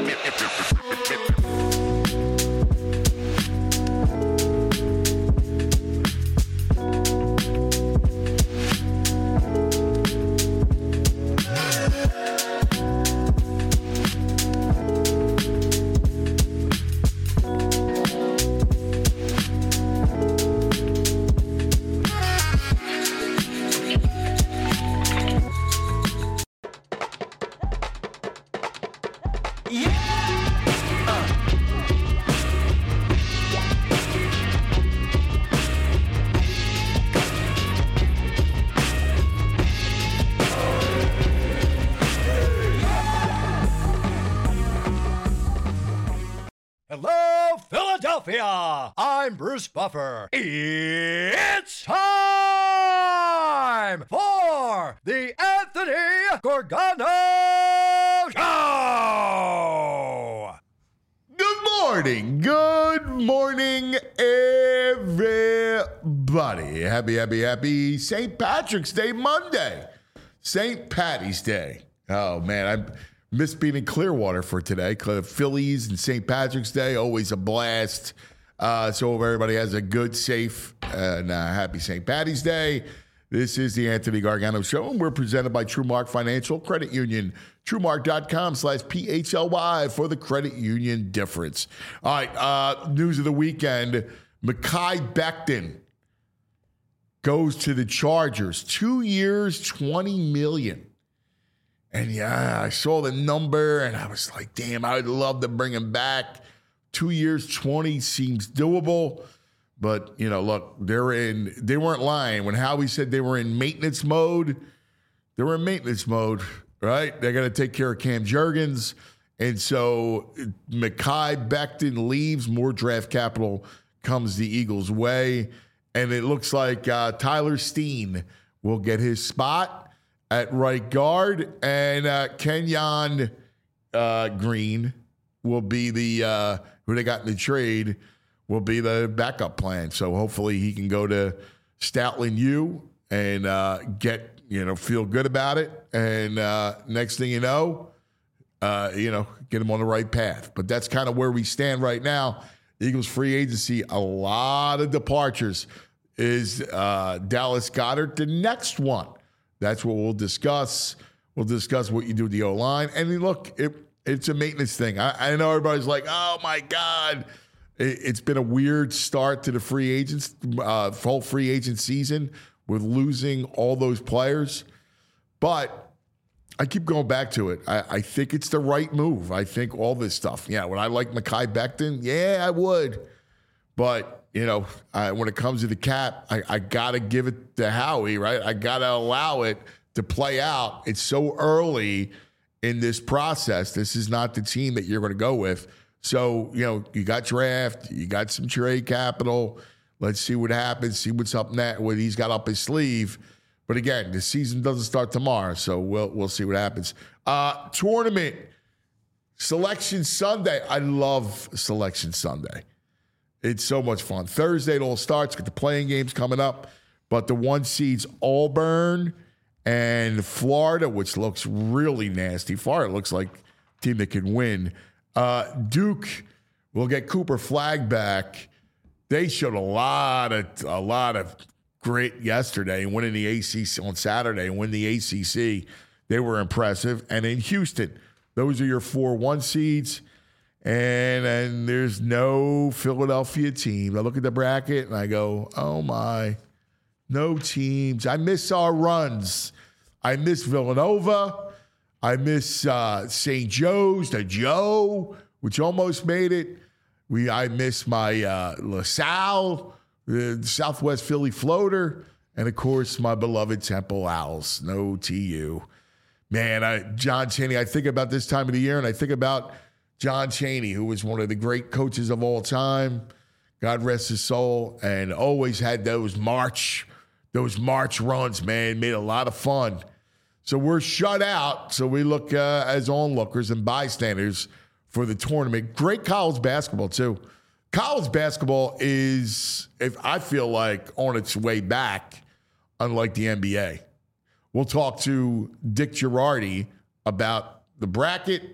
Hello, Philadelphia! I'm Bruce Buffer. It's time for the Anthony Gorgano Show! Good morning, everybody. Happy St. Patrick's Day Monday. St. Patty's Day. Oh, man, I missed being in Clearwater for today. Phillies and St. Patrick's Day, always a blast. So hope everybody has a good, safe, and happy St. Patty's Day. This is the Anthony Gargano Show, and we're presented by TrueMark Financial Credit Union. TrueMark.com/PHLY for the credit union difference. All right, news of the weekend. Mekhi Becton goes to the Chargers. 2 years, $20 million. And yeah, I saw the number, and I was like, damn, I would love to bring him back. 2 years, 20 seems doable. But, you know, look, they weren't lying. When Howie said they were in maintenance mode, they were in maintenance mode, right? They're going to take care of Cam Jurgens. And so Mekhi Becton leaves. More draft capital comes the Eagles' way. And it looks like Tyler Steen will get his spot at right guard. And Kenyon Green will be the who they got in the trade, will be the backup plan. So hopefully he can go to Stoutland U and feel good about it. And next thing you know, get him on the right path. But that's kind of where we stand right now. Eagles free agency, a lot of departures. Is Dallas Goedert the next one? That's what we'll discuss. We'll discuss what you do with the O-line. And look, it's a maintenance thing. I know everybody's like, oh, my God. It's been a weird start to the free agents, full free agent season with losing all those players. But I keep going back to it. I think it's the right move. I think all this stuff. Yeah, would I like Mekhi Becton? Yeah, I would. But, when it comes to the cap, I got to give it to Howie, right? I got to allow it to play out. It's so early in this process. This is not the team that you're going to go with. So, you got draft, you got some trade capital. Let's see what happens, see what's up next, what he's got up his sleeve. But again, the season doesn't start tomorrow, so we'll see what happens. Tournament, Selection Sunday. I love Selection Sunday. It's so much fun. Thursday it all starts. Got the playing games coming up. But the one seeds Auburn and Florida, which looks really nasty. Florida looks like a team that can win. Duke will get Cooper Flagg back. They showed a lot of grit yesterday, winning the ACC on Saturday, and win the ACC. They were impressive. And in Houston, those are your 4-1 seeds. And there's no Philadelphia team. I look at the bracket and I go, oh my, no teams. I miss our runs. I miss Villanova. I miss St. Joe's, the Joe, which almost made it. I miss my LaSalle, the Southwest Philly floater, and of course my beloved Temple Owls. No TU. Man, John Chaney, I think about this time of the year, and I think about John Chaney, who was one of the great coaches of all time. God rest his soul, and always had those March runs, man. Made a lot of fun. So we're shut out. So we look as onlookers and bystanders for the tournament. Great college basketball, too. College basketball is, I feel like, on its way back, unlike the NBA. We'll talk to Dick Girardi about the bracket,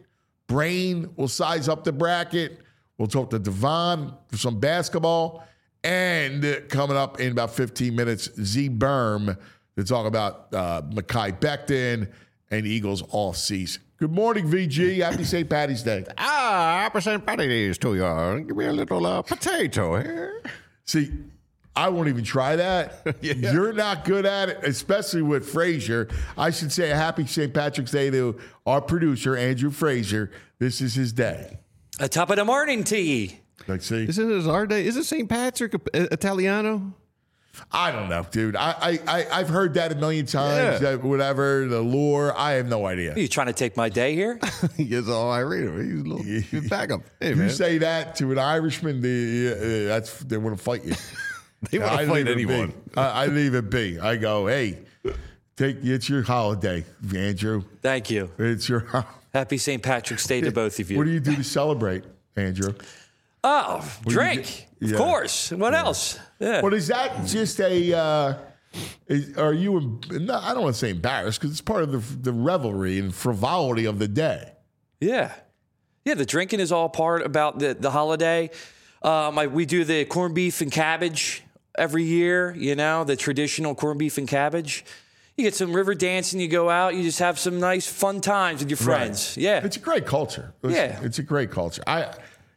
Brain will size up the bracket. We'll talk to Devon for some basketball. And coming up in about 15 minutes, Z Berm to talk about Mekhi Becton and Eagles all season. Good morning, VG. Happy St. Patty's Day. Happy St. Patty's to you. Give me a little potato here. See, I won't even try that. Yeah. You're not good at it, especially with Frazier. I should say a happy St. Patrick's Day to our producer, Andrew Frazier. This is his day. A top of the morning to ye. Let's see. Isn't it our day? Is it St. Patrick Italiano? I don't know, dude. I've heard that a million times. Yeah. Whatever, the lure. I have no idea. Are you trying to take my day here? Yes, all I read him. He's a little backup. Hey, You man. say that to an Irishman, they want to fight you. They want to fight anyone. I leave it be. I go, hey, it's your holiday, Andrew. Thank you. It's your. Happy St. Patrick's Day to both of you. What do you do to celebrate, Andrew? Oh, drink. Yeah. Of course. What else? Yeah. But is that just a? Are you? No, I don't want to say embarrassed because it's part of the revelry and frivolity of the day. Yeah. Yeah, the drinking is all part about the holiday. We do the corned beef and cabbage every year, the traditional corned beef and cabbage. You get some river dancing, you go out, you just have some nice fun times with your friends. Right. Yeah. It's a great culture. It's a great culture. I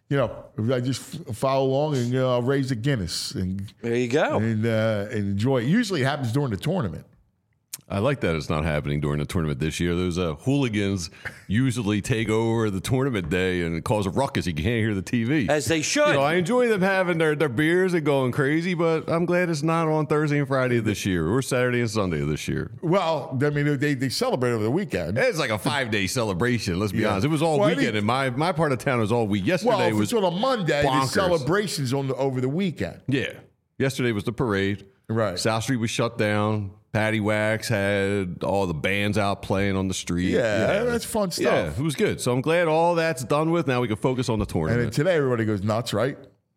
just follow along and I'll raise a Guinness and There you go. and enjoy it. Usually it happens during the tournament. I like that it's not happening during the tournament this year. Those hooligans usually take over the tournament day and cause a ruckus. You can't hear the TV. As they should. I enjoy them having their beers and going crazy, but I'm glad it's not on Thursday and Friday of this year or Saturday and Sunday of this year. Well, I mean, they celebrate over the weekend. It's like a 5-day celebration, let's be Yeah. honest. It was all Well, I weekend, and my part of town was all week. Yesterday Well, if was it's on a Monday, bonkers. the celebrations over the weekend. Yeah. Yesterday was the parade. Right. South Street was shut down. Patty Wax had all the bands out playing on the street. Yeah, that's fun stuff. Yeah, it was good. So I'm glad all that's done with. Now we can focus on the And tournament. then today everybody goes nuts, right?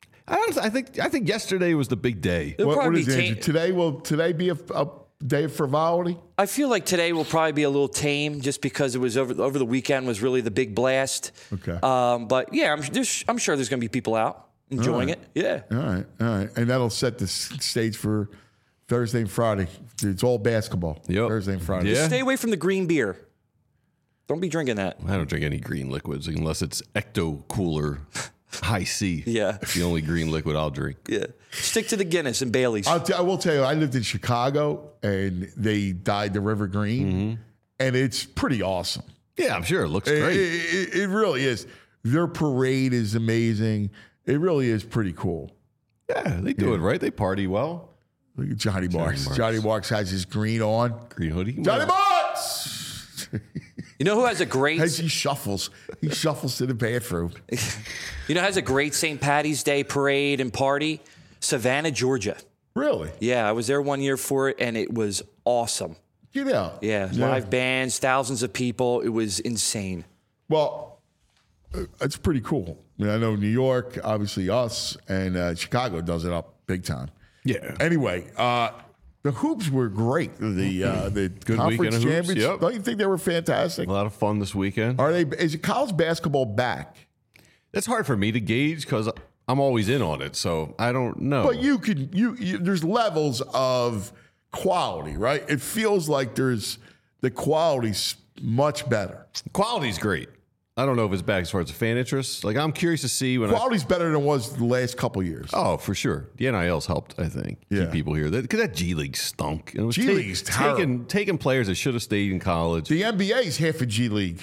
I think yesterday was the big day. It'll What probably is be it, Andrew? Today will today be a day of frivolity? I feel like today will probably be a little tame just because it was over the weekend was really the big blast. Okay. But yeah, I'm sure there's going to be people out enjoying it. Yeah. All right. And that'll set the stage for Thursday and Friday. It's all basketball. Yep. Thursday and Friday. Yeah. Stay away from the green beer. Don't be drinking that. I don't drink any green liquids unless it's Ecto Cooler High C. Yeah. It's the only green liquid I'll drink. Yeah. Stick to the Guinness and Bailey's. I will tell you, I lived in Chicago and they dyed the River Green, and it's pretty awesome. Yeah, I'm sure it looks great. It really is. Their parade is amazing. It really is pretty cool. Yeah, they do it right. They party well. Look at Johnny Marks. Marks. Johnny Marks has his green on. Green hoodie. Johnny Marks! You know who has a great As he shuffles to the bathroom. who has a great St. Patty's Day parade and party? Savannah, Georgia. Really? Yeah, I was there one year for it and it was awesome. Get out. Yeah, live bands, thousands of people. It was insane. Well, it's pretty cool. I mean, I know New York, obviously us, and Chicago does it up big time. Yeah. Anyway, the hoops were great. The Good conference weekend of hoops, champions. yep. Don't you think they were fantastic? A lot of fun this weekend. Are they? Is it college basketball back? It's hard for me to gauge because I'm always in on it, so I don't know. But you could. There's levels of quality, right? It feels like the quality's much better. Quality's great. I don't know if it's back as far as the fan interest. Like, I'm curious to see when Quality's better than it was the last couple years. Oh, for sure. The NIL's helped, I think, Yeah. keep people here. Because that G League stunk. It was G League's terrible. taking players that should have stayed in college. The NBA's half a G League.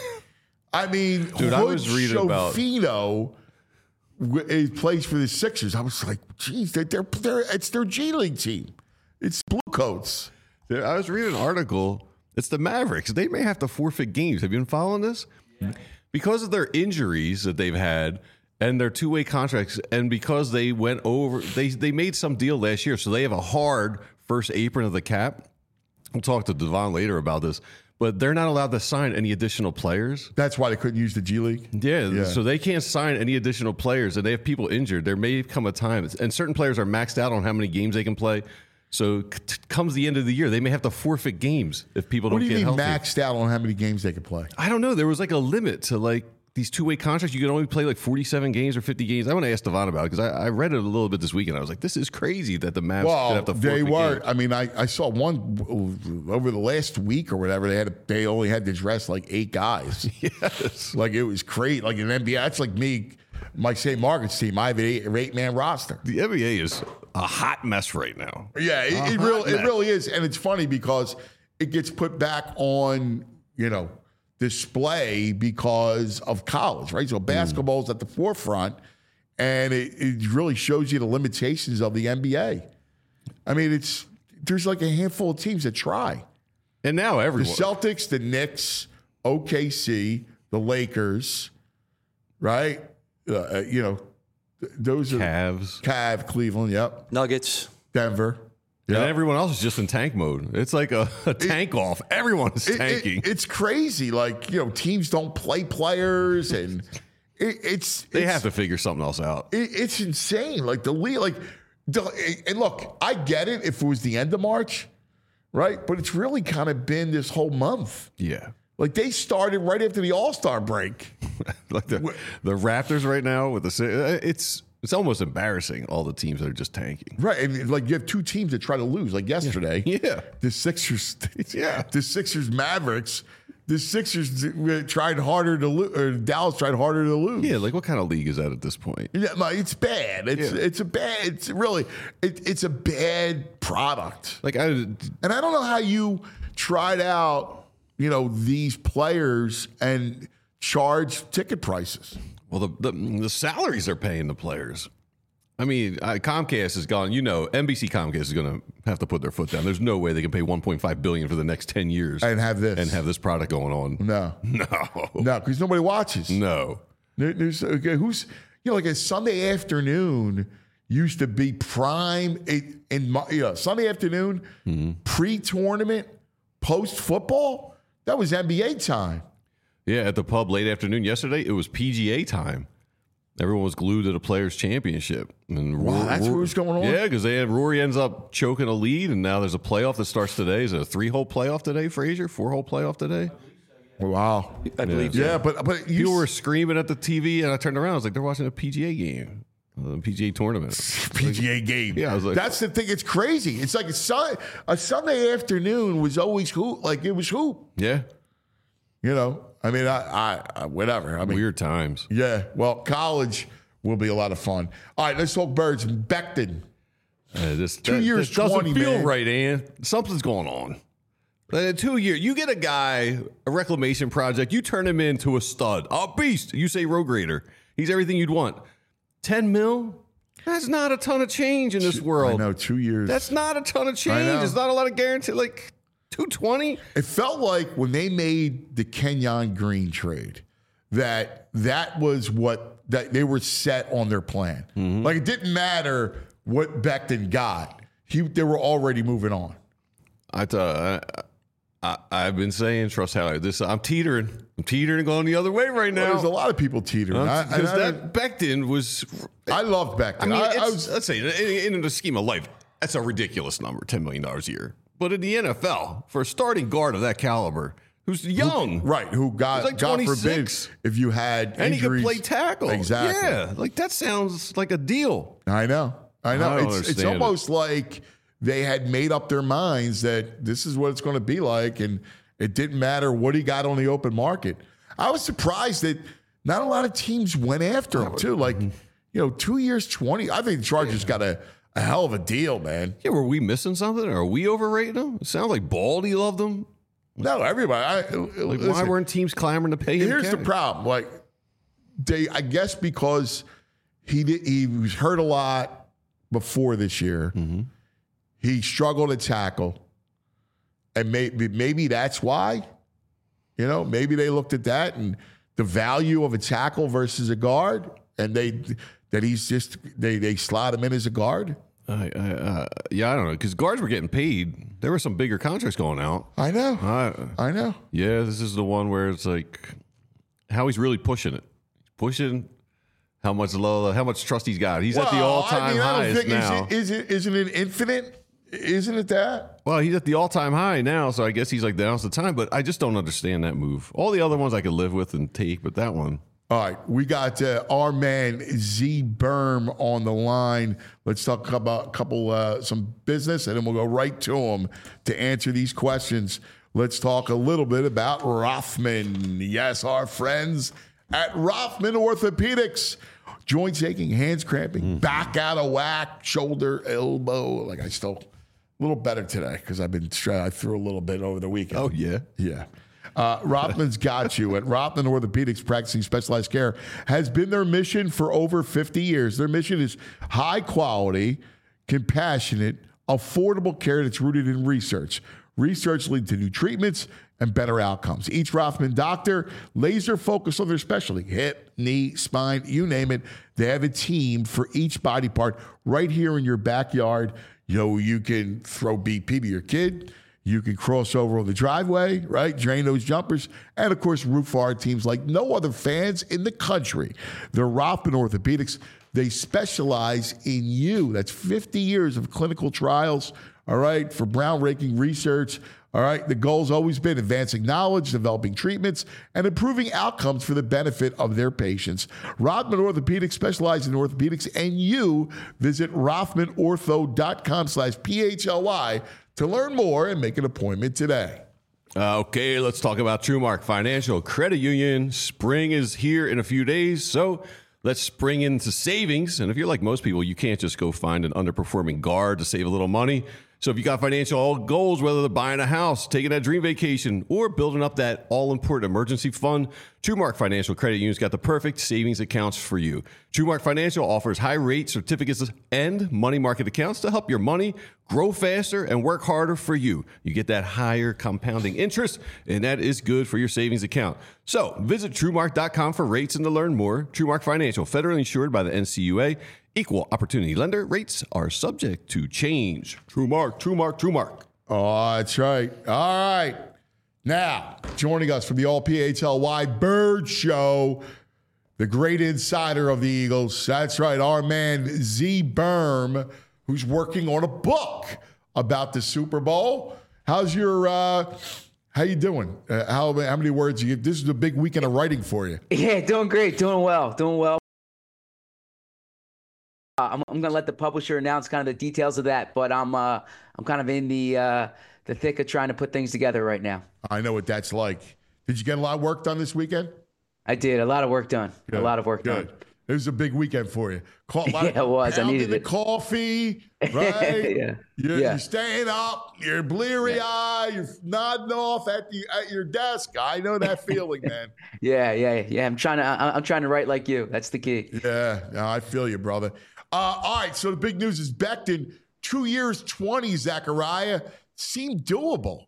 I mean, Dude, I was reading about- Schofino plays for the Sixers. I was like, geez, it's their G League team. It's Blue Coats. I was reading an article. It's the Mavericks. They may have to forfeit games. Have you been following this? Because of their injuries that they've had and their two-way contracts, and because they went over, they made some deal last year, so they have a hard first apron of the cap. We'll talk to Devon later about this, but they're not allowed to sign any additional players. That's why they couldn't use the G League. Yeah, so they can't sign any additional players, and they have people injured. There may come a time, and certain players are maxed out on how many games they can play. So comes the end of the year, they may have to forfeit games if people What don't do you get mean healthy. maxed out on how many games they could play? I don't know. There was like a limit to like these two-way contracts, you can only play like 47 games or 50 games. I want to ask Devon about it because I read it a little bit this weekend. I was like, this is crazy that the Mavs could have to forfeit they were. games. I mean, I saw one over the last week or whatever. They only had to dress like 8 guys. Yes. Like it was great. Like in NBA, that's like me, my St. Margaret's team. I have an 8-man roster. The NBA is a hot mess right now. Yeah, it really is. And it's funny because it gets put back on, display because of college, right? So basketball's at the forefront, and it really shows you the limitations of the NBA. I mean, there's like a handful of teams that try. And now everyone. The Celtics, the Knicks, OKC, the Lakers, right? Those are Cavs, Cleveland, yep. Nuggets. Denver. And Yep. everyone else is just in tank mode. It's like a tank off. Everyone is tanking. It's crazy. Like, teams don't play players, and they have to figure something else out. It's insane. Like the league, and look, I get it if it was the end of March, right? But it's really kind of been this whole month. Yeah. Like they started right after the All-Star break. Like the Raptors right now with it's almost embarrassing, all the teams that are just tanking. Right. And like you have 2 teams that try to lose, like yesterday. Yeah. The Sixers. Yeah. The Sixers Mavericks. The Sixers tried harder to lose, or Dallas tried harder to lose. Yeah, like what kind of league is that at this point? Yeah, it's bad. It's a bad product. And I don't know how you tried out, these players and charge ticket prices. Well, the salaries they're paying the players. I mean, Comcast is gone. NBC Comcast is going to have to put their foot down. There's no way they can pay $1.5 billion for the next 10 years And have this product going on. No, because nobody watches. No. There's who's like a Sunday afternoon used to be prime Sunday afternoon pre-tournament, post-football. That was NBA time. Yeah, at the pub late afternoon yesterday, it was PGA time. Everyone was glued to the Players' Championship. And Wow, that's what was going on? Yeah, because Rory ends up choking a lead, and now there's a playoff that starts today. Is it a 3-hole playoff today, Frazier? 4-hole playoff today? Wow. I believe so. Yeah, but people were screaming at the TV, and I turned around. I was like, they're watching a PGA game, a PGA tournament. PGA game. Yeah, I was like, that's the thing. It's crazy. It's like a Sunday afternoon was always hoop. Like it was hoop. Yeah. I mean, I whatever. I mean, weird times. Yeah. Well, college will be a lot of fun. All right, let's talk Birds. Becton. 2 years, this doesn't 20, feel man. right, Ann. Something's going on. 2 years. You get a guy, a reclamation project. You turn him into a stud, a beast. You say road grader. He's everything you'd want. 10 mil. That's not a ton of change in this world. I know. 2 years. That's not a ton of change. It's not a lot of guarantee. Like 220. It felt like when they made the Kenyon Green trade, that was that they were set on their plan. Mm-hmm. Like it didn't matter what Becton got; they were already moving on. I've been saying, trust how I'm teetering. I'm teetering and going the other way right now. Well, there's a lot of people teetering. Because that Becton was. I love Becton. I mean, let's say in the scheme of life, that's a ridiculous number, $10 million a year. But in the NFL, for a starting guard of that caliber, who's young, who got like God 26. forbid if you had and injuries, he could play tackle, exactly. Yeah, like that sounds like a deal. I know. It's understand almost like they had made up their minds that this is what it's going to be like, and it didn't matter what he got on the open market. I was surprised that not a lot of teams went after him too. Like 2 years, 20. I think the Chargers got a hell of a deal, man. Yeah, were we missing something? Are we overrating him? It sounds like Baldy loved him. No, everybody. Listen, why weren't teams clamoring to pay him? Here's the problem. Like I guess because he was hurt a lot before this year. Mm-hmm. He struggled to tackle, and maybe that's why. Maybe they looked at that and the value of a tackle versus a guard, and they slot him in as a guard. I don't know, because guards were getting paid. There were some bigger contracts going out. I know. I know. Yeah, this is the one where it's like how he's really pushing it. Pushing how much trust he's got. He's at the all-time highest now. Isn't it infinite? Isn't it that? Well, he's at the all-time high now, so I guess he's like, now's the time. But I just don't understand that move. All the other ones I could live with and take, but that one. All right, we got our man Z Berm on the line. Let's talk about some business, and then we'll go right to him to answer these questions. Let's talk a little bit about Rothman. Yes, our friends at Rothman Orthopedics. Joints aching, hands cramping, back out of whack, shoulder, elbow. Like a little better today because I threw a little bit over the weekend. Oh, yeah? Yeah. Rothman's got you. At Rothman Orthopedics, practicing specialized care has been their mission for over 50 years. Their mission is high quality, compassionate, affordable care that's rooted in research. Research leads to new treatments and better outcomes. Each Rothman doctor laser focused on their specialty: hip, knee, spine, you name it. They have a team for each body part right here in your backyard. You can throw BP to your kid. You can cross over on the driveway, right? Drain those jumpers. And, of course, root for our teams like no other fans in the country. They're Rothman Orthopedics. They specialize in you. That's 50 years of clinical trials, all right, for groundbreaking research. All right, the goal's always been advancing knowledge, developing treatments, and improving outcomes for the benefit of their patients. Rothman Orthopedics specializes in orthopedics, and you visit rothmanortho.com/PHLY to learn more and make an appointment today. Okay, let's talk about TrueMark Financial Credit Union. Spring is here in a few days, so let's spring into savings. And if you're like most people, you can't just go find an underperforming guard to save a little money. So if you got financial goals, whether they're buying a house, taking that dream vacation, or building up that all-important emergency fund, TrueMark Financial Credit Union's got the perfect savings accounts for you. TrueMark Financial offers high-rate certificates and money market accounts to help your money grow faster and work harder for you. You get that higher compounding interest, and that is good for your savings account. So visit TrueMark.com for rates and to learn more. TrueMark Financial, federally insured by the NCUA. Equal opportunity lender. Rates are subject to change. TrueMark, TrueMark, TrueMark. Oh, that's right. All right. Now, joining us from the All PHLY Bird Show, the great insider of the Eagles. That's right, our man Z Berm, who's working on a book about the Super Bowl. How's your how you doing? How many words you give? This is a big weekend of writing for you. Yeah, doing great, doing well. I'm gonna let the publisher announce kind of the details of that, but I'm kind of in the thick of trying to put things together right now. I know what that's like. Did you get a lot of work done this weekend? I did. A lot of work done. Good. A lot of work done. It was a big weekend for you. Yeah, it was. I needed the it. Coffee, right? Yeah. You're staying up. You're bleary-eyed. You're nodding off at your desk. I know that feeling, man. Yeah. I'm trying to write like you. That's the key. Yeah, no, I feel you, brother. All right, so the big news is Becton, 2 years, 20, Zachariah, seemed doable.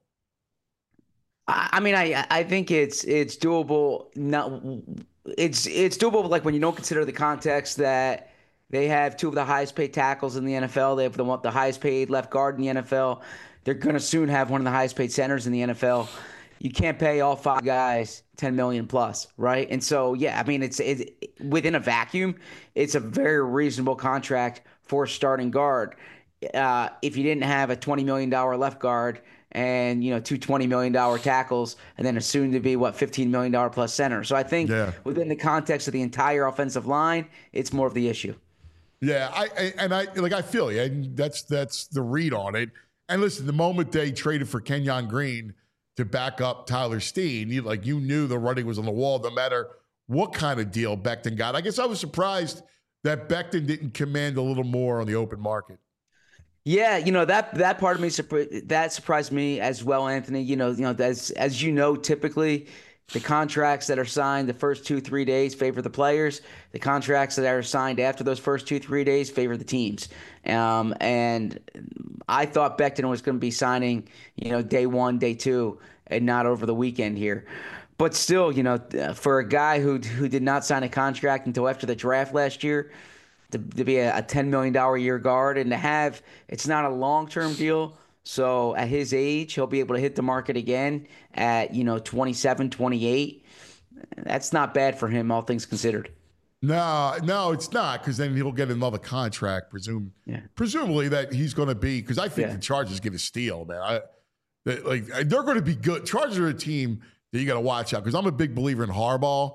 I mean, I think it's doable. It's doable, like when you don't consider the context that they have two of the highest paid tackles in the NFL. They have the highest paid left guard in the NFL. They're going to soon have one of the highest paid centers in the NFL. You can't pay all five guys $10 million plus, right? And so, yeah, I mean, it's within a vacuum, it's a very reasonable contract for a starting guard. If you didn't have a $20 million left guard and two $20 million tackles, and then a soon-to-be $15 million plus center. So I think within the context of the entire offensive line, it's more of the issue. Yeah, I feel you. And that's the read on it. And listen, the moment they traded for Kenyon Green to back up Tyler Steen, you knew the writing was on the wall no matter what kind of deal Becton got. I guess I was surprised that Becton didn't command a little more on the open market. Yeah, that part of me that surprised me as well, Anthony. As you know, typically the contracts that are signed the first 2-3 days favor the players. The contracts that are signed after those first 2-3 days favor the teams. And I thought Becton was going to be signing, day one, day two, and not over the weekend here. But still, for a guy who did not sign a contract until after the draft last year, to be a $10 million a year guard, and to have, it's not a long-term deal. So at his age, he'll be able to hit the market again at, 27, 28. That's not bad for him, all things considered. No, it's not, because then he'll get another contract, presumably that he's going to be, because I think the Chargers get a steal, man. They're going to be good. Chargers are a team that you got to watch out, because I'm a big believer in Harbaugh,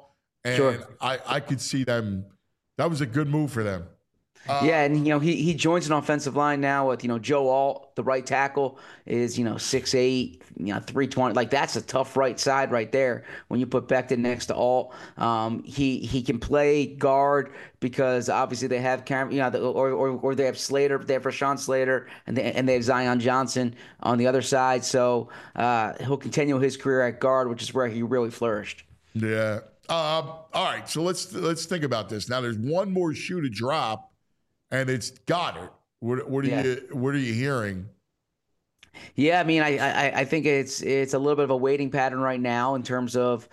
And Sure. I could see them. That was a good move for them. Yeah, and he joins an offensive line now with Joe Alt, the right tackle, is 6'8", 320. Like that's a tough right side right there. When you put Becton next to Alt, he can play guard because obviously they have or they have Slater, they have Rashawn Slater, and they have Zion Johnson on the other side. So he'll continue his career at guard, which is where he really flourished. Yeah. All right. So let's think about this. Now there's one more shoe to drop. And it's Goddard. What are you hearing? Yeah, I mean, I think it's a little bit of a waiting pattern right now in terms of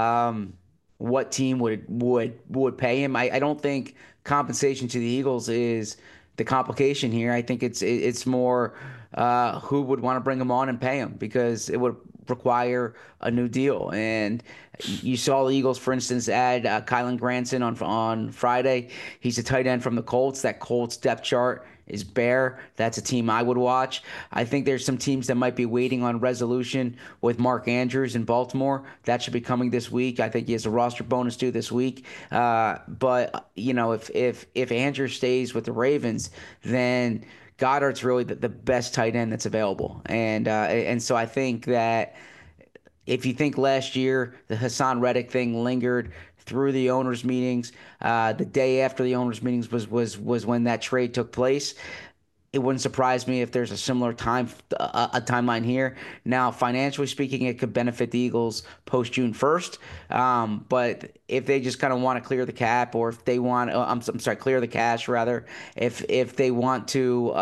what team would pay him. I don't think compensation to the Eagles is the complication here. I think it's more who would want to bring him on and pay him, because it would require a new deal. And you saw the Eagles, for instance, add Kylan Granson on Friday. He's a tight end from the Colts. That Colts depth chart is bare. That's a team I would watch. I think there's some teams that might be waiting on resolution with Mark Andrews in Baltimore. That should be coming this week. I think he has a roster bonus due this week. But if Andrews stays with the Ravens, then Goddard's really the best tight end that's available. And so I think that if you think last year the Hassan Reddick thing lingered through the owners' meetings, the day after the owners' meetings was when that trade took place. It wouldn't surprise me if there's a similar timeline here. Now, financially speaking, it could benefit the Eagles post June 1st. But if they just kind of want to clear the cap, or if they want, clear the cash rather, if they want to,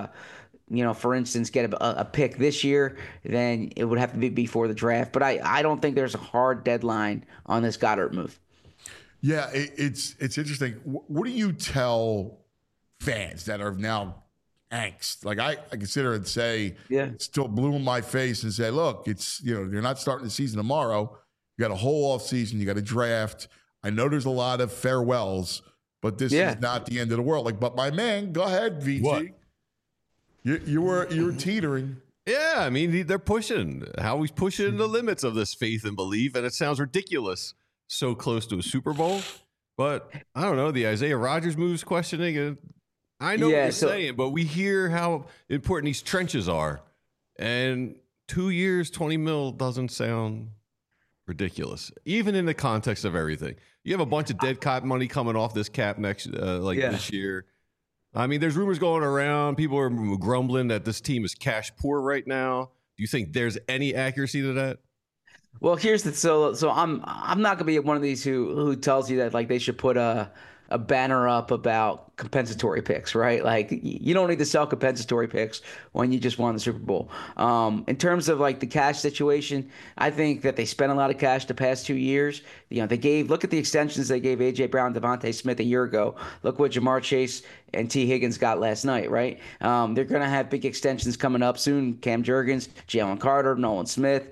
for instance, get a pick this year, then it would have to be before the draft. But I don't think there's a hard deadline on this Goddard move. Yeah, it's interesting. What do you tell fans that are now angst? Like I consider and say, still blue in my face and say, look, it's you're not starting the season tomorrow. You got a whole off season. You got a draft. I know there's a lot of farewells, but this is not the end of the world. Like, but my man, go ahead, VG. What? You were teetering. Yeah, I mean, they're pushing. Howie's pushing the limits of this faith and belief, and it sounds ridiculous. So close to a Super Bowl, but I don't know. The Isaiah Rodgers moves questioning it. I know what you're saying, but we hear how important these trenches are, and 2 years, $20 million doesn't sound ridiculous, even in the context of everything. You have a bunch of dead cap money coming off this cap this year. I mean, there's rumors going around. People are grumbling that this team is cash poor right now. Do you think there's any accuracy to that? Well, here's the so I'm not gonna be one of these who tells you that like they should put a banner up about compensatory picks, right? Like you don't need to sell compensatory picks when you just won the Super Bowl. In terms of like the cash situation, I think that they spent a lot of cash the past 2 years. Look at the extensions they gave AJ Brown, Devontae Smith a year ago. Look what Jamar Chase and T. Higgins got last night, right? They're gonna have big extensions coming up soon. Cam Jurgens, Jalen Carter, Nolan Smith.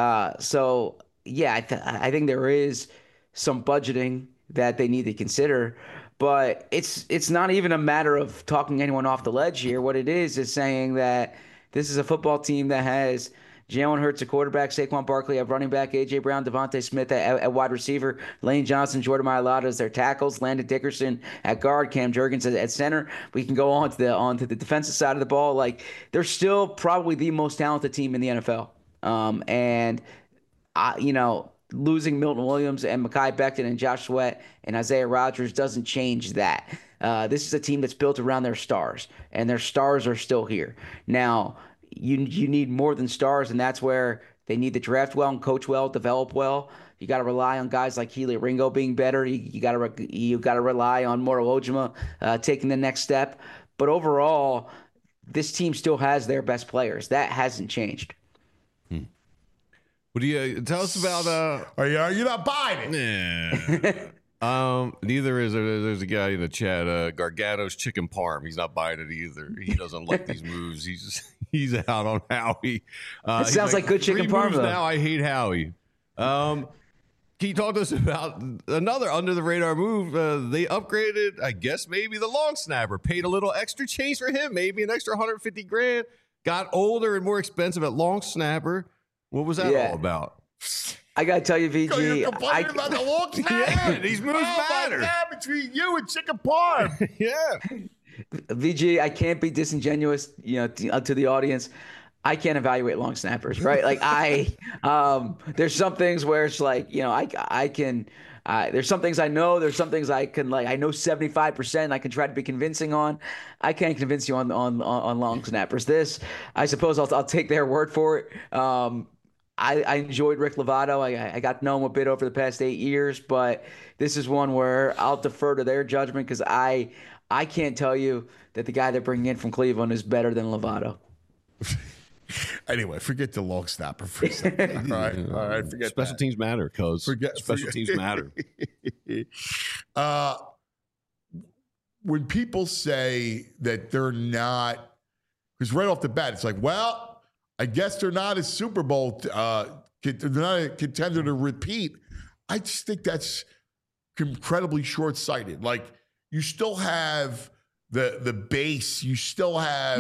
So yeah, I think there is some budgeting that they need to consider, but it's not even a matter of talking anyone off the ledge here. What it is saying that this is a football team that has Jalen Hurts at quarterback, Saquon Barkley at running back, A.J. Brown, Devontae Smith at wide receiver, Lane Johnson, Jordan Mailata as their tackles, Landon Dickerson at guard, Cam Jurgens at center. We can go on to the defensive side of the ball. Like they're still probably the most talented team in the NFL. Losing Milton Williams and Mekhi Becton and Josh Sweat and Isaiah Rodgers doesn't change that. This is a team that's built around their stars, and their stars are still here. Now, you need more than stars, and that's where they need to draft well and coach well, develop well. You got to rely on guys like Kelee Ringo being better. You got to rely on Moro Ojima taking the next step. But overall, this team still has their best players. That hasn't changed. What do you tell us about? Are you not buying it? Nah. Neither is there's a guy in the chat, Gargano's Chicken Parm. He's not buying it either. He doesn't like these moves. He's out on Howie. It sounds like good chicken parm though. Now I hate Howie. Can you talk to us about another under the radar move? They upgraded, I guess maybe the long snapper, paid a little extra change for him, maybe an extra $150,000. Got older and more expensive at long snapper. What was that all about? I got to tell you, You're VG, complaining about the long snapper? Yeah, these moves matter. My God, between you and Chicken Parm. Yeah. VG, I can't be disingenuous, to the audience. I can't evaluate long snappers, right? Like there's some things where it's like, I can. There's some things I know. There's some things I can I know 75%. I can try to be convincing on. I can't convince you on long snappers. This, I suppose, I'll take their word for it. I enjoyed Rick Lovato. I got to know him a bit over the past 8 years, but this is one where I'll defer to their judgment because I can't tell you that the guy they're bringing in from Cleveland is better than Lovato. Anyway, forget the long snapper for a second. All right, forget Special teams matter, cuz. Special teams matter. When people say that they're not, because right off the bat, it's like, well, I guess they're not a Super Bowl, they're not a contender to repeat. I just think that's incredibly short-sighted. Like, you still have the base. You still have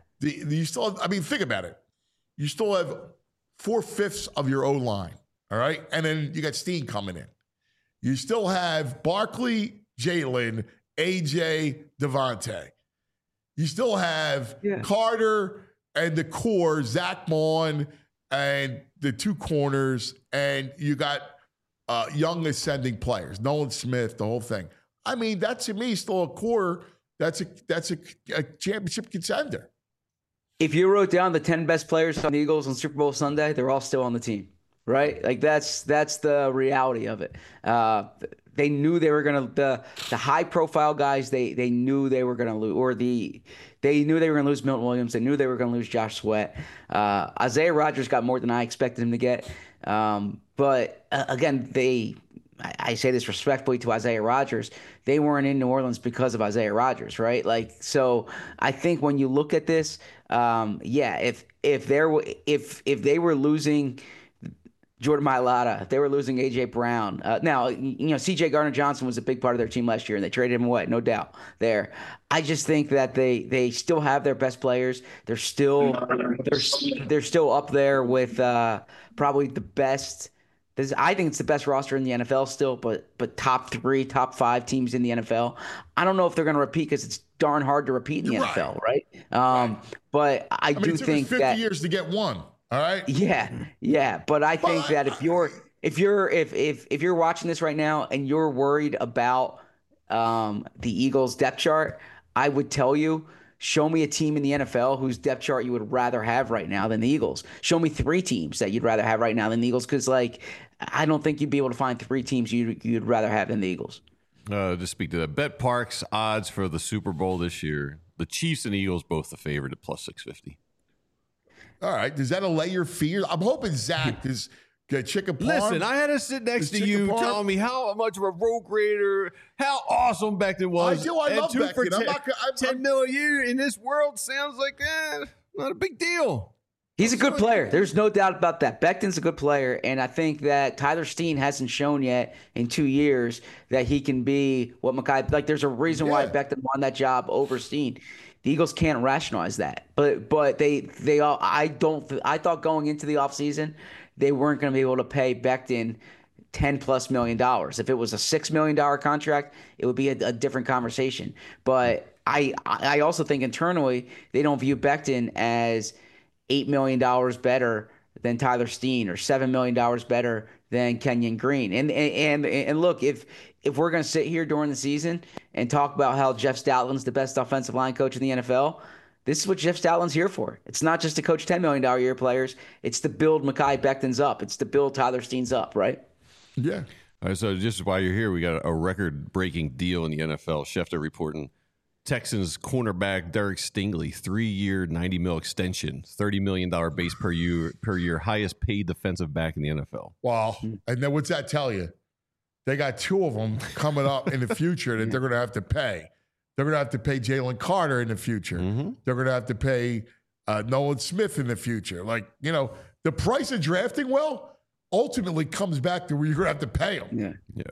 I mean, think about it. You still have 4/5 of your O-line, all right? And then you got Steen coming in. You still have Barkley, Jalen, AJ, Devontae. You still have Carter and the core, Zach Mon and the two corners, and you got young ascending players, Nolan Smith, the whole thing. I mean, that to me is still a core. That's a championship contender. If you wrote down the 10 best players on the Eagles on Super Bowl Sunday, they're all still on the team, right? Like that's the reality of it. They knew they were going to the high profile guys. They knew they were going to lose, or they knew they were going to lose Milton Williams. They knew they were going to lose Josh Sweat. Isaiah Rodgers got more than I expected him to get. But again, I say this respectfully to Isaiah Rodgers, they weren't in New Orleans because of Isaiah Rodgers, right? Like, so I think when you look at this, if they were losing Jordan Mailata, if they were losing AJ Brown, now CJ Gardner-Johnson was a big part of their team last year, and they traded him away, no doubt. There, I just think that they still have their best players. They're still up there with probably the best. I think it's the best roster in the NFL still, but top 3, top 5 teams in the NFL. I don't know if they're going to repeat because it's darn hard to repeat in the NFL, right? But I do it took think us 50 years to get one. All right. Yeah. But I think that if you're watching this right now and you're worried about the Eagles depth chart, I would tell you, show me a team in the NFL whose depth chart you would rather have right now than the Eagles. Show me 3 teams that you'd rather have right now than the Eagles, because I don't think you'd be able to find 3 teams you'd rather have than the Eagles. To speak to that, Bet Parks odds for the Super Bowl this year: the Chiefs and Eagles both the favorite at plus 650. All right, does that allay your fears? I'm hoping Zach is get Chicken Parm. Listen, I had to sit next to you telling me how much of a road grader, how awesome Becton was. I do. I love Becton. 10 million a year in this world sounds like not a big deal. He's a good player. There's no doubt about that. Becton's a good player, and I think that Tyler Steen hasn't shown yet in 2 years that he can be what Mekhi. Like, there's a reason why Becton won that job over Steen. The Eagles can't rationalize that, but they all. I thought going into the offseason they weren't going to be able to pay Becton $10+ million. If it was a $6 million contract, it would be a different conversation. But I also think internally they don't view Becton as $8 million better than Tyler Steen or $7 million better than Kenyon Green. And look, if we're going to sit here during the season and talk about how Jeff Stoutland's the best offensive line coach in the NFL, this is what Jeff Stoutland's here for. It's not just to coach $10 million a year players. It's to build Mekhi Becton's up. It's to build Tyler Steen's up, right? Yeah. All right, so just while you're here, we got a record-breaking deal in the NFL. Schefter reporting Texans cornerback Derek Stingley, 3-year, $90 million extension, $30 million base per year, highest paid defensive back in the NFL. Wow. And then what's that tell you? They got 2 of them coming up in the future that they're going to have to pay. They're going to have to pay Jalen Carter in the future. Mm-hmm. They're going to have to pay Nolan Smith in the future. Like, the price of drafting well ultimately comes back to where you're going to have to pay them. Yeah.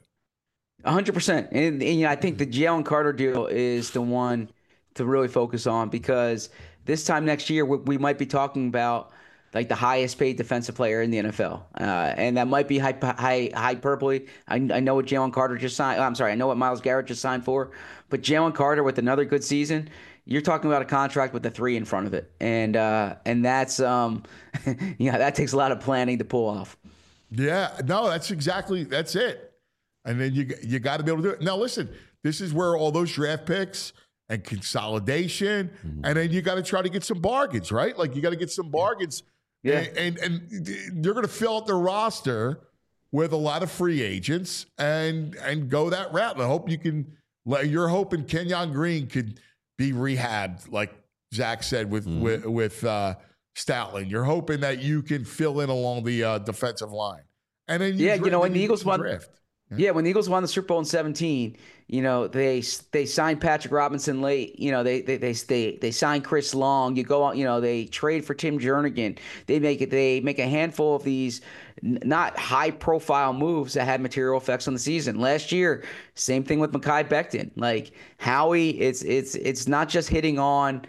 100%. And I think the Jalen Carter deal is the one to really focus on, because this time next year we might be talking about like the highest paid defensive player in the NFL. And that might be hyperbole. I know what Jalen Carter just signed. I'm sorry, I know what Myles Garrett just signed for. But Jalen Carter with another good season, you're talking about a contract with a 3 in front of it. And that's that takes a lot of planning to pull off. Yeah, no, that's it. And then you got to be able to do it. Now, listen, this is where all those draft picks and consolidation, and then you got to try to get some bargains, right? Like you got to get some bargains. Yeah. And they're going to fill out their roster with a lot of free agents and go that route. And I hope you're hoping Kenyon Green could be rehabbed, like Zach said with Stoutland. You're hoping that you can fill in along the defensive line. And then when the Eagles won draft. Yeah, when the Eagles won the Super Bowl in 2017, they signed Patrick Robinson late. They signed Chris Long. You go on, they trade for Tim Jernigan. They make a handful of these not high profile moves that had material effects on the season. Last year, same thing with Mekhi Becton. Like Howie, it's not just hitting on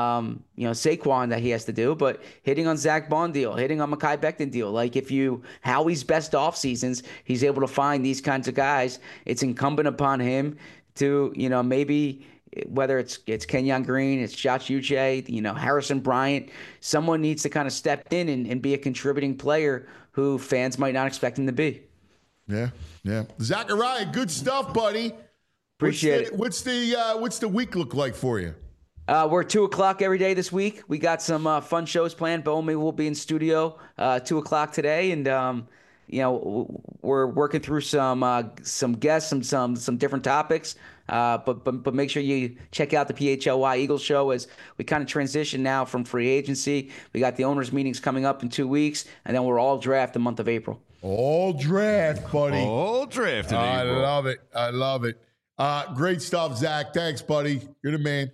Saquon that he has to do, but hitting on Zach Bond deal, hitting on Mekhi Becton deal. Like Howie's best off seasons, he's able to find these kinds of guys. It's incumbent upon him to, maybe whether it's Kenyon Green, it's Josh Uche, Harrison Bryant, someone needs to kind of step in and be a contributing player who fans might not expect him to be. Yeah. Zachariah, good stuff, buddy. Appreciate it. What's the week look like for you? We're 2:00 every day this week. We got some fun shows planned. Bomi will be in studio 2:00 today, and we're working through some guests, some different topics. But make sure you check out the PHLY Eagles show as we kind of transition now from free agency. We got the owners meetings coming up in 2 weeks, and then we're all draft the month of April. All draft, buddy. All draft in April. I love it. Great stuff, Zach. Thanks, buddy. You're the man.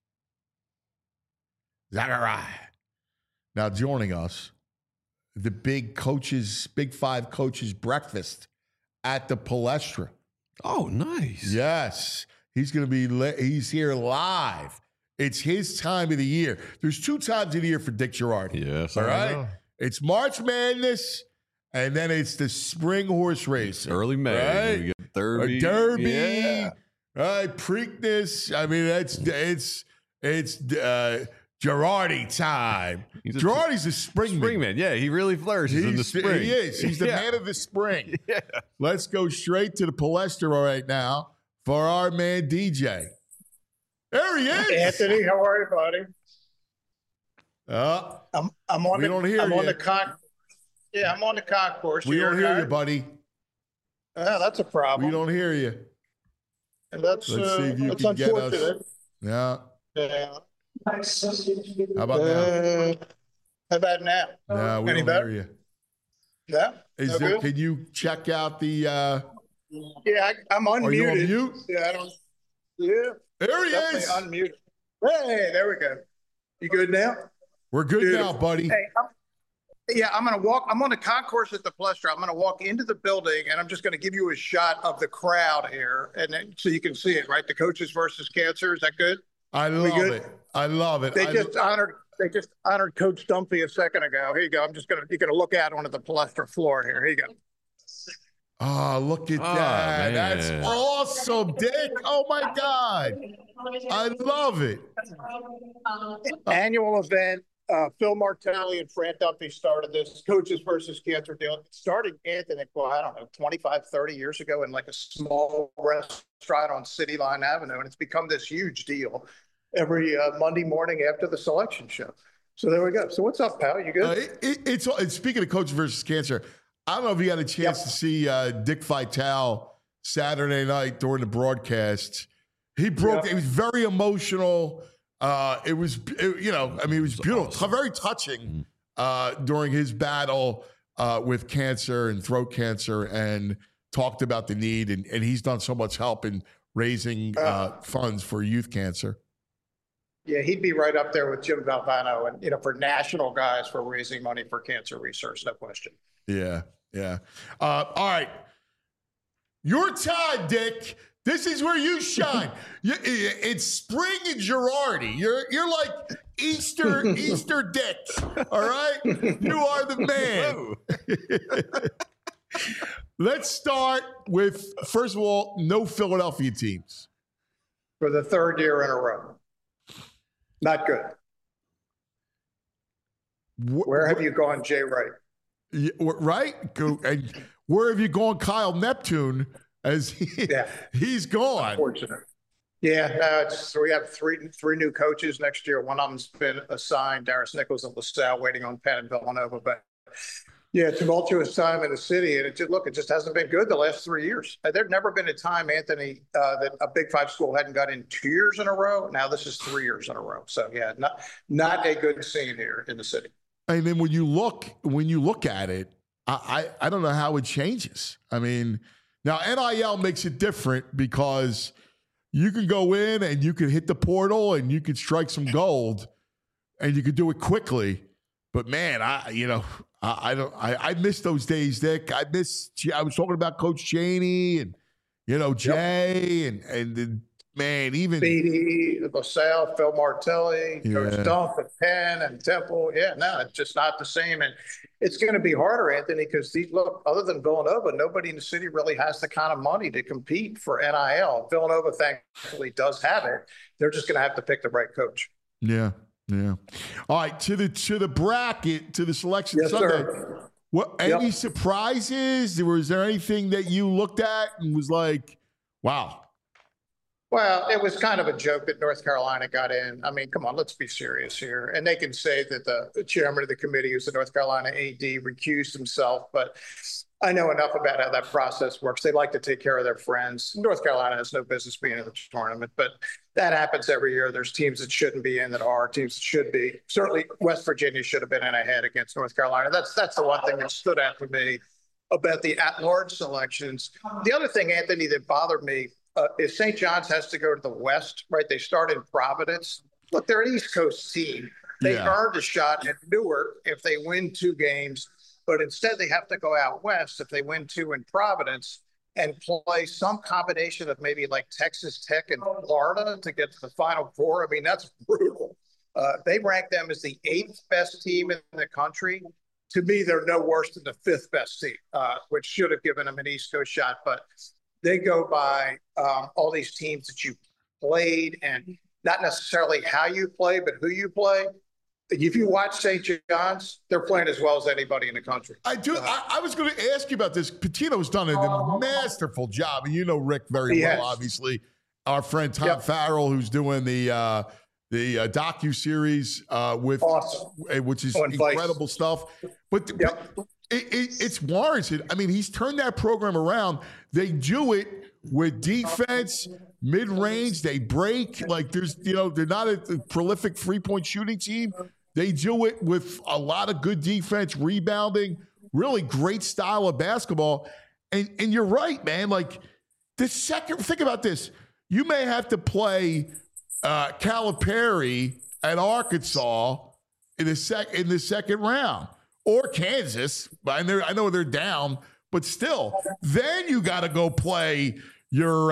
Zachariah. Now joining us, the Big Five coaches breakfast at the Palestra. Oh, nice. Yes. He's here live. It's his time of the year. There's 2 times of the year for Dick Girardi. Yes, all right. It's March Madness, and then it's the spring horse race. Early May. Right? We get Derby. Yeah. Right. Preakness. I mean, it's Girardi time. Girardi's a springman. Springman, yeah. He really flourishes in the spring. He is. He's the man of the spring. Yeah. Let's go straight to the Palestra right now for our man DJ. There he is. Anthony, how are you, buddy? I'm on. We don't hear you. I'm on the concourse. We don't hear you, buddy. That's a problem. We don't hear you. And let's see if you can get us. Yeah. How about now? How about now? No, we don't hear you. Yeah. Can you check out the? Yeah, I'm unmuted. Are you on mute? Yeah, I don't. Yeah. There he is. Unmuted. Hey, there we go. You good now? We're good now, buddy. Hey, I'm going to walk. I'm on the concourse at the Palestra. I'm going to walk into the building, and I'm just going to give you a shot of the crowd here, and then, so you can see it. Right, the coaches versus cancer. Is that good? I love it. They just honored Coach Stumpy a second ago. Here you go. You're gonna look out onto the Palestra floor here. Here you go. Oh, look at that. Man. That's awesome, Dick. Oh my God. I love it. Annual event. Phil Martelli and Fran Dumpy started this coaches versus cancer deal. It started, Anthony, I don't know, 25, 30 years ago in like a small restaurant on City Line Avenue. And it's become this huge deal every Monday morning after the selection show. So there we go. So what's up, pal? You good? It's speaking of coaches versus cancer, I don't know if you had a chance to see Dick Vitale Saturday night during the broadcast. He broke. It was very emotional. It was beautiful, very touching during his battle with cancer and throat cancer, and talked about the need. And he's done so much help in raising funds for youth cancer. Yeah, he'd be right up there with Jim Valvano and, for national guys for raising money for cancer research, no question. Yeah. All right. Your time, Dick. This is where you shine. It's spring in Girardi. You're like Easter Dick. All right? You are the man. Let's start with, first of all, no Philadelphia teams. For the third year in a row. Not good. Where have you gone, Jay Wright? Yeah, right? And where have you gone, Kyle Neptune, as he's gone? Unfortunate. Yeah, no, we have three new coaches next year. One of them's been assigned, Darius Nichols and LaSalle, waiting on Penn and Villanova. But yeah, tumultuous time in the city, and it just hasn't been good the last 3 years. There'd never been a time, Anthony, that a Big Five school hadn't got in 2 years in a row. Now this is 3 years in a row. So yeah, not a good scene here in the city. And then when you look at it, I don't know how it changes. I mean, now NIL makes it different because you can go in and you can hit the portal and you can strike some gold, and you can do it quickly. But man, I miss those days, Dick. I was talking about Coach Chaney and Jay and man, even Beatty, LaSalle, Phil Martelli, Coach Dump at Penn and Temple. Yeah, no, it's just not the same. And it's going to be harder, Anthony, because other than Villanova, nobody in the city really has the kind of money to compete for NIL. Villanova, thankfully, does have it. They're just going to have to pick the right coach. Yeah. Yeah. All right. To the bracket, to the selection Sunday. Sir. Any surprises? Was there anything that you looked at and was like, wow? Well, it was kind of a joke that North Carolina got in. I mean, come on, let's be serious here. And they can say that the chairman of the committee, who's the North Carolina AD, recused himself, but I know enough about how that process works. They like to take care of their friends. North Carolina has no business being in the tournament, but that happens every year. There's teams that shouldn't be in that are, teams that should be. Certainly, West Virginia should have been in ahead against North Carolina. That's the one thing that stood out for me about the at-large selections. The other thing, Anthony, that bothered me is St. John's has to go to the West, right? They start in Providence. Look, they're an East Coast team. They earned a shot at Newark if they win 2 games. But instead, they have to go out west if they win 2 in Providence and play some combination of maybe like Texas Tech and Florida to get to the Final Four. I mean, that's brutal. They rank them as the 8th best team in the country. To me, they're no worse than the 5th best team, which should have given them an East Coast shot. But they go by all these teams that you played and not necessarily how you play, but who you play. If you watch St. John's, they're playing as well as anybody in the country. I do. I was going to ask you about this. Pitino's done a masterful job, and you know Rick very well, obviously. Our friend Tom Farrell, who's doing the docu-series with, which is incredible stuff. But it's warranted. I mean, he's turned that program around. They do it with defense, mid-range. They break. Like they're not a prolific 3-point shooting team. They do it with a lot of good defense, rebounding, really great style of basketball. And you're right, man. Like think about this. You may have to play Calipari at Arkansas in the second round, or Kansas. I know they're down, but still, then you got to go play your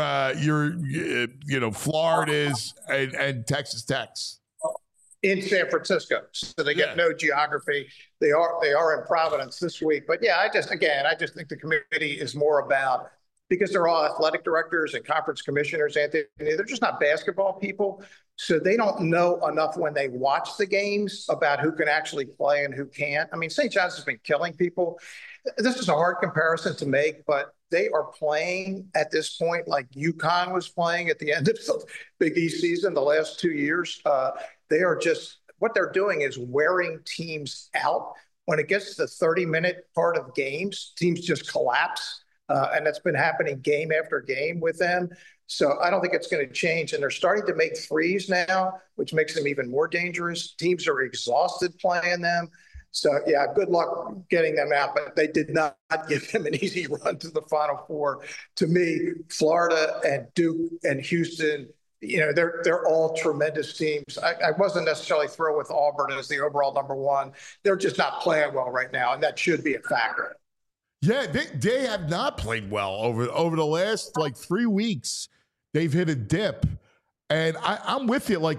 Florida's and Texas Tech's in San Francisco, so they get no geography. They are in Providence this week, but I just think the committee is more about, because they're all athletic directors and conference commissioners, Anthony, they're just not basketball people. So they don't know enough when they watch the games about who can actually play and who can't. I mean, St. John's has been killing people. This is a hard comparison to make, but they are playing at this point like UConn was playing at the end of the Big East season the last 2 years. They are just, what they're doing is wearing teams out. When it gets to the 30-minute part of games, teams just collapse. And that's been happening game after game with them. So I don't think it's going to change. And they're starting to make threes now, which makes them even more dangerous. Teams are exhausted playing them. So, good luck getting them out. But they did not give them an easy run to the Final Four. To me, Florida and Duke and Houston, they're all tremendous teams. I wasn't necessarily thrilled with Auburn as the overall number 1. They're just not playing well right now, and that should be a factor. Yeah, they have not played well over the last 3 weeks. They've hit a dip, and I'm with you. Like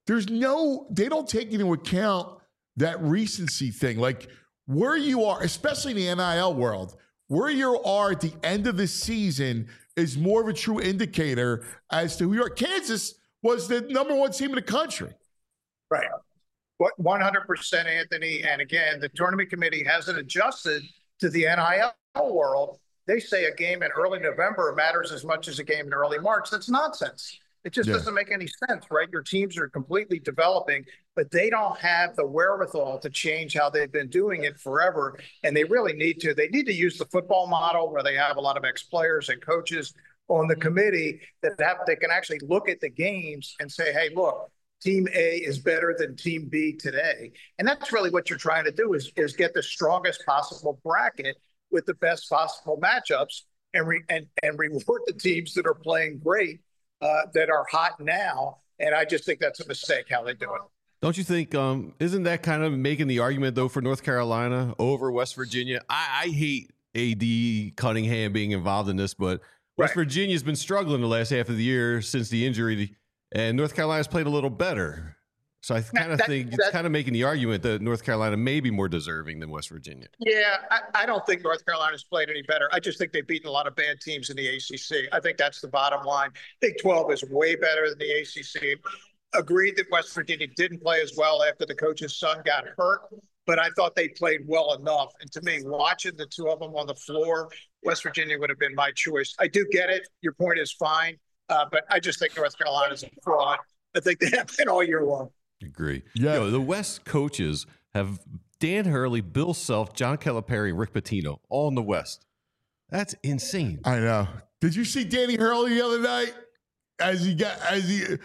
they don't take into account that recency thing. Like where you are, especially in the NIL world, where you are at the end of the season is more of a true indicator as to who you are. Kansas was the number one team in the country. Right. 100%, Anthony. And again, the tournament committee hasn't adjusted to the NIL world. They say a game in early November matters as much as a game in early March. That's nonsense. It just doesn't make any sense, right? Your teams are completely developing, but they don't have the wherewithal to change how they've been doing it forever. And they really need to. They need to use the football model where they have a lot of ex-players and coaches on the committee that they can actually look at the games and say, hey, look, Team A is better than Team B today. And that's really what you're trying to do is get the strongest possible bracket with the best possible matchups and reward the teams that are playing great, that are hot now. And I just think that's a mistake how they do it. Don't you think, isn't that kind of making the argument, though, for North Carolina over West Virginia? I hate A.D. Cunningham being involved in this, but West Virginia's been struggling the last half of the year since the injury, and North Carolina's played a little better. So I kind of think it's kind of making the argument that North Carolina may be more deserving than West Virginia. Yeah, I don't think North Carolina's played any better. I just think they've beaten a lot of bad teams in the ACC. I think that's the bottom line. Big 12 is way better than the ACC. Agreed that West Virginia didn't play as well after the coach's son got hurt, but I thought they played well enough. And to me, watching the two of them on the floor, West Virginia would have been my choice. I do get it. Your point is fine, but I just think North Carolina's a fraud. I think they have been all year long. Agree. Yeah. The West coaches have Dan Hurley, Bill Self, John Calipari, and Rick Pitino all in the West. That's insane. I know. Did you see Danny Hurley the other night? He's the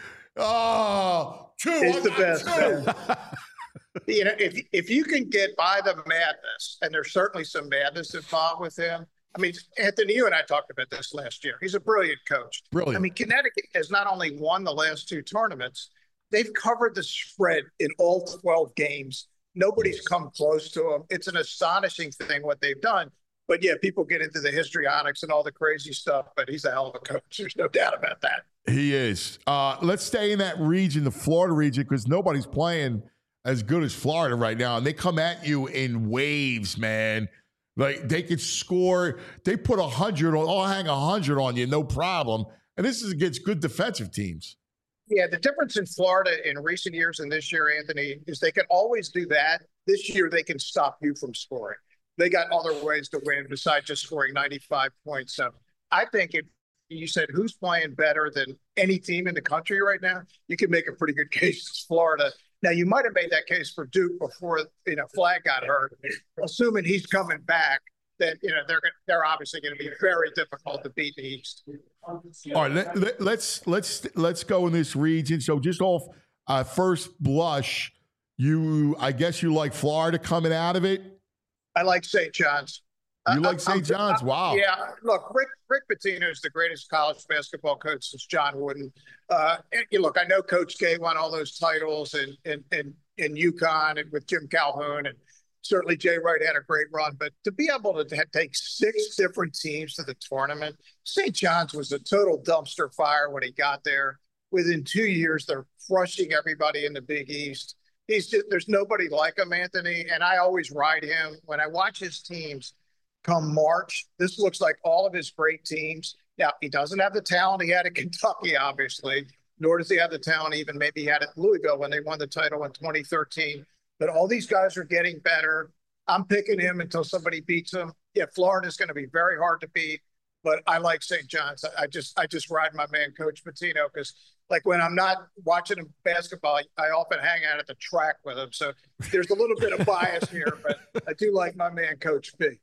best. You know, if you can get by the madness, and there's certainly some madness involved with him. I mean, Anthony, you and I talked about this last year. He's a brilliant coach. Brilliant. I mean, Connecticut has not only won the last two tournaments, they've covered the spread in all 12 games. Nobody's come close to them. It's an astonishing thing what they've done. But yeah, people get into the histrionics and all the crazy stuff, but he's a hell of a coach. There's no doubt about that. He is. Let's stay in that region, the Florida region, because nobody's playing as good as Florida right now. And they come at you in waves, man. Like they could score. They put 100 on, I'll hang 100 on you, no problem. And this is against good defensive teams. Yeah, the difference in Florida in recent years and this year, Anthony, is they can always do that. This year, they can stop you from scoring. They got other ways to win besides just scoring 95 points. So I think if you said who's playing better than any team in the country right now, you can make a pretty good case it's Florida. Now, you might have made that case for Duke before, Flag got hurt. Assuming he's coming back, then, they're obviously going to be very difficult to beat in the East. All right, let's go in this region. So just off first blush, I guess you like Florida coming out of it? I like St. John's. You like St. John's? Wow. Yeah. Look, Rick Pitino is the greatest college basketball coach since John Wooden. Look, I know Coach K won all those titles in UConn and with Jim Calhoun, and certainly Jay Wright had a great run. But to be able to take 6 different teams to the tournament, St. John's was a total dumpster fire when he got there. Within 2 years, they're crushing everybody in the Big East. There's nobody like him, Anthony, and I always ride him. When I watch his teams come March, this looks like all of his great teams. Now, he doesn't have the talent he had at Kentucky, obviously, nor does he have the talent even maybe he had at Louisville when they won the title in 2013. But all these guys are getting better. I'm picking him until somebody beats him. Yeah, Florida's going to be very hard to beat, but I like St. John's. I just ride my man, Coach Pitino, because like when I'm not watching him basketball, I often hang out at the track with him. So there's a little bit of bias here, but I do like my man, Coach B.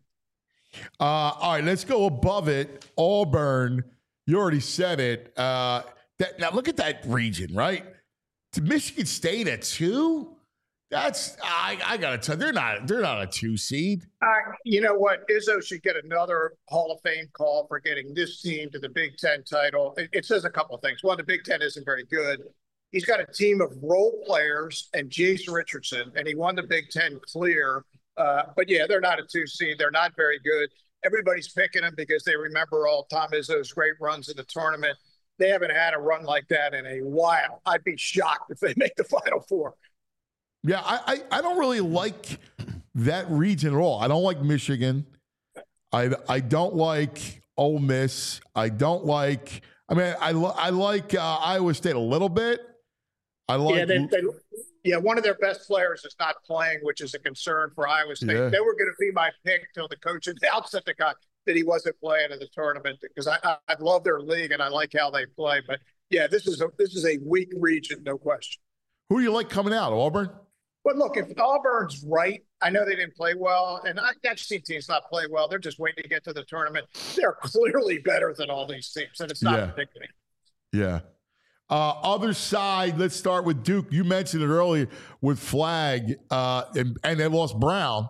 All right, let's go above it. Auburn, you already said it. Now look at that region, right? To Michigan State at 2. That's I gotta tell you, they're not a 2 seed. You know what? Izzo should get another Hall of Fame call for getting this team to the Big Ten title. It says a couple of things. One, the Big Ten isn't very good. He's got a team of role players and Jace Richardson, and he won the Big Ten clear. But yeah, they're not a 2 seed. They're not very good. Everybody's picking them because they remember all Tom Izzo's great runs in the tournament. They haven't had a run like that in a while. I'd be shocked if they make the Final Four. Yeah, I don't really like that region at all. I don't like Michigan. I don't like Ole Miss. I don't like. I mean, I like Iowa State a little bit. I like. Yeah, one of their best players is not playing, which is a concern for Iowa State. Yeah. They were going to be my pick till the coach announced at the guy that he wasn't playing in the tournament, because I love their league and I like how they play. But yeah, this is a weak region, no question. Who do you like coming out? Auburn? But look, if Auburn's right, I know they didn't play well, and I've seen teams not play well. They're just waiting to get to the tournament. They're clearly better than all these teams, and it's not predicting. Yeah. Other side, let's start with Duke. You mentioned it earlier with Flag, and they lost Brown.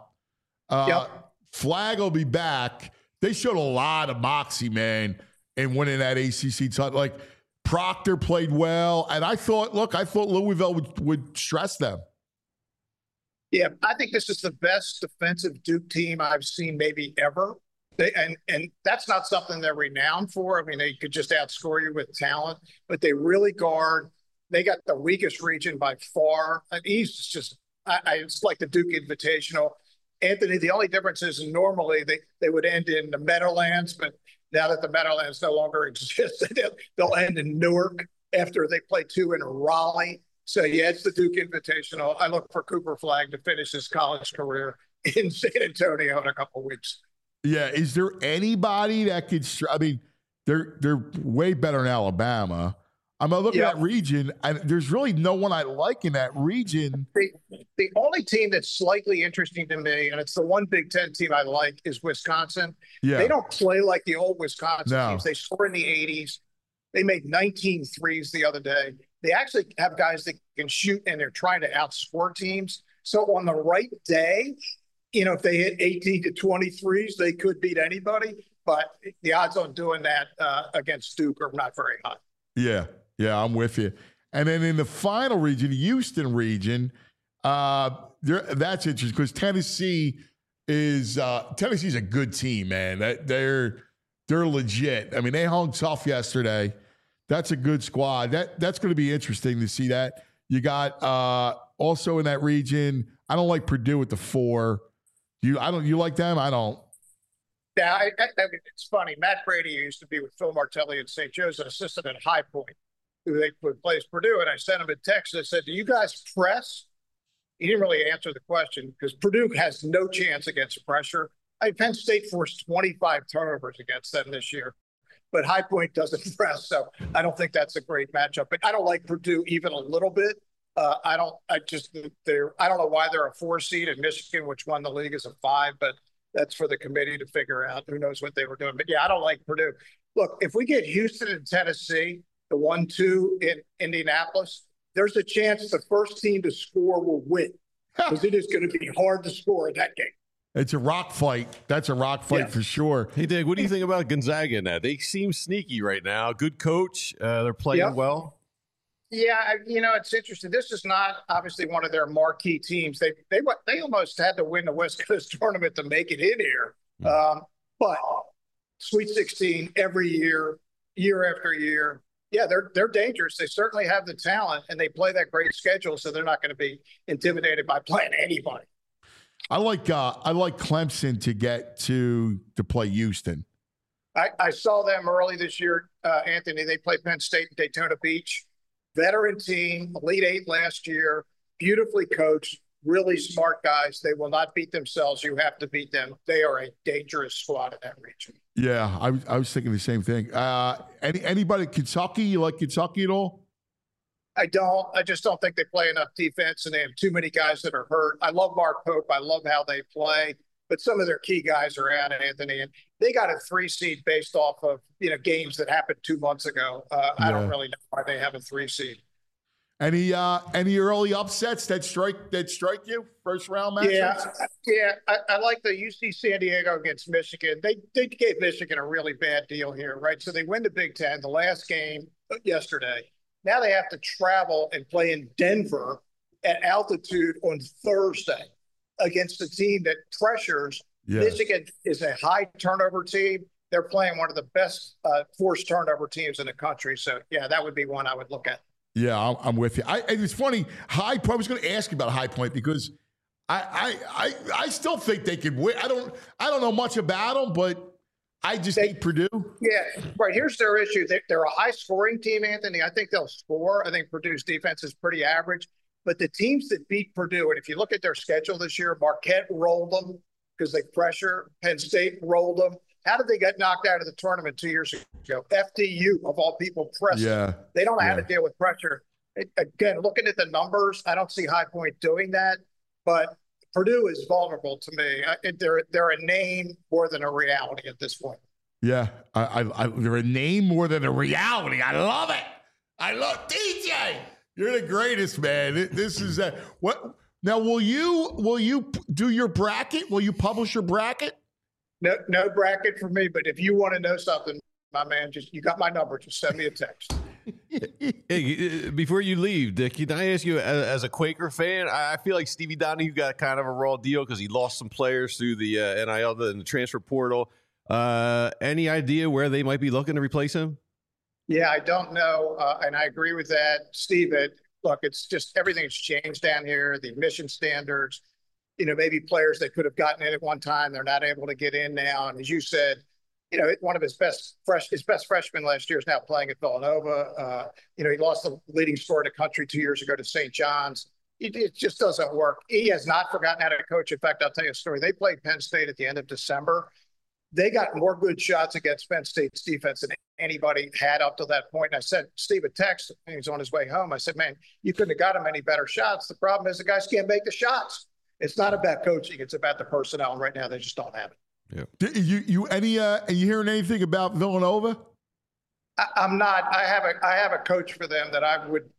Flag will be back. They showed a lot of moxie, man, in winning that ACC title. Like, Proctor played well, and I thought Louisville would stress them. Yeah, I think this is the best defensive Duke team I've seen maybe ever. And that's not something they're renowned for. I mean, they could just outscore you with talent, but they really guard. They got the weakest region by far. And East is just, it's like the Duke Invitational. Anthony, the only difference is normally they would end in the Meadowlands, but now that the Meadowlands no longer exists, they'll end in Newark after they play two in Raleigh. So, yeah, it's the Duke Invitational. I look for Cooper Flag to finish his college career in San Antonio in a couple of weeks. Yeah, is there anybody that could? I mean, they're way better in Alabama. I'm looking at that region, and there's really no one I like in that region. The only team that's slightly interesting to me, and it's the one Big Ten team I like, is Wisconsin. Yeah. They don't play like the old Wisconsin teams. They score in the 80s. They made 19 threes the other day. They actually have guys that can shoot, and they're trying to outscore teams. So on the right day, if they hit 18 to 23s, they could beat anybody. But the odds on doing that against Duke are not very high. Yeah, I'm with you. And then in the final region, the Houston region, that's interesting because Tennessee's a good team, man. They're legit. I mean, they hung tough yesterday. That's a good squad. That's going to be interesting to see that. You got also in that region. I don't like Purdue at the 4. You like them? I don't. Yeah, I mean, it's funny. Matt Brady used to be with Phil Martelli at St. Joe's, an assistant at High Point, who they plays Purdue. And I sent him a text that said, "Do you guys press?" He didn't really answer the question because Purdue has no chance against pressure. Penn State forced 25 turnovers against them this year, but High Point doesn't press, so I don't think that's a great matchup. But I don't like Purdue even a little bit. I don't know why they're a 4 seed in Michigan, which won the league as a 5, but that's for the committee to figure out. Who knows what they were doing? But yeah, I don't like Purdue. Look, if we get Houston and Tennessee, the 1-2 in Indianapolis, there's a chance the first team to score will win because it is going to be hard to score in that game. It's a rock fight. That's a rock fight for sure. Hey, Dig, what do you think about Gonzaga in that? They seem sneaky right now. Good coach. They're playing well. Yeah, it's interesting. This is not obviously one of their marquee teams. They almost had to win the West Coast tournament to make it in here. But Sweet 16 every year, year after year. Yeah, they're dangerous. They certainly have the talent, and they play that great schedule, so they're not going to be intimidated by playing anybody. I like Clemson to get to play Houston. I saw them early this year, Anthony. They played Penn State in Daytona Beach. Veteran team, Elite 8 last year, beautifully coached, really smart guys. They will not beat themselves. You have to beat them. They are a dangerous squad in that region. Yeah, I was thinking the same thing. Anybody Kentucky? You like Kentucky at all? I don't. I just don't think they play enough defense, and they have too many guys that are hurt. I love Mark Pope. I love how they play, but some of their key guys are out, Anthony, and they got a 3 seed based off of games that happened 2 months ago. I don't really know why they have a 3 seed. Any early upsets that strike you? First round matchups? Yeah. I like the UC San Diego against Michigan. They gave Michigan a really bad deal here, right? So they win the Big Ten, the last game yesterday. Now they have to travel and play in Denver at altitude on Thursday against a team that pressures. Yeah. Michigan is a high turnover team. they're playing one of the best forced turnover teams in the country. So, yeah, that would be one I would look at. Yeah, I'm with you. It's funny. High Point. I was going to ask you about High Point because I still think they could win. I don't know much about them, but I just hate Purdue. Yeah, right. Here's their issue. They're a high-scoring team, Anthony. I think they'll score. I think Purdue's defense is pretty average. But the teams that beat Purdue, and if you look at their schedule this year, Marquette rolled them because they pressure. Penn State rolled them. How did they get knocked out of the tournament 2 years ago? FDU, of all people, pressed. Yeah. They don't know how to deal with pressure. Again, looking at the numbers, I don't see High Point doing that. But Purdue is vulnerable to me. They're a name more than a reality at this point. Yeah, they're a name more than a reality. I love it. I love DJ. You're the greatest, man. This is what. Now, will you do your bracket? Will you publish your bracket? No bracket for me. But if you want to know something, my man, you got my number. Just send me a text. Hey, before you leave, Dick, can I ask you, as a Quaker fan, I feel like Stevie Donahue got kind of a raw deal because he lost some players through the NIL and the transfer portal. Any idea where they might be looking to replace him? Yeah, I don't know. And I agree with that. Steve, look, it's just everything's changed down here. The admission standards, maybe players that could have gotten in at one time, they're not able to get in now. And as you said, one of his best freshman last year is now playing at Villanova. He lost the leading scorer in the country 2 years ago to St. John's. It just doesn't work. He has not forgotten how to coach. In fact, I'll tell you a story. They played Penn State at the end of December. They got more good shots against Penn State's defense than anybody had up to that point. And I sent Steve a text, and he was on his way home. I said, man, you couldn't have got him any better shots. The problem is the guys can't make the shots. It's not about coaching. It's about the personnel. And right now, they just don't have it. Yeah. You hearing anything about Villanova? I'm not. I have a coach for them that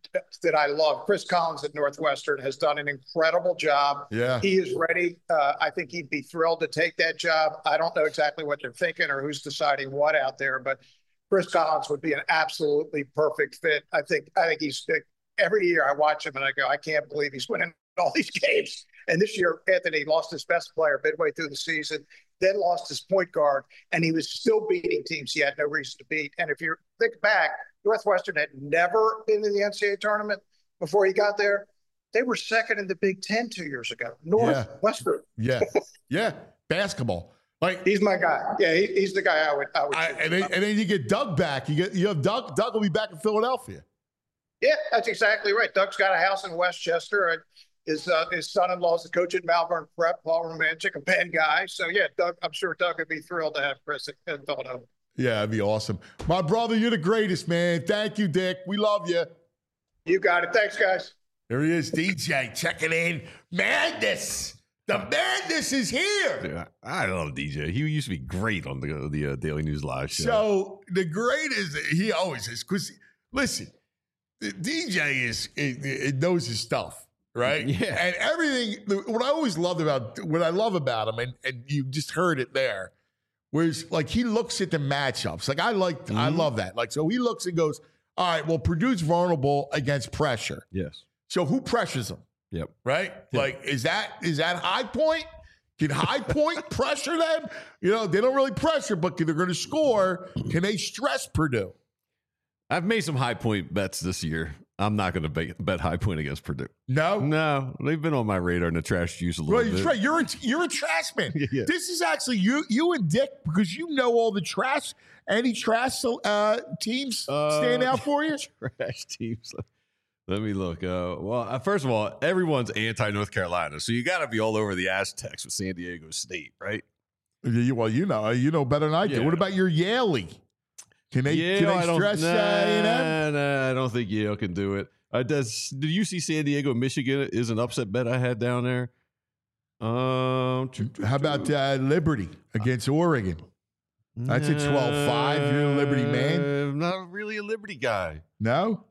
I love. Chris Collins at Northwestern has done an incredible job. Yeah. He is ready. I think he'd be thrilled to take that job. I don't know exactly what they're thinking or who's deciding what out there, but Chris Collins would be an absolutely perfect fit. I think he's every year I watch him and I go, I can't believe he's winning all these games. And this year, Anthony lost his best player midway through the season, then lost his point guard, and he was still beating teams he had no reason to beat. And if you think back, Northwestern had never been in the NCAA tournament before he got there. They were second in the Big Ten 2 years ago. Northwestern. Yeah. Basketball. Like, he's my guy. Yeah, he's the guy I would. And then you get Doug back. You have Doug. Doug will be back in Philadelphia. Yeah, that's exactly right. Doug's got a house in Westchester. His son-in-law is the coach at Malvern Prep, Paul Romanchik, a Penn guy. So, yeah, Doug, I'm sure Doug would be thrilled to have Chris in Philadelphia. Yeah, that'd be awesome. My brother, you're the greatest, man. Thank you, Dick. We love you. You got it. Thanks, guys. There he is, DJ, checking in. Madness. The madness is here. Yeah, I love DJ. He used to be great on the Daily News Live show. So the great is, he always is. Because, listen, DJ it knows his stuff. Right? Yeah. And everything, what I love about him, and you just heard it there, was like he looks at the matchups. Like I love that. Like, so he looks and goes, all right, well, Purdue's vulnerable against pressure. Yes. So who pressures them? Yep. Right? Yep. Like, is that High Point? Can High Point pressure them? They don't really pressure, but they're going to score. Can they stress Purdue? I've made some High Point bets this year. I'm not going to bet High Point against Purdue. No, they've been on my radar in the trash juice a little bit. Right. You're a trash man. Yeah. This is actually you and Dick, because you know all the trash. Any trash teams stand out for you? Trash teams. Let me look. First of all, everyone's anti-North Carolina, so you got to be all over the Aztecs with San Diego State, right? Well, you know better than I do. What about your Yale? Can they stress A&M? Nah, I don't think Yale can do it. Did you see San Diego, Michigan is an upset bet I had down there? How about Liberty against Oregon? That's a 12-5. You're a Liberty man. I'm not really a Liberty guy. No.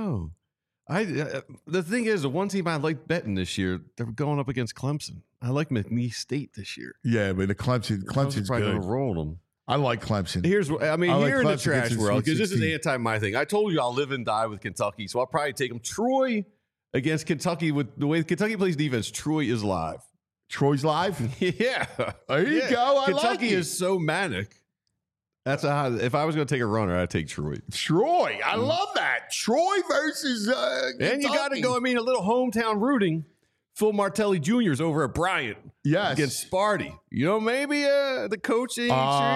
The thing is, the one team I like betting this year, they're going up against Clemson. I like McNeese State this year. Yeah, but Clemson's probably good. Going to roll them. I like Clemson. Here in the trash world, because this is 16. anti my thing. I told you I'll live and die with Kentucky, so I'll probably take them. Troy against Kentucky, with the way Kentucky plays defense, Troy is live. Troy's live? Yeah. There you go. Kentucky is so manic. That's if I was going to take a runner, I'd take Troy. Troy. I love that. Troy versus And you got to go, a little hometown rooting. Phil Martelli Jr. is over at Bryant. Yes. Against Sparty. Maybe the coaching. You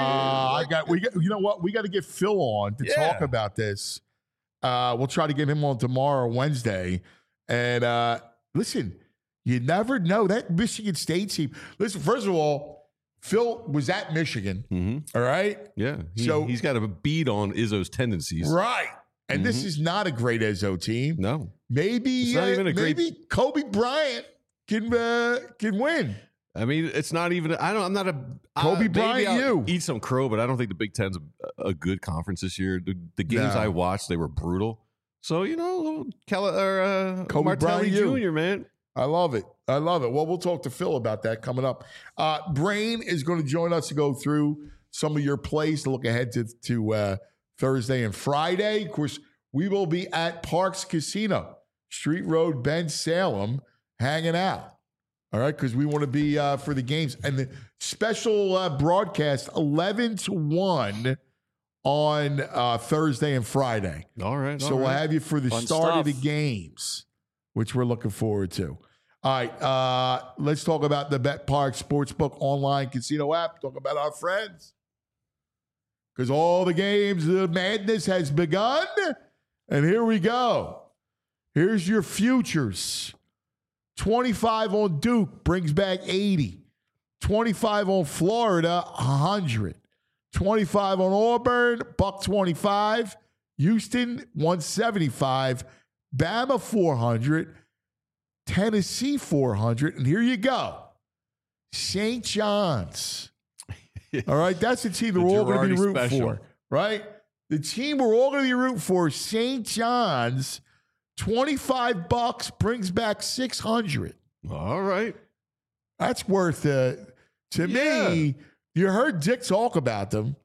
know what? We got to get Phil on to talk about this. We'll try to get him on tomorrow, Wednesday. And listen, you never know. That Michigan State team. Listen, first of all, Phil was at Michigan. All right? Yeah. He's got a beat on Izzo's tendencies. Right. And this is not a great Izzo team. No. Maybe it's not even maybe Kobe Bryant can win. It's not even. I'm not a Kobe Bryant. Eat some crow, but I don't think the Big Ten's a good conference this year. The games I watched, they were brutal. So Kobe Martelli Jr. Man, I love it. Well, we'll talk to Phil about that coming up. Brain is going to join us to go through some of your plays to look ahead to Thursday and Friday. Of course, we will be at Parks Casino, Street Road, Ben Salem, hanging out. All right, because we want to be for the games. And the special broadcast, 11 to 1 on Thursday and Friday. All right. So we'll have you for the start of the games, which we're looking forward to. All right, let's talk about the BetParx Sportsbook online casino app. Talk about our friends. Because all the games, the madness has begun. And here we go. Here's your futures. 25 on Duke brings back 80. 25 on Florida, 100. 25 on Auburn, $125. Houston, 175. Bama, 400. Tennessee, 400. And here you go. St. John's. All right, that's the team that we're all going to be rooting for, right? The team we're all going to be rooting for, St. John's, $25 brings back 600. All right. That's worth it. To me, you heard Dick talk about them.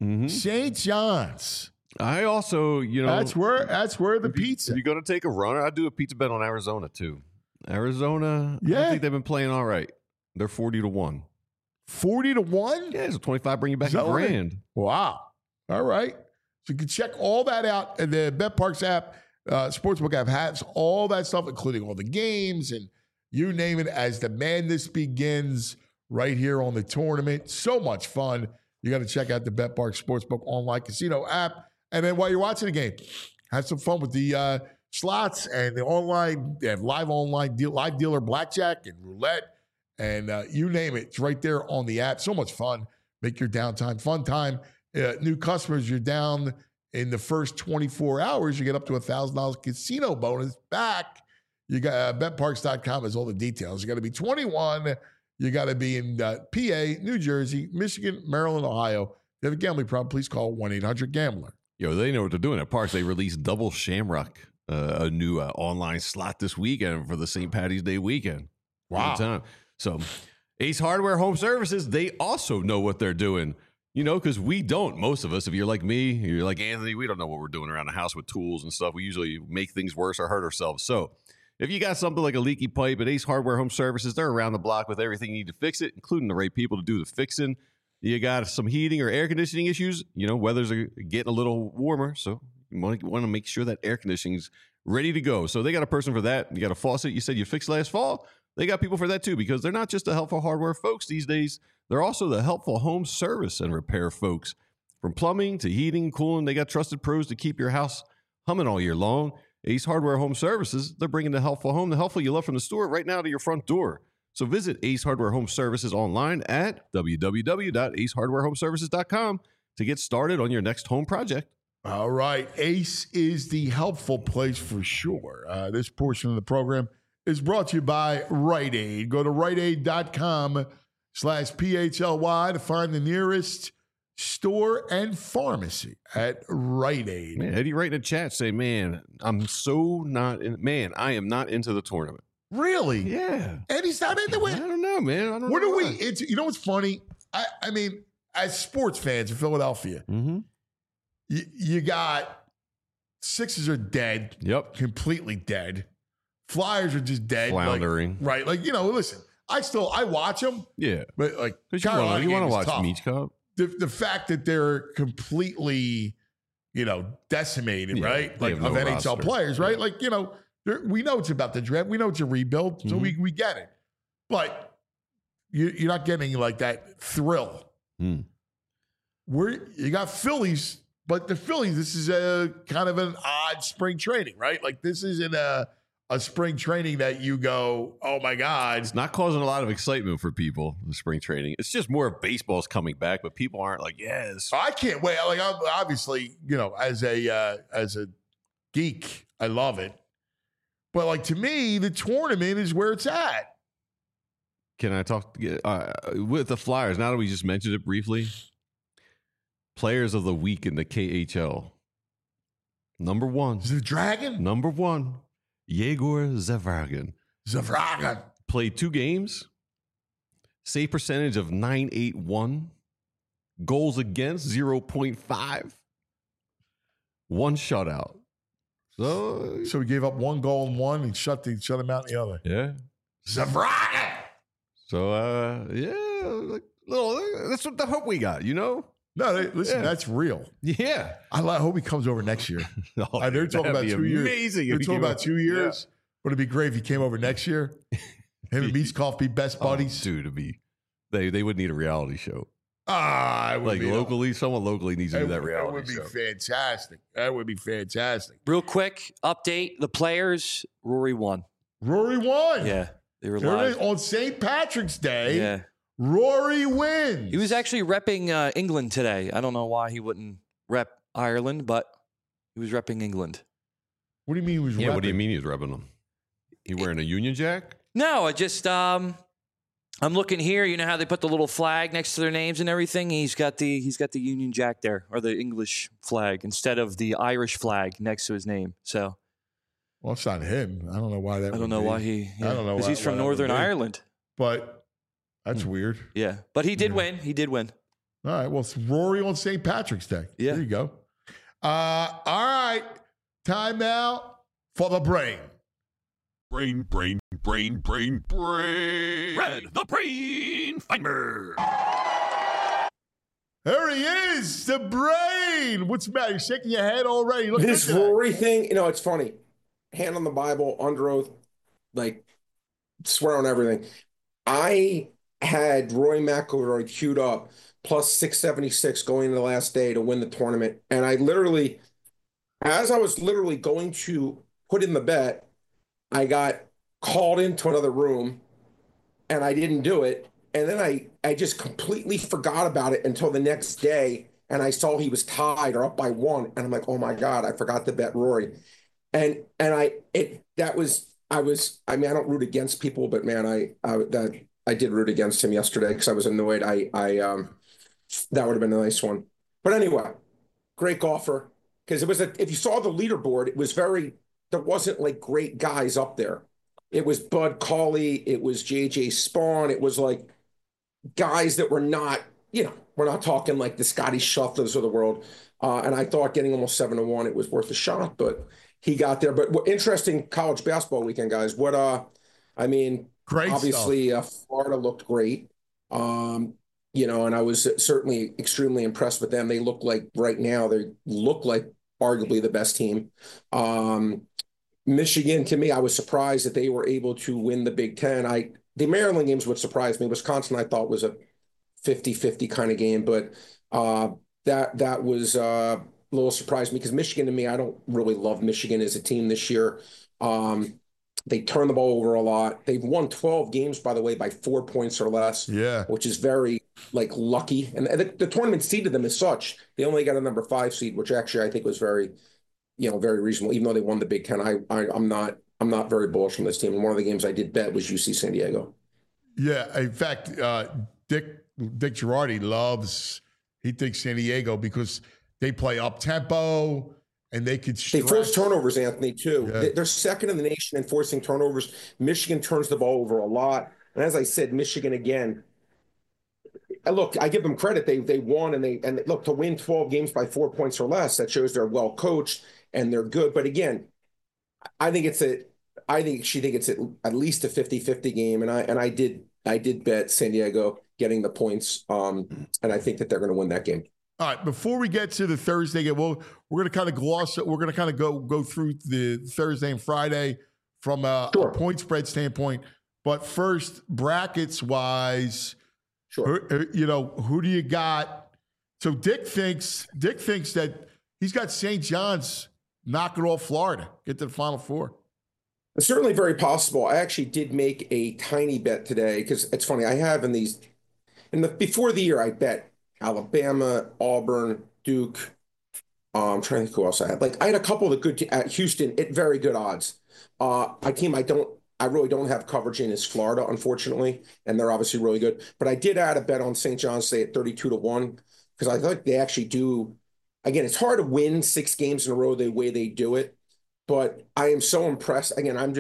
St. John's. I also, that's where the pizza. If you're going to take a runner, I'd do a pizza bet on Arizona too. Arizona, I think they've been playing all right. They're 40 to 1. 40 to 1? Yeah, so 25 bring you back $1,000. Wow. All right. So you can check all that out. And the BetParx app, Sportsbook app has all that stuff, including all the games and you name it, as the madness begins right here on the tournament. So much fun. You got to check out the BetParx Sportsbook online casino app. And then while you're watching the game, have some fun with the slots and the online. They have live dealer blackjack and roulette. And you name it, it's right there on the app. So much fun. Make your downtime fun time. New customers, you're down in the first 24 hours, you get up to $1,000 casino bonus back. You got betparx.com has all the details. You got to be 21. You got to be in PA, New Jersey, Michigan, Maryland, Ohio. If you have a gambling problem, please call 1-800-GAMBLER. They know what they're doing at Parks. They released Double Shamrock, a new online slot this weekend for the St. Patty's Day weekend. Wow. So Ace Hardware Home Services, they also know what they're doing, because we don't. Most of us, if you're like me, you're like Anthony, we don't know what we're doing around the house with tools and stuff. We usually make things worse or hurt ourselves. So if you got something like a leaky pipe at Ace Hardware Home Services, they're around the block with everything you need to fix it, including the right people to do the fixing. You got some heating or air conditioning issues, weathers are getting a little warmer. So you want to make sure that air conditioning's ready to go. So they got a person for that. You got a faucet you said you fixed last fall. They got people for that too, because they're not just the helpful hardware folks these days. They're also the helpful home service and repair folks. From plumbing to heating, cooling, they got trusted pros to keep your house humming all year long. Ace Hardware Home Services, they're bringing the helpful home, the helpful you love from the store right now to your front door. So visit Ace Hardware Home Services online at www.acehardwarehomeservices.com to get started on your next home project. All right. Ace is the helpful place for sure. This portion of the program is brought to you by Rite Aid. Go to riteaid.com/PHLY to find the nearest store and pharmacy at Rite Aid. Man, Eddie write in the chat say, man, I am not into the tournament. Really? Yeah. Eddie's not into it? I don't know, man. I don't know. What are we into? You know what's funny? I mean, as sports fans in Philadelphia, you got Sixers are dead. Yep. Completely dead. Flyers are just dead. Floundering. Listen, I watch them. Yeah. But you want to watch Meach Cup. the fact that they're completely, decimated, right? They Like have no of NHL roster. players, right? Like, we know it's about the draft. We know it's a rebuild, so Mm-hmm. we get it. But you're not getting like that thrill. Mm. You got Phillies, but the Phillies, this is a kind of an odd spring training, right? Like this isn't a spring training that you go, oh my God. It's not causing a lot of excitement for people, the spring training. It's just more of baseball's coming back, but people aren't like, yes. I can't wait. Like I'm obviously, as a geek, I love it. But like to me, the tournament is where it's at. Can I talk with the Flyers? Now that we just mentioned it briefly, players of the week in the KHL. Number one, Is it the Dragon? Yegor Zavargin. Zavragan. Played 2 games, save percentage of .981, goals against 0.5, 1 shutout. So he gave up 1 goal in one and shut him out in the other. Yeah. Zavragan. So that's what the hope we got, No, listen, that's real. Yeah. I hope he comes over next year. Oh, They're talking about that'd be 2 years. amazing. They're if he talking came about up- 2 years. But it'd be great if he came over next year. Him and Meatskov be best Oh, buddies. dude, they would need a reality show. It would Like be locally, someone locally needs to do that That reality would be show. fantastic. That would be fantastic. Real quick update: the players. Rory won. Rory won. Yeah, they were There it is. live. On St. Patrick's Day, Yeah, Rory wins. he was actually repping England today. I don't know why he wouldn't rep Ireland, but he was repping England. What do you mean he was Yeah, what do you repping? mean he's rubbing them? He wearing a Union Jack? No, I just I'm looking here. You know how they put the little flag next to their names and everything. He's got the Union Jack there, or the English flag, instead of the Irish flag next to his name. So Well, it's not him. I don't know why that I would don't know be. why he. I don't know because why- he's from why that would Northern be. Ireland. But that's weird. Yeah, but he did Yeah. win. He did win. All right. Well, it's Rory on St. Patrick's Day. Yeah. There you go. All right. Time now for the brain. Brain. Red, the brain finder. There he is, the brain. What's the matter? You're shaking your head already. Look This at that. Rory thing, it's funny. Hand on the Bible, under oath, like swear on everything. I had Rory McIlroy queued up plus 676 going into the last day to win the tournament. And I literally, as I was literally going to put in the bet, I got called into another room and I didn't do it. And then I just completely forgot about it until the next day. And I saw he was tied or up by 1. And I'm like, oh my God, I forgot to bet Rory. I don't root against people, but man, I did root against him yesterday because I was annoyed. That would have been a nice one. But anyway, great golfer. Because if you saw the leaderboard, there wasn't like great guys up there. It was Bud Cauley, it was JJ Spawn, it was like guys that were not, we're not talking like the Scotty Schefflers of the world. And I thought getting almost 7-1, it was worth a shot, but he got there. But what interesting college basketball weekend, guys. Great obviously Florida looked great. And I was certainly extremely impressed with them. They look like arguably the best team. Michigan, to me, I was surprised that they were able to win the Big Ten. The Maryland games would surprise me. Wisconsin, I thought, was a 50-50 kind of game, but that was a little surprised me because Michigan, to me, I don't really love Michigan as a team this year. They turn the ball over a lot. They've won 12 games, by the way, by 4 points or less, Yeah. which is very lucky. And the tournament seeded them as such. They only got a number 5 seed, which actually I think was very reasonable. Even though they won the Big Ten, I'm not very bullish on this team. And one of the games I did bet was UC San Diego. Yeah. In fact, Dick Girardi he thinks San Diego because they play up tempo and they could They force turnovers, Anthony, too. Yeah. They're second in the nation in forcing turnovers. Michigan turns the ball over a lot. And as I said, Michigan again. Look, I give them credit. They won and look, to win 12 games by 4 points or less, that shows they're well coached and they're good. But again, I think it's at least a 50-50 game. And I did bet San Diego. getting the points. And I think that they're going to win that game. All right, before we get to the Thursday game, we're going to kind of gloss it. We're going to kind of go through the Thursday and Friday from a point spread standpoint. But first, brackets wise, who do you got? So Dick thinks that he's got St. John's knocking off Florida, get to the Final Four. It's certainly very possible. I actually did make a tiny bet today because it's funny. I have before the year, I bet Alabama, Auburn, Duke. I'm trying to think who else I had. Like I had a couple of good at Houston at very good odds. A team I really don't have coverage in is Florida, unfortunately, and they're obviously really good. But I did add a bet on St. John's State at 32-1 because I think they actually do. Again, it's hard to win 6 games in a row the way they do it, but I am so impressed. Again, I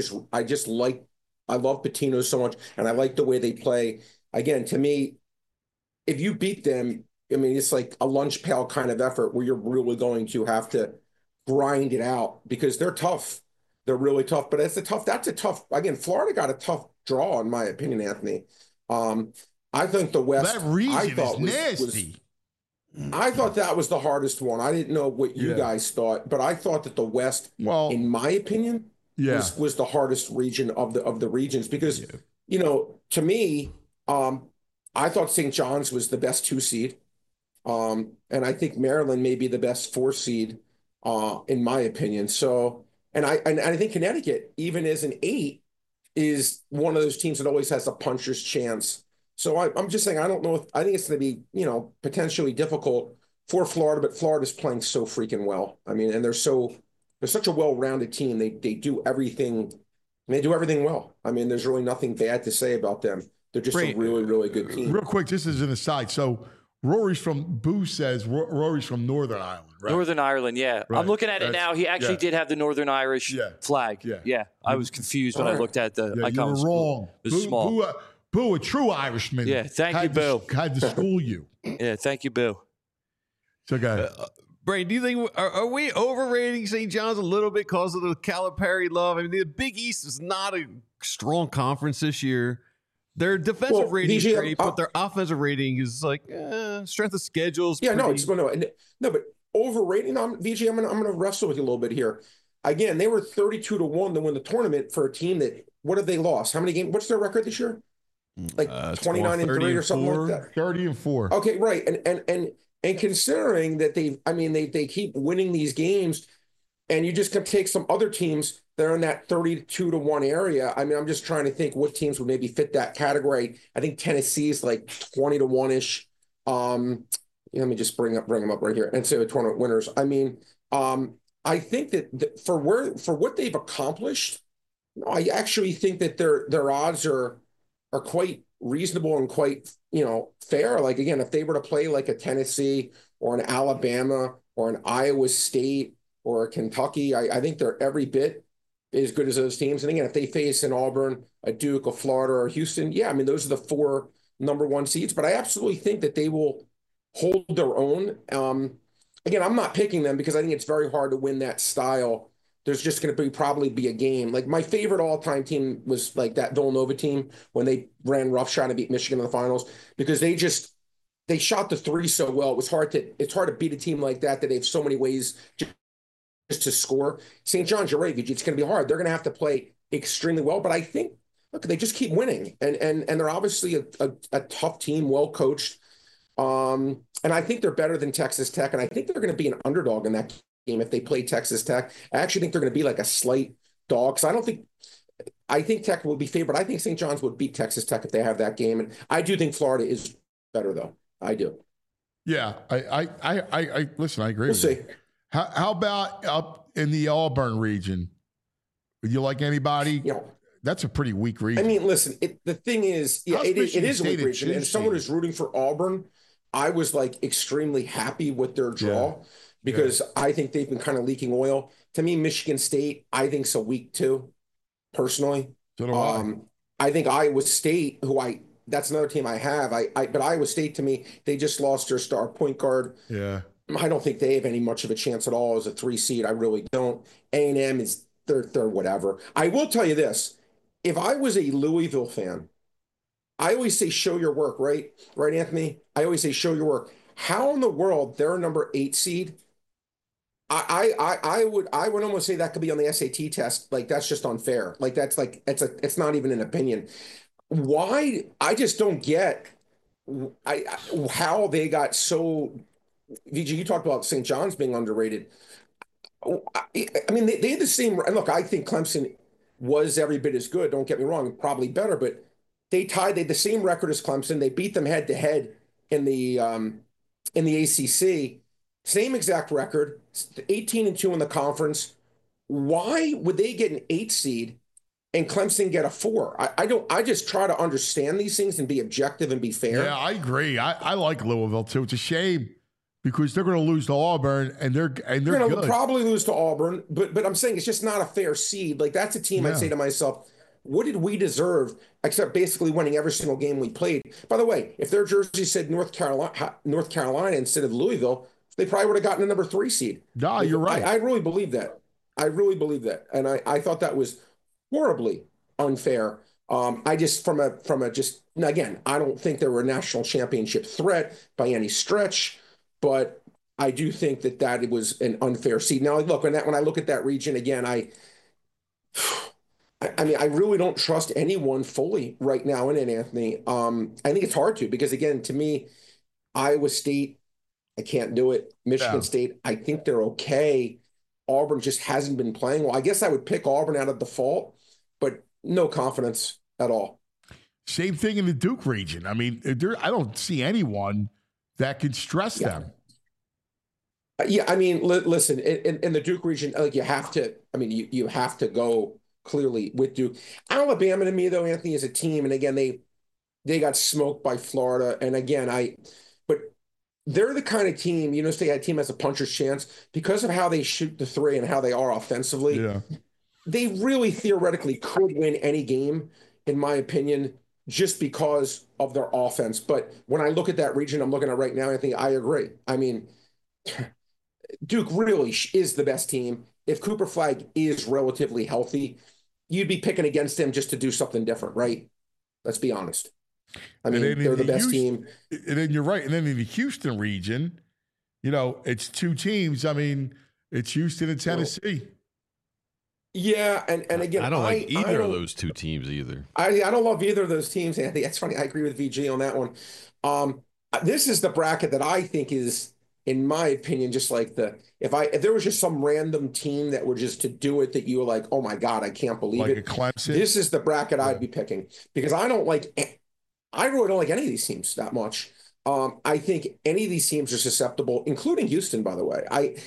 love Patino so much, and I like the way they play. Again, to me, if you beat them, I mean, it's like a lunch pail kind of effort where you're really going to have to grind it out because they're tough. They're really tough, but that's a tough, again, Florida got a tough draw, in my opinion, Anthony. I think the West, that region is nasty. I thought that was the hardest one. I didn't know what you guys thought, but I thought that the West, in my opinion, was the hardest region of the regions because, to me, I thought St. John's was the best 2 seed. And I think Maryland may be the best 4 seed, in my opinion. So, and I think Connecticut, even as an 8, is one of those teams that always has a puncher's chance. So I'm just saying, I don't know I think it's going to be, potentially difficult for Florida, but Florida's playing so freaking well. I mean, and they're such a well-rounded team. They do everything. They do everything well. I mean, there's really nothing bad to say about them. They're just a really, really good team. Real quick, just as an aside. So Rory's from Northern Ireland, right? Northern Ireland, yeah. Right. I'm looking at it now. He actually did have the Northern Irish flag. Yeah. I was confused when I looked at the icon. You were wrong. It was small. Boo, a true Irishman. Yeah, thank you, Boo. Had to school you. Yeah, thank you, Boo. So, guys. Brain, do you think are we overrating St. John's a little bit because of the Calipari love? I mean, the Big East is not a strong conference this year. Their defensive rating is great, but their offensive rating is like strength of schedules. Yeah, no, but overrating. VG, I'm gonna wrestle with you a little bit here. Again, they were 32-1 to win the tournament for a team that. What have they lost? How many games? What's their record this year? Like 29-3 or something like that. 30-4. Okay, right. And considering that they keep winning these games, and you just can take some other teams that are in that 32-1 area. I mean, I'm just trying to think what teams would maybe fit that category. I think Tennessee is like 20-1-ish. Let me just bring them up right here. And so tournament winners. I mean, I think that for what they've accomplished, I actually think that their odds are quite reasonable and quite, fair. Like, again, if they were to play like a Tennessee or an Alabama or an Iowa State or a Kentucky, I think they're every bit as good as those teams. And again, if they face an Auburn, a Duke, a Florida, or Houston, I mean, those are the 4 number 1 seeds. But I absolutely think that they will hold their own. Again, I'm not picking them because I think it's very hard to win that style. There's just going to probably be a game. Like my favorite all-time team was like that Villanova team when they ran roughshod and beat Michigan in the finals because they shot the 3 so well. It's hard to beat a team like that they have so many ways just to score. St. John's, you're right, Vijay, it's going to be hard. They're going to have to play extremely well, but I think they just keep winning and they're obviously a tough team, well coached. And I think they're better than Texas Tech, and I think they're going to be an underdog in that game if they play Texas Tech. I actually think they're going to be like a slight dog. So I think Tech will be favored. I think St. John's would beat Texas Tech if they have that game. And I do think Florida is better though. I do. Yeah. I listen, I agree. We'll see. You. How about up in the Auburn region? Would you like anybody? That's a pretty weak region. I mean, listen, the thing is, it is a weak region. And someone who's rooting for Auburn, I was like extremely happy with their draw. Yeah. Because I think they've been kind of leaking oil. To me, Michigan State, I think so weak too, personally. So do I. I think Iowa State, that's another team I have. But Iowa State, to me, they just lost their star point guard. Yeah. I don't think they have any much of a chance at all as a 3 seed. I really don't. A&M is they're whatever. I will tell you this: if I was a Louisville fan, I always say show your work, right? Right, Anthony? I always say show your work. How in the world they're a number 8 seed? I would almost say that could be on the SAT test. Like that's just unfair. Like that's like it's not even an opinion. Why? I just don't get how they got so. VG, you talked about St. John's being underrated. I mean, they had the same. And look, I think Clemson was every bit as good. Don't get me wrong, probably better, but they had the same record as Clemson. They beat them head to head in the ACC. Same exact record, 18-2 in the conference. Why would they get an 8 seed and Clemson get a 4? I don't. I just try to understand these things and be objective and be fair. Yeah, I agree. I like Louisville too. It's a shame because they're going to lose to Auburn, and they're They're going to good. probably lose to Auburn, but I'm saying it's just not a fair seed. Like that's a team I'd say to myself, what did we deserve except basically winning every single game we played? By the way, if their jersey said North Carolina instead of Louisville, they probably would have gotten a number 3 seed. No, you're right. I really believe that. I really believe that, and I thought that was horribly unfair. I just from a just again, I don't think they were a national championship threat by any stretch, but I do think that it was an unfair seed. Now, look, when I look at that region again, I mean, I really don't trust anyone fully right now in it, Anthony. I think it's hard to because again, to me, Iowa State, I can't do it. Michigan State, I think they're okay. Auburn just hasn't been playing well. I guess I would pick Auburn out of default, but no confidence at all. Same thing in the Duke region. I mean, I don't see anyone that can stress them. Yeah, I mean, listen, in the Duke region, like you have to. I mean, you have to go clearly with Duke. Alabama to me, though, Anthony, is a team, and again, they got smoked by Florida, and again, but they're the kind of team, you know, say a team has a puncher's chance because of how they shoot the three and how they are offensively. Yeah. They really theoretically could win any game, in my opinion, just because of their offense. But when I look at that region I'm looking at right now, Anthony, I agree. I mean, Duke really is the best team. If Cooper Flagg is relatively healthy, you'd be picking against them just to do something different, right? Let's be honest. I mean, they're the best team. And then you're right. And then in the Houston region, you know, it's 2 teams. I mean, it's Houston and Tennessee. Yeah, and again, I don't like either of those 2 teams either. I don't love either of those teams, Anthony. That's funny. I agree with VG on that one. This is the bracket that I think is, in my opinion, just like if there was just some random team that were just to do it that you were like, oh my God, I can't believe like it. A Clemson. This is the bracket I'd be picking because I really don't like any of these teams that much. I think any of these teams are susceptible, including Houston, by the way.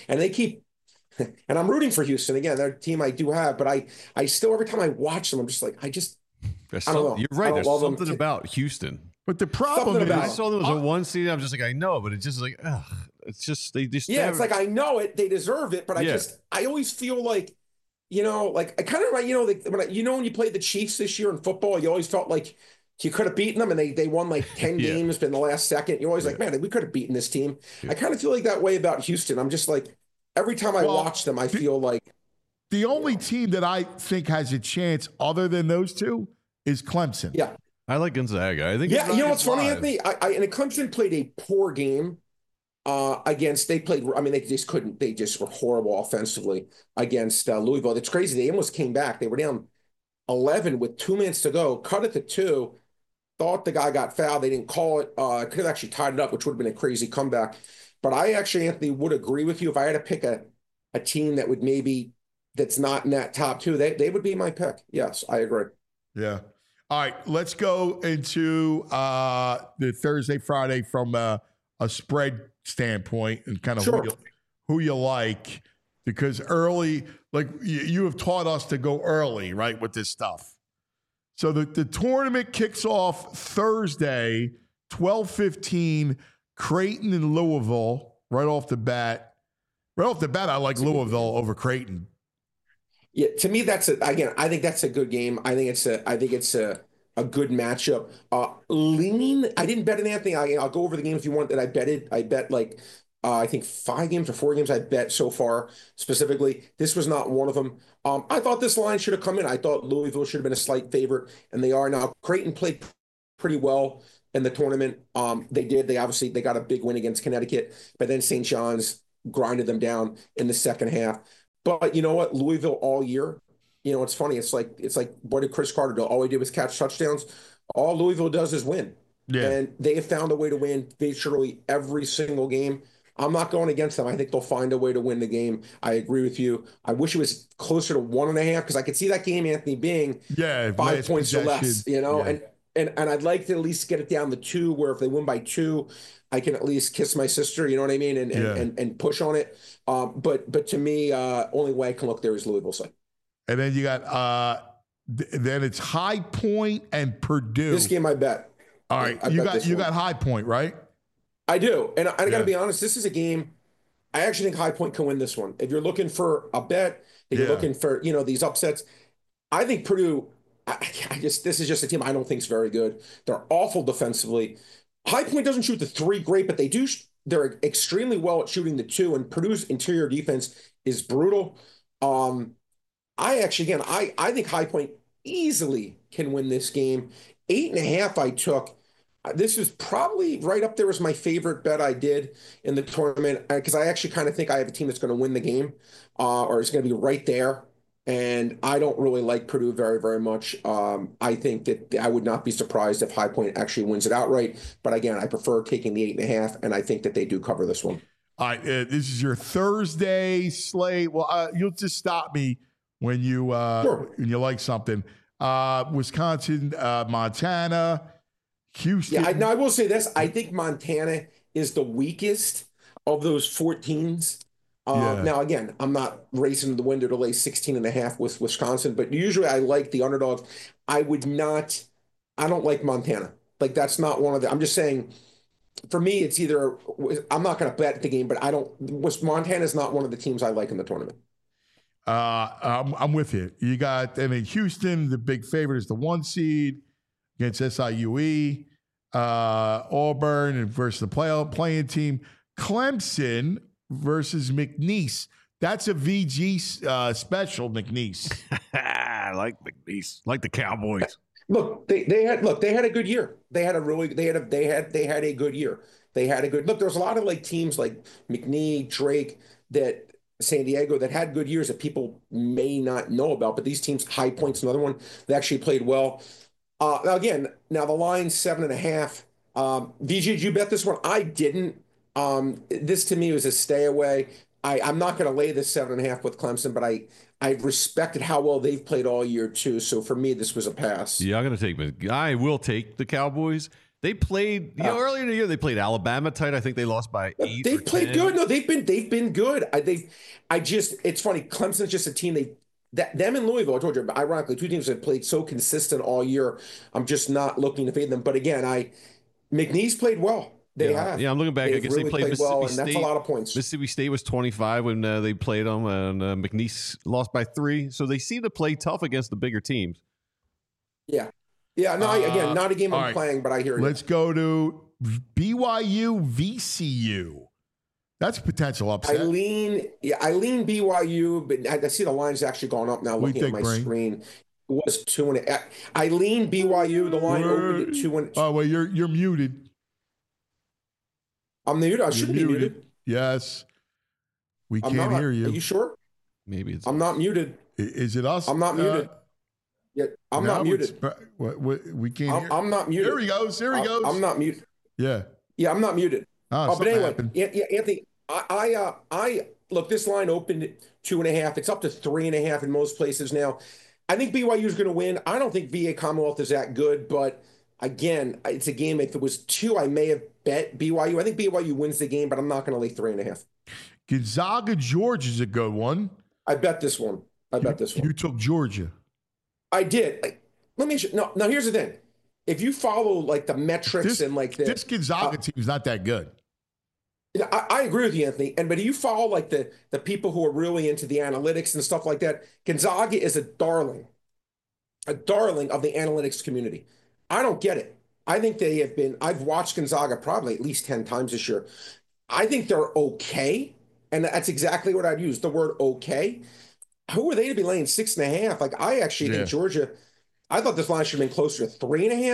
And I'm rooting for Houston again. They're a team I do have, but I still every time I watch them, I'm just like, I don't know. You're right. There's something about Houston. But the problem is, I saw them as a 1 seed. I'm just like, I know, but it's just like, ugh. It's just they just it's like I know it, they deserve it, but I always feel like, you know, like I kind of like, you know, like when you played the Chiefs this year in football, you always felt like you could have beaten them, and they won like 10 games in the last second. You're always like, man, we could have beaten this team. I kind of feel like that way about Houston. I'm just like, every time I watch them, I feel like the only team that I think has a chance other than those 2 is Clemson. Yeah, I like Gonzaga. I think. Yeah, you know what's funny, Anthony? And Clemson played a poor game. They just were horrible offensively against Louisville. It's crazy. They almost came back. They were down 11 with 2 minutes to go, cut it to 2, thought the guy got fouled. They didn't call it. Could have actually tied it up, which would have been a crazy comeback. But I actually, Anthony, would agree with you. If I had to pick a team that would that's not in that top 2, they would be my pick. Yes, I agree. Yeah. All right, let's go into the Thursday, Friday from a spread standpoint and kind of who you like, because early, like you have taught us to go early, right, with this stuff. So the tournament kicks off Thursday, 12:15, Creighton and Louisville right off the bat. Right off the bat, I like Louisville over Creighton. Yeah, to me, I think that's a good game. I think it's a good matchup. I didn't bet it, Anthony. I'll go over the games you want that I betted. I bet like I think 5 games or 4 games I bet so far specifically. This was not one of them. I thought this line should have come in. I thought Louisville should have been a slight favorite, and they are now. Creighton played pretty well in the tournament. They obviously got a big win against Connecticut, but then St. John's grinded them down in the second half. But you know what? Louisville all year, it's funny. It's like what did Chris Carter do? All he did was catch touchdowns. All Louisville does is win. Yeah. And they have found a way to win virtually every single game. I'm not going against them. I think they'll find a way to win the game. I agree with you. I wish it was closer to 1.5 because I could see that game, Anthony, being 5 points or less, Yeah. And I'd like to at least get it down to 2, where if they win by 2, I can at least kiss my sister, you know what I mean, and push on it. But to me, only way I can look there is Louisville side. And then you got then it's High Point and Purdue. This game I bet. All right, you got High Point, right? I do, and I got to be honest. This is a game. I actually think High Point can win this one. If you're looking for a bet, if you're looking for these upsets, I think Purdue. This is just a team I don't think is very good. They're awful defensively. High Point doesn't shoot the 3 great, but they do. They're extremely well at shooting the 2, and Purdue's interior defense is brutal. I think High Point easily can win this game. 8.5 I took. This is probably right up there as my favorite bet I did in the tournament because I actually kind of think I have a team that's going to win the game or is going to be right there. And I don't really like Purdue very, very much. I think that I would not be surprised if High Point actually wins it outright. But again, I prefer taking the 8.5, and I think that they do cover this one. All right, this is your Thursday slate. Well, you'll just stop me when you like something. Wisconsin, Montana, Houston. Yeah, I will say this. I think Montana is the weakest of those 4 teams. Now, again, I'm not racing to the window to lay 16.5 with Wisconsin, but usually I like the underdogs. I don't like Montana. Like, that's not one of the, I'm just saying, for me, it's either, I'm not going to bet the game, but Montana's not one of the teams I like in the tournament. I'm with you. You got, Houston, the big favorite is the 1 seed against SIUE, Auburn versus the playing team, Clemson versus McNeese. That's a VG special, McNeese. I like McNeese, like the Cowboys. Look, they had a good year. They had a good year. There was a lot of like teams like McNeese, Drake, that San Diego that had good years that people may not know about, but these teams, High Point's another one, they actually played well. Now the line's 7.5. VG, did you bet this one? I didn't. This to me was a stay away. I'm not going to lay this 7.5 with Clemson, but I respected how well they've played all year too. So for me, this was a pass. Yeah, I will take the Cowboys. They played earlier in the year. They played Alabama tight. I think they lost by 8. They played 10. Good. No, they've been good. It's funny. Clemson's just a team. Them and Louisville. I told you, ironically, 2 teams that played so consistent all year. I'm just not looking to fade them. But again, McNeese played well. They have. Yeah, I'm looking back. I guess they played Mississippi well, State. And that's a lot of points. Mississippi State was 25 when they played them, and McNeese lost by 3. So they seem to play tough against the bigger teams. Yeah. Yeah, no, again, not a game I'm right. playing, but I hear you. Let's go to BYU VCU. That's a potential upset. I lean BYU, but I see the line's actually gone up now looking at my screen. It was 2.5. I lean BYU. The line opened at 2. Oh, well, you're muted. I'm muted. I should be muted. Yes. We can't hear you. Are you sure? Maybe it's. I'm not muted. Is it us? I'm not muted. Yeah, I'm not muted. We can't hear. I'm not muted. There he goes. I'm not muted. Yeah. Yeah, I'm not muted. But anyway, happened. Anthony, I look, this line opened at 2.5. It's up to 3.5 in most places now. I think BYU is going to win. I don't think VA Commonwealth is that good, but again, it's a game. If it was 2, I may have bet BYU. I think BYU wins the game, but I'm not going to lay 3.5. Gonzaga, Georgia is a good one. I bet this one. You took Georgia. I did. Let me. Now here's the thing. If you follow like the metrics and like this Gonzaga team is not that good. I agree with you, Anthony. But if you follow like the people who are really into the analytics and stuff like that, Gonzaga is a darling of the analytics community. I don't get it. I think they have been. I've watched Gonzaga probably at least 10 times this year. I think they're okay, and that's exactly what I'd use, the word okay. Who are they to be laying 6.5? Like, I actually think Georgia, I thought this line should have been closer to 3.5.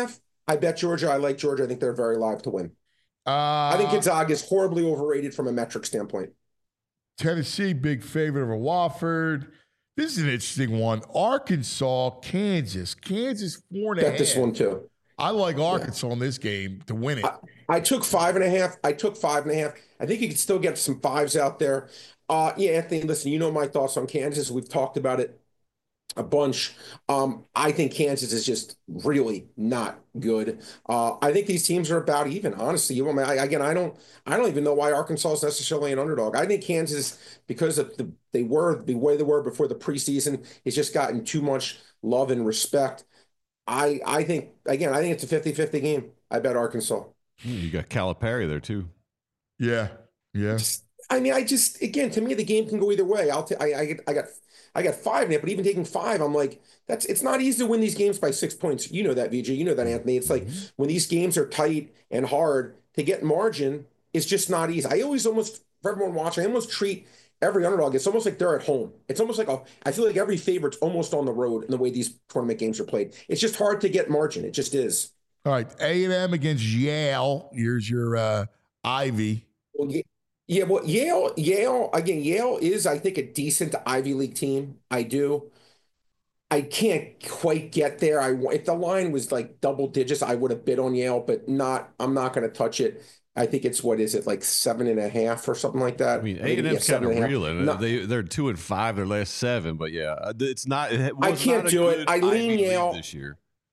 I bet Georgia. I like Georgia. I think they're very live to win. I think Uh, Gonzaga is horribly overrated from a metric standpoint. Tennessee, big favorite over Wofford. This is an interesting one. Arkansas, Kansas. Kansas 4.5. Bet this one too. I like Arkansas in this game to win it. I took 5.5. I took 5.5. I think you could still get some fives out there. Yeah, Anthony, listen, you know my thoughts on Kansas. We've talked about it a bunch. I think Kansas is just really not good. I think these teams are about even. Honestly, I don't even know why Arkansas is necessarily an underdog. I think Kansas, because of the way they were before the preseason, has just gotten too much love and respect. I think it's a 50-50 game. I bet Arkansas. You got Calipari there too. Yeah. Again, to me, the game can go either way. I got 5 in it, but even taking 5, I'm like, it's not easy to win these games by 6 points. You know that, VJ. You know that, Anthony. It's like when these games are tight and hard to get margin, it's just not easy. I always almost, for everyone watching, I almost treat every underdog. It's almost like they're at home. It's almost like I feel like every favorite's almost on the road in the way these tournament games are played. It's just hard to get margin. It just is. All right. A&M against Yale. Here's your Ivy. Well, yeah, well, Yale is, I think, a decent Ivy League team. I can't quite get there. If the line was like double digits, I would have bid on Yale, but I'm not going to touch it. I think it's, what is it, like 7.5 or something like that? I mean, A&M's kind of reeling. They're 2-5 their last 7, but yeah, it's not. I can't do it. I lean Yale this year.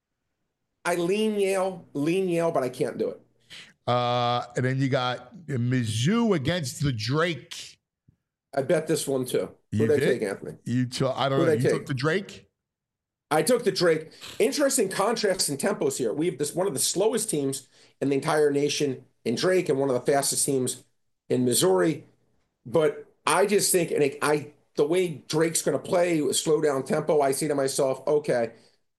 I lean Yale, but I can't do it. And then you got Mizzou against the Drake. I bet this one too. Who did I take, Anthony? I don't know. You took the Drake? I took the Drake. Interesting contrasts and tempos here. We have one of the slowest teams in the entire nation in Drake and one of the fastest teams in Missouri. But I just think, the way Drake's going to play, slow down tempo, I say to myself, okay,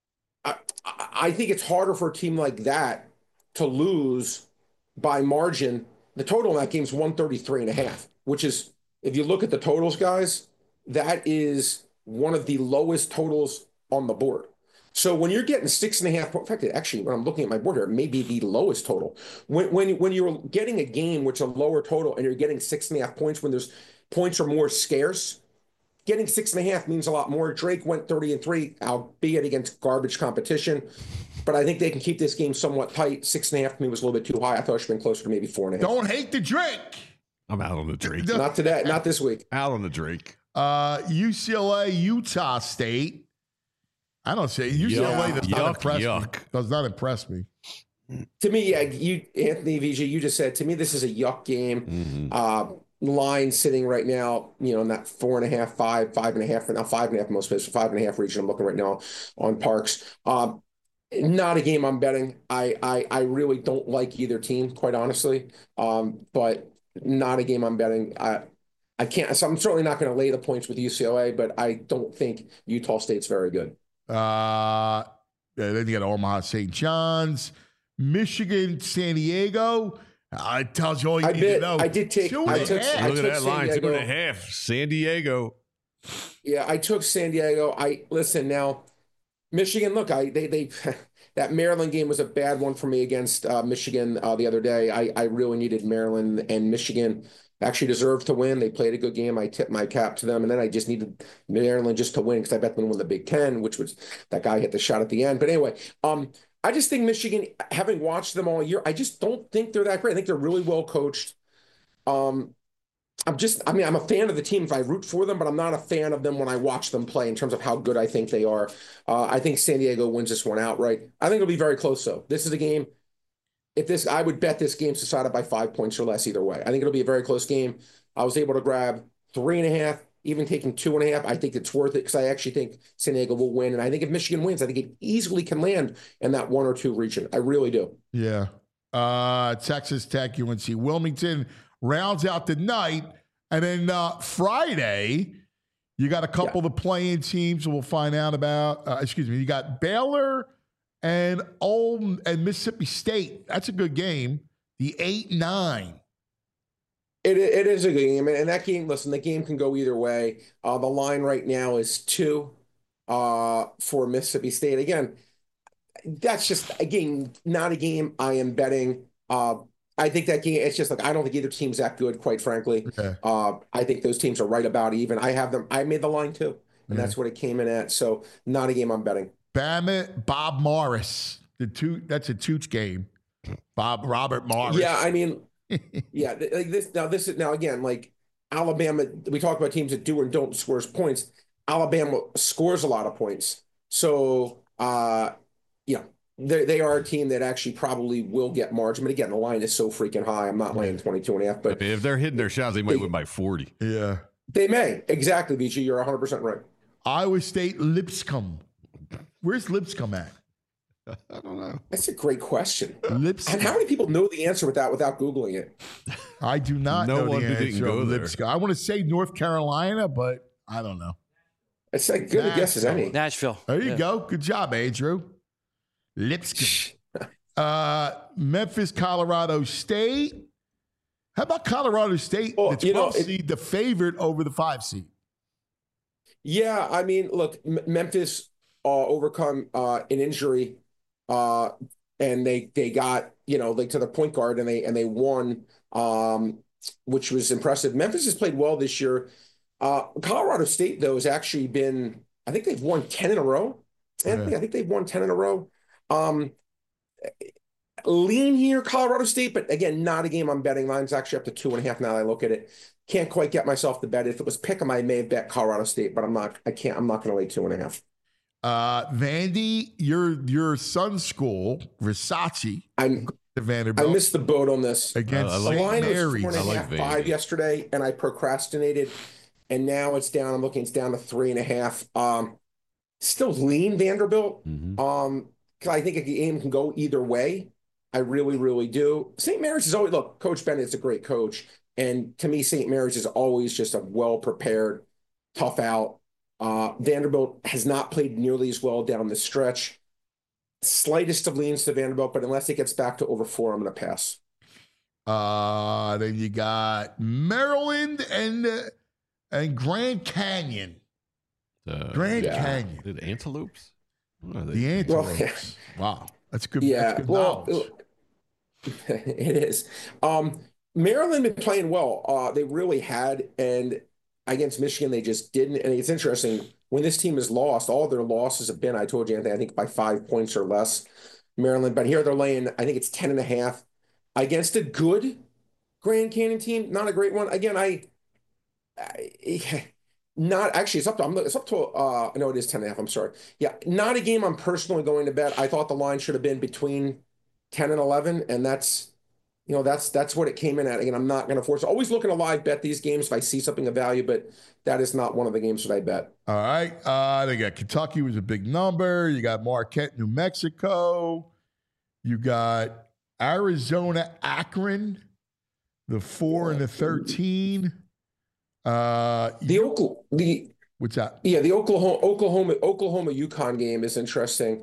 I think it's harder for a team like that to lose by margin. The total in that game is 133.5, which is, if you look at the totals, guys, that is one of the lowest totals on the board. So when you're getting 6.5, in fact, actually, when I'm looking at my board here, it may be the lowest total. When you're getting a game which is a lower total and you're getting 6.5 points when there's points are more scarce, getting 6.5 means a lot more. Drake went 30-3, albeit against garbage competition. But I think they can keep this game somewhat tight. 6.5 to me was a little bit too high. I thought it should have been closer to maybe 4.5. Don't hate the Drake. I'm out on the Drake. Not today. Not this week. Out on the Drake. UCLA, Utah State. I don't say UCLA does not impress me. To me, yeah, Anthony VJ, you just said, to me, this is a yuck game. Line sitting right now, in that 4.5, 5.5, now 5.5 most places, 5.5 region. I'm looking right now on Parks. Not a game I'm betting. I really don't like either team, quite honestly. But not a game I'm betting. I can't. So I'm certainly not going to lay the points with UCLA, but I don't think Utah State's very good. Then you got Omaha St. John's, Michigan, San Diego. I tells you all you need to know. I did take. Look at that line, 2.5. San Diego. Yeah, I took San Diego. Listen now. Michigan, look, they that Maryland game was a bad one for me against Michigan the other day. I really needed Maryland, and Michigan actually deserved to win. They played a good game. I tipped my cap to them, and then I just needed Maryland just to win because I bet them to win the Big Ten, which was that guy hit the shot at the end. But anyway, I just think Michigan, having watched them all year, I just don't think they're that great. I think they're really well coached. I'm a fan of the team if I root for them, but I'm not a fan of them when I watch them play in terms of how good I think they are. I think San Diego wins this one outright. I think it'll be very close, though. This is a game. I would bet this game's decided by 5 points or less either way. I think it'll be a very close game. I was able to grab 3.5, even taking 2.5. I think it's worth it because I actually think San Diego will win. And I think if Michigan wins, I think it easily can land in that 1 or 2 region. I really do. Yeah. Texas Tech, UNC Wilmington rounds out the night. And then Friday, you got a couple of the playing teams we'll find out about. You got Baylor and Mississippi State. That's a good game. The 8-9. It is a good game. And that game, listen, the game can go either way. The line right now is 2 for Mississippi State. Again, that's just a game, not a game I am betting. I think that game, it's just like, I don't think either team's that good, quite frankly. Yeah. I think those teams are right about even. I have them, I made the line too, and Yeah. that's what it came in at. So not a game I'm betting. Bama, Bob Morris. That's a Tooch game. Robert Morris. Yeah, I mean, yeah, like this is now again, like Alabama, we talk about teams that do and don't score points. Alabama scores a lot of points. So, yeah, they are a team that actually probably will get margin. But again, the line is so freaking high. I'm not laying 22.5, but If they're hitting their shots, they might win by 40. Yeah. they may. Exactly, BG. You're 100% right. Iowa State, Lipscomb. Where's Lipscomb at? I don't know. That's a great question. Lipscomb. And how many people know the answer without Googling it? I do not No know one the who didn't answer go of there. Lipscomb. I want to say North Carolina, but I don't know. It's like good a guess as any. Nashville. There you Yeah. go. Good job, Andrew. Lipscomb. Memphis, Colorado State. How about Colorado State? Well, the you know, 12 seed, the favorite over the 5 seed. Yeah, I mean, look, Memphis overcome an injury, and they got like to the point guard and they won, which was impressive. Memphis has played well this year. Colorado State though has actually been, I think they've won 10 in a row. Anthony, I think they've won 10 in a row. Lean here, Colorado State, but again, not a game I'm betting. Line's actually up to 2.5 now that I look at it. Can't quite get myself to bet. If it was pick'em, I may have bet Colorado State, but I'm not going to lay 2.5. Vandy, your son's school, Versace, the I Vanderbilt missed the boat on this. against I The like St. line was Mary's. 4.5, I like 5 Vandy. yesterday, and I procrastinated, and now it's down. I'm looking, it's down to 3.5. Still lean Vanderbilt. Mm-hmm. I think a game can go either way. I really, really do. St. Mary's is always, look, Coach Bennett's a great coach. And to me, St. Mary's is always just a well-prepared, tough out. Vanderbilt has not played nearly as well down the stretch. Slightest of leans to Vanderbilt, but unless it gets back to over 4, I'm going to pass. Then you got Maryland and Grand Canyon. Grand Canyon. The Antelopes? Oh, The Antelopes. Wow. That's good. Yeah, That's good knowledge. it is. Maryland been playing well. They really had, and against Michigan, they just didn't. And it's interesting, when this team has lost, all their losses have been, I told you, Anthony, I think by 5 points or less. Maryland, but here they're laying, I think it's 10.5 against a good Grand Canyon team, not a great one. Again, not actually, it's up to no, it is 10.5. I'm sorry. Yeah, not a game I'm personally going to bet. I thought the line should have been between 10 and 11, and that's what it came in at. Again, I'm not going to force it. Always looking to live bet these games if I see something of value, but that is not one of the games that I bet. All right. They got Kentucky was a big number. You got Marquette, New Mexico. You got Arizona, Akron, the 4 and the 13. What's that? Yeah, the Oklahoma UConn game is interesting.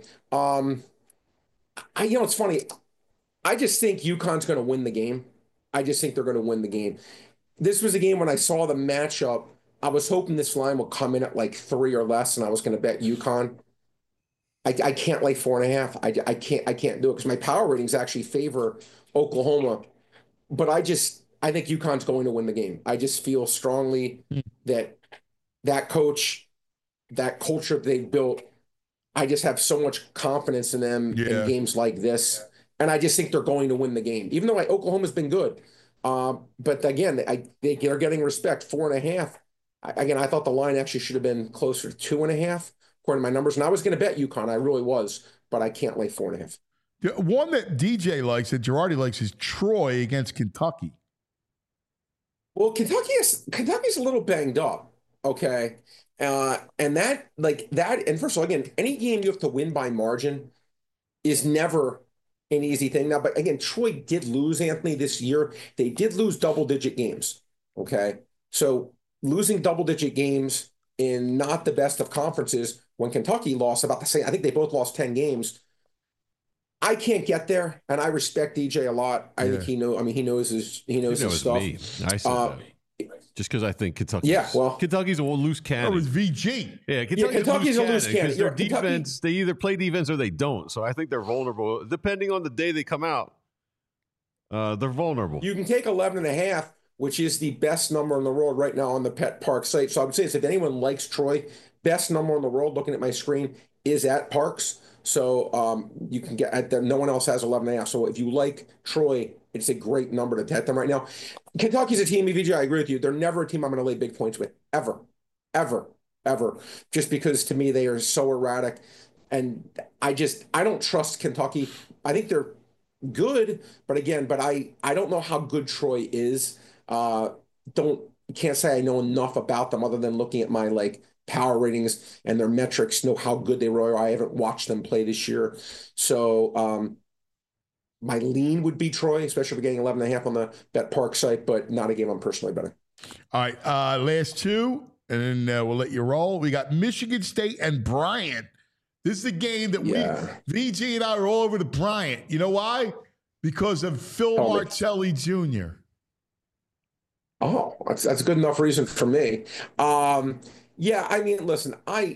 It's funny. I just think UConn's going to win the game. I just think they're going to win the game. This was a game when I saw the matchup, I was hoping this line would come in at like 3 or less, and I was going to bet UConn. I can't lay 4.5. I can't do it because my power ratings actually favor Oklahoma. But I think UConn's going to win the game. I just feel strongly that coach, that culture they built, I just have so much confidence in them in games like this. And I just think they're going to win the game, even though Oklahoma's been good. But again, they're getting respect. 4.5. I thought the line actually should have been closer to 2.5, according to my numbers. And I was going to bet UConn. I really was, but I can't lay 4.5. The one that DJ likes, that Girardi likes, is Troy against Kentucky. Well, Kentucky's a little banged up. Okay. And and first of all, again, any game you have to win by margin is never an easy thing. Now, but again, Troy did lose, Anthony, this year. They did lose double-digit games. Okay. So losing double-digit games in not the best of conferences, when Kentucky lost about the same, I think they both lost 10 games. I can't get there, and I respect DJ a lot. I think he knows his stuff. Me. I said that. just because I think Kentucky's a loose cannon. It was VG. Yeah, Kentucky's a loose cannon. Because their defense, they either play defense or they don't. So I think they're vulnerable. Depending on the day they come out, they're vulnerable. You can take 11.5, which is the best number in the world right now on the Pet Park site. So I would say if anyone likes Troy, best number in the world, looking at my screen, is at Parks. So you can get no one else has 11.5. So if you like Troy, it's a great number to bet them right now. Kentucky's a team, EVG, I agree with you. They're never a team I'm going to lay big points with, ever. Just because to me they are so erratic. And I don't trust Kentucky. I think they're good, but I don't know how good Troy is. Can't say I know enough about them other than looking at my power ratings and their metrics, know how good they were. I haven't watched them play this year. So my lean would be Troy, especially if we're getting 11.5 on the Bet Park site, but not a game I'm personally betting. All right, last two, and then we'll let you roll. We got Michigan State and Bryant. This is a game that VG and I are all over the Bryant. You know why? Because of Phil Martelli Jr. Oh, that's a good enough reason for me. Yeah, I mean, listen,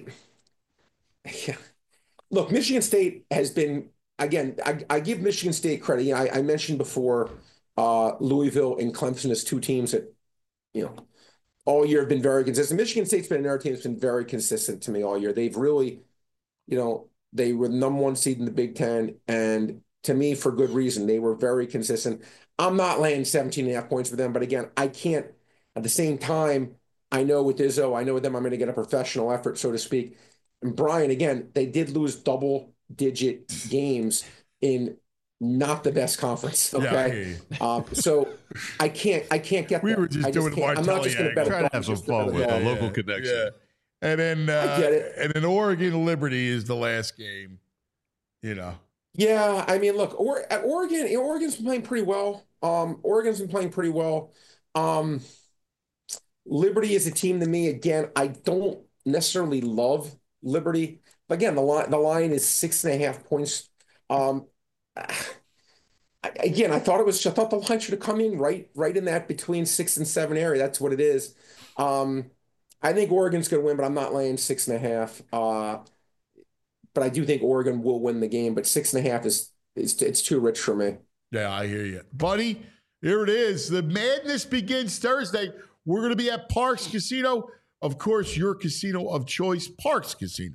look, Michigan State has been, again, I give Michigan State credit. You know, I mentioned before Louisville and Clemson as two teams that, all year have been very consistent. Michigan State's been another team that's been very consistent to me all year. They've really, they were the number one seed in the Big Ten, and to me, for good reason. They were very consistent. I'm not laying 17.5 points for them, but again, I can't, at the same time, I know with Izzo, I know with them, I'm going to get a professional effort, so to speak. And Brian, again, they did lose double-digit games in not the best conference. Okay, so I can't get. We that. were just doing Martelli. I'm not just going to bet. Try to have some fun with a local connection. Yeah. And then, I get it. And then Oregon Liberty is the last game. Yeah, I mean, look, Oregon's been playing pretty well. Oregon's been playing pretty well. Liberty is a team to me. Again, I don't necessarily love Liberty. But again, the line is 6.5 points. Again, I thought the line should have come in right in that between 6 and 7 area. That's what it is. I think Oregon's going to win, but I'm not laying 6.5. But I do think Oregon will win the game. But 6.5 it's too rich for me. Yeah, I hear you, buddy. Here it is. The madness begins Thursday. We're going to be at Parks Casino. Of course, your casino of choice, Parks Casino.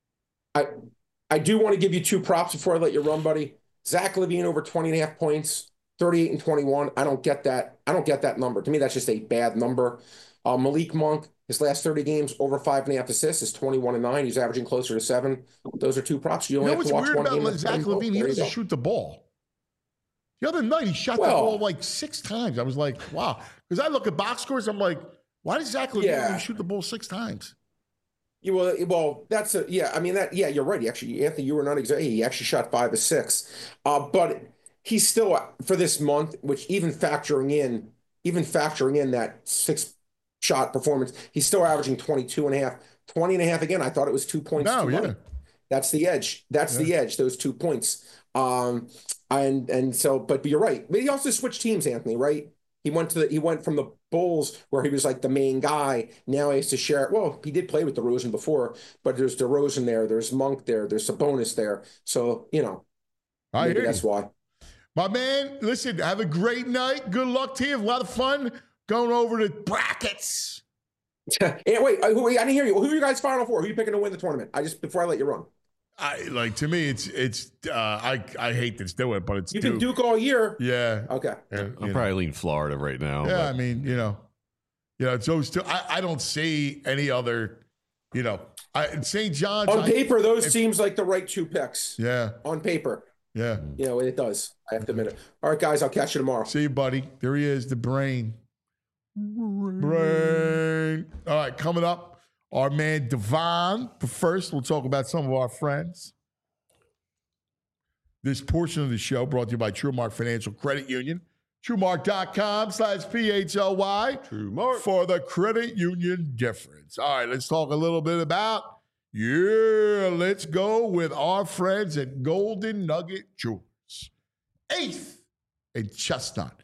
I do want to give you two props before I let you run, buddy. Zach LaVine over 20.5 points, 38 and 21. I don't get that. I don't get that number. To me, that's just a bad number. Malik Monk, his last 30 games, over 5.5 assists, is 21 and 9. He's averaging closer to 7. Those are two props. You only have to watch one game. What's weird about Zach LaVine? He doesn't shoot the ball. The other night, he shot the ball 6 times. I was like, wow. Because I look at box scores, I'm like, why does Zach LaVine only shoot the ball 6 times? Well, that's I mean, you're right. Anthony, you were not exactly. He actually shot 5 of 6. But he's still, for this month, which even factoring in that 6-shot performance, he's still averaging 22.5. 20.5 again. I thought it was 2 points. That's the edge. The edge, those 2 points. And so, but you're right. But he also switched teams, Anthony, right? He went from the Bulls where he was like the main guy. Now he has to share. Well, he did play with DeRozan before, but there's DeRozan there. There's Monk there. There's Sabonis there. So, maybe that's why. My man, listen, have a great night. Good luck to you. A lot of fun going over the brackets. Wait, I didn't hear you. Who are you guys Final Four? Who are you picking to win the tournament? Before I let you run. To me, it's I hate this doing, but it's you've been Duke all year. Yeah. Okay. I'm probably leaning Florida right now. Yeah, but. I mean, it's those two. I don't see any other. St. John's on paper. Those seems like the right 2 picks. Yeah. On paper. Yeah. It does. I have to admit it. All right, guys. I'll catch you tomorrow. See you, buddy. There he is, the brain. Brain. All right, coming up. Our man Devon. But first, we'll talk about some of our friends. This portion of the show brought to you by TrueMark Financial Credit Union. TrueMark.com/PHLY. TrueMark. For the credit union difference. All right, let's talk a little bit about, let's go with our friends at Golden Nugget Jewelers. 8th and Chestnut.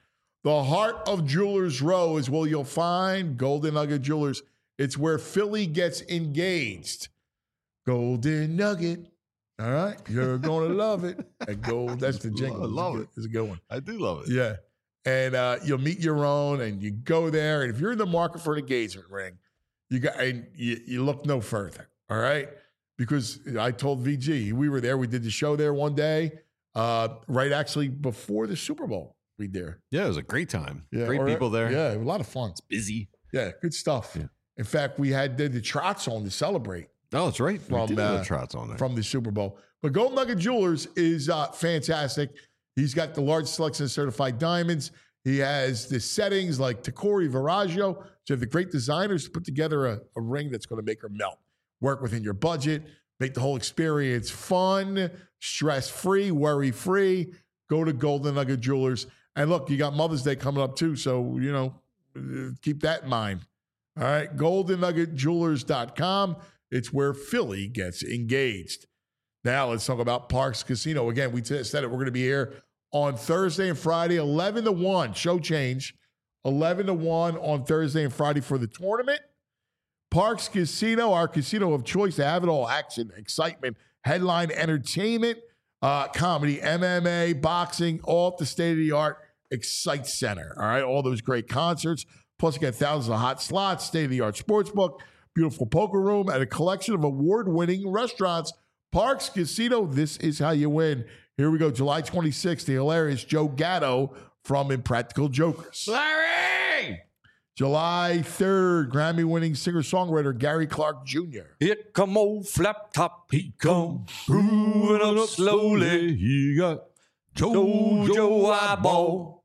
The heart of Jewelers Row is where you'll find Golden Nugget Jewelers. It's where Philly gets engaged. Golden Nugget. All right. You're going to love it. That's the jingle. I love it. It's a good one. I do love it. Yeah. And you'll meet your own and you go there. And if you're in the market for an engagement ring, you look no further. All right. Because I told VG, we were there. We did the show there one day, right actually before the Super Bowl. We there. Yeah, it was a great time. Yeah, Great people there. Yeah, a lot of fun. It's busy. Yeah, good stuff. Yeah. In fact, we had the Trots on to celebrate Oh, that's right. From, We did have the Trots on there. from the Super Bowl. But Golden Nugget Jewelers is fantastic. He's got the large selection of certified diamonds. He has the settings like Tacori, Viraggio. So you have the great designers to put together a ring that's going to make her melt. Work within your budget. Make the whole experience fun, stress-free, worry-free. Go to Golden Nugget Jewelers. And look, you got Mother's Day coming up too. So, keep that in mind. All right. GoldenNuggetJewelers.com. It's where Philly gets engaged. Now let's talk about Parx Casino. Again, we said it. We're going to be here on Thursday and Friday, 11 to 1. Show change. 11 to 1 on Thursday and Friday for the tournament. Parx Casino, our casino of choice to have it all. Action, excitement, headline entertainment, comedy, MMA, boxing, all at the state-of-the-art Excite Center. All right, all those great concerts. Plus, you get thousands of hot slots, state-of-the-art sportsbook, beautiful poker room, and a collection of award-winning restaurants. Parx Casino, this is how you win. Here we go, July 26th, the hilarious Joe Gatto from Impractical Jokers. Larry! July 3rd, Grammy-winning singer-songwriter Gary Clark Jr. Here come old Flap Top, he come moving up slowly. He got Joe Eyeball.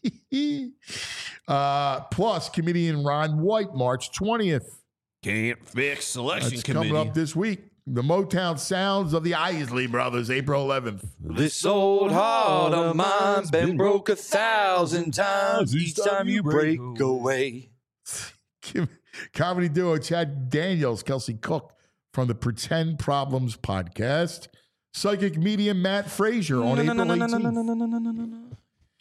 Plus, comedian Ron White, March 20th. Can't Fix Selection That's Committee. coming up this week. The Motown Sounds of the Isley Brothers, April 11th. This old heart of mine's been broke 1,000 times. Each time you break away. Comedy duo Chad Daniels, Kelsey Cook from the Pretend Problems podcast. Psychic medium Matt Frazier on April 18th.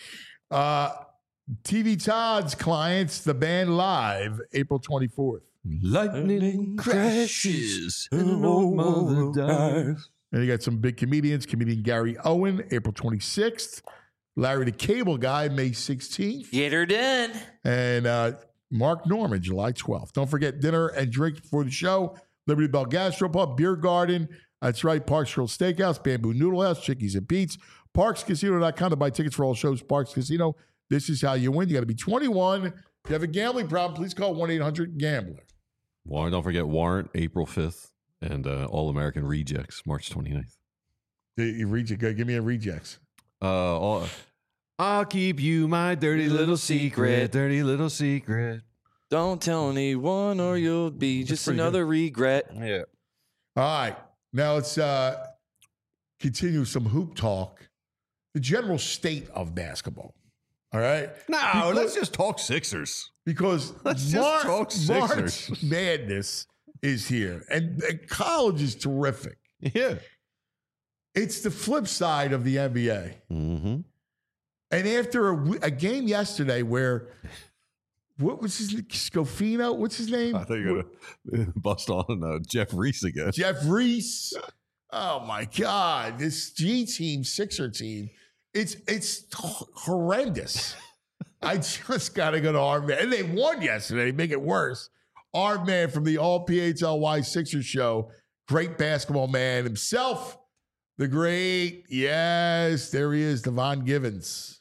TV Todd's clients, the band live, April 24th. Lightning crashes and an old mother dies. And you got some big comedians. Comedian Gary Owen, April 26th. Larry the Cable Guy, May 16th. Get her done. And Mark Norman, July 12th. Don't forget dinner and drinks before the show. Liberty Bell Gastropub, Beer Garden. That's right, Parks Grill Steakhouse, Bamboo Noodle House, Chickies and Pete's. ParksCasino.com to buy tickets for all shows. Parx Casino. This is how you win. You got to be 21. If you have a gambling problem, please call 1-800-GAMBLER. Don't forget Warrant, April 5th, and All American Rejects, March 29th. Give me a rejects. I'll keep you my dirty little secret. Don't tell anyone or you'll be just another regret. Yeah. All right. Now let's continue some hoop talk. The general state of basketball. All right. No, let's just talk Sixers. Because Let's just talk Sixers. March Madness is here, and college is terrific. Yeah. It's the flip side of the NBA. Mm-hmm. And after a game yesterday where, what was his name? Scofino? What's his name? I thought you were going to bust on Jeff Reese again. Jeff Reese. Oh, my God. This G team, Sixer team, it's horrendous. I just got to go to our man. And they won yesterday, make it worse. Our man from the All PHLY Sixers show, great basketball man himself, the great, yes, there he is, Devon Givens.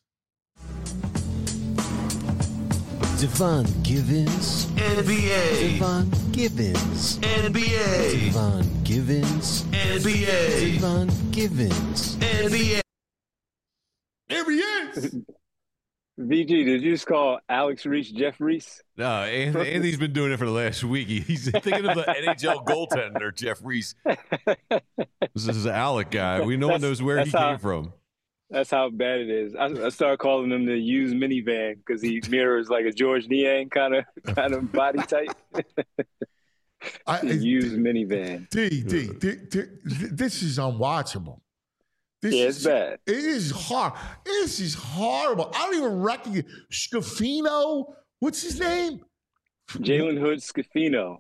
Devon Givens. NBA. Devon Givens. NBA. Devon Givens. NBA. Devon Givens. NBA. There he is. VG, did you just call Alex Reese Jeff Reese? No, Anthony's been doing it for the last week. He's thinking of the NHL goaltender, Jeff Reese. This is an Alec guy. No one knows where he came from. That's how bad it is. I started calling him the used minivan because he mirrors like a George Niang kind of body type. Used minivan. D, this is unwatchable. Yeah, it's bad. It is hard. This is horrible. I don't even recognize Scafino. What's his name? Jalen Hood Scafino.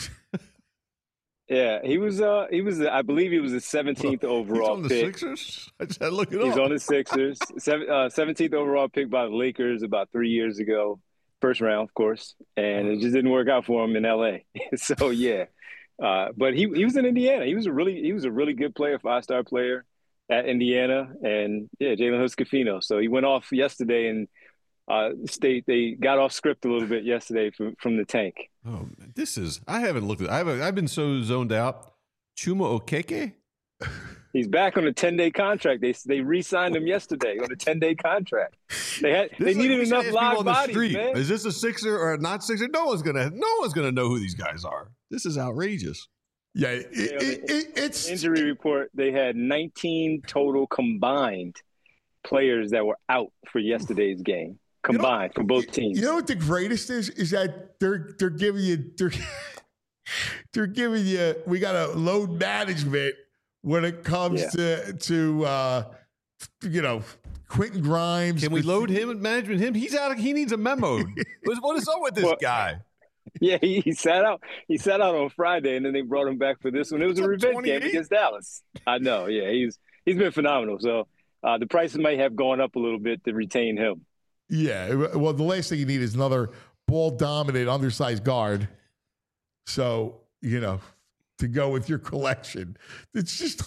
Yeah, he was. I believe he was the 17th overall He's on the pick. Sixers? I just had to look it He's up. on the Sixers. 17th overall pick by the Lakers about 3 years ago. First round, of course, and it just didn't work out for him in LA. So yeah, but he was in Indiana. He was a really good player, 5-star player at Indiana, and yeah, Jalen Hood Scafino. So he went off yesterday and they got off script a little bit yesterday from the tank. Oh, man, I haven't looked at. I've been so zoned out. Chuma Okeke. He's back on a 10-day contract. They re-signed him yesterday on a 10-day contract. They needed enough live bodies, man. Is this a Sixer or a not Sixer? No one's gonna know who these guys are. This is outrageous. Yeah, it's injury report. They had 19 total combined players that were out for yesterday's game. Combined for both teams. You know what the greatest is that they're giving you they're giving you, we got a load management when it comes to Quentin Grimes. Can we load him and management him? He's out. He needs a memo. What is up with this guy? Yeah, he sat out. He sat out on Friday, and then they brought him back for this one. It was a revenge game against Dallas. I know. Yeah, he's been phenomenal. So the prices might have gone up a little bit to retain him. Yeah, well, the last thing you need is another ball-dominant, undersized guard. So, to go with your collection. It's just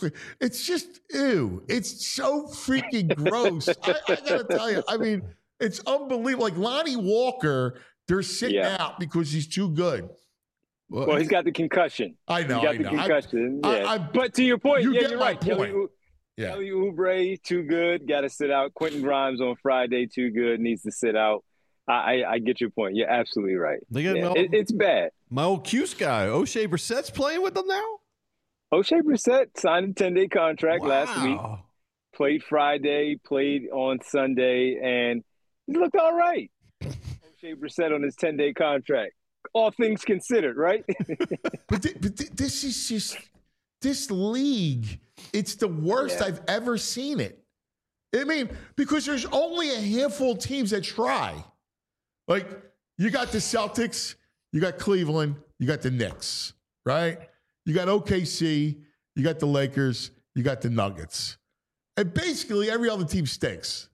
ew. It's so freaking gross. I got to tell you, I mean, it's unbelievable. Like Lonnie Walker, they're sitting out because he's too good. Well, he's got the concussion. I know. He's got the concussion. But to your point, you're right. Kelly Oubre, too good. Got to sit out. Quentin Grimes on Friday, too good. Needs to sit out. I get your point. You're absolutely right. It's bad. My old Cuse guy, O'Shea Brissett's playing with them now? O'Shea Brissett signed a 10-day contract last week. Played Friday, played on Sunday, and he looked all right. O'Shea Brissett on his 10-day contract. All things considered, right? but this is just this league. It's the worst I've ever seen it. I mean, because there's only a handful of teams that try. Like, you got the Celtics, you got Cleveland, you got the Knicks, right? You got OKC, you got the Lakers, you got the Nuggets. And basically every other team stinks.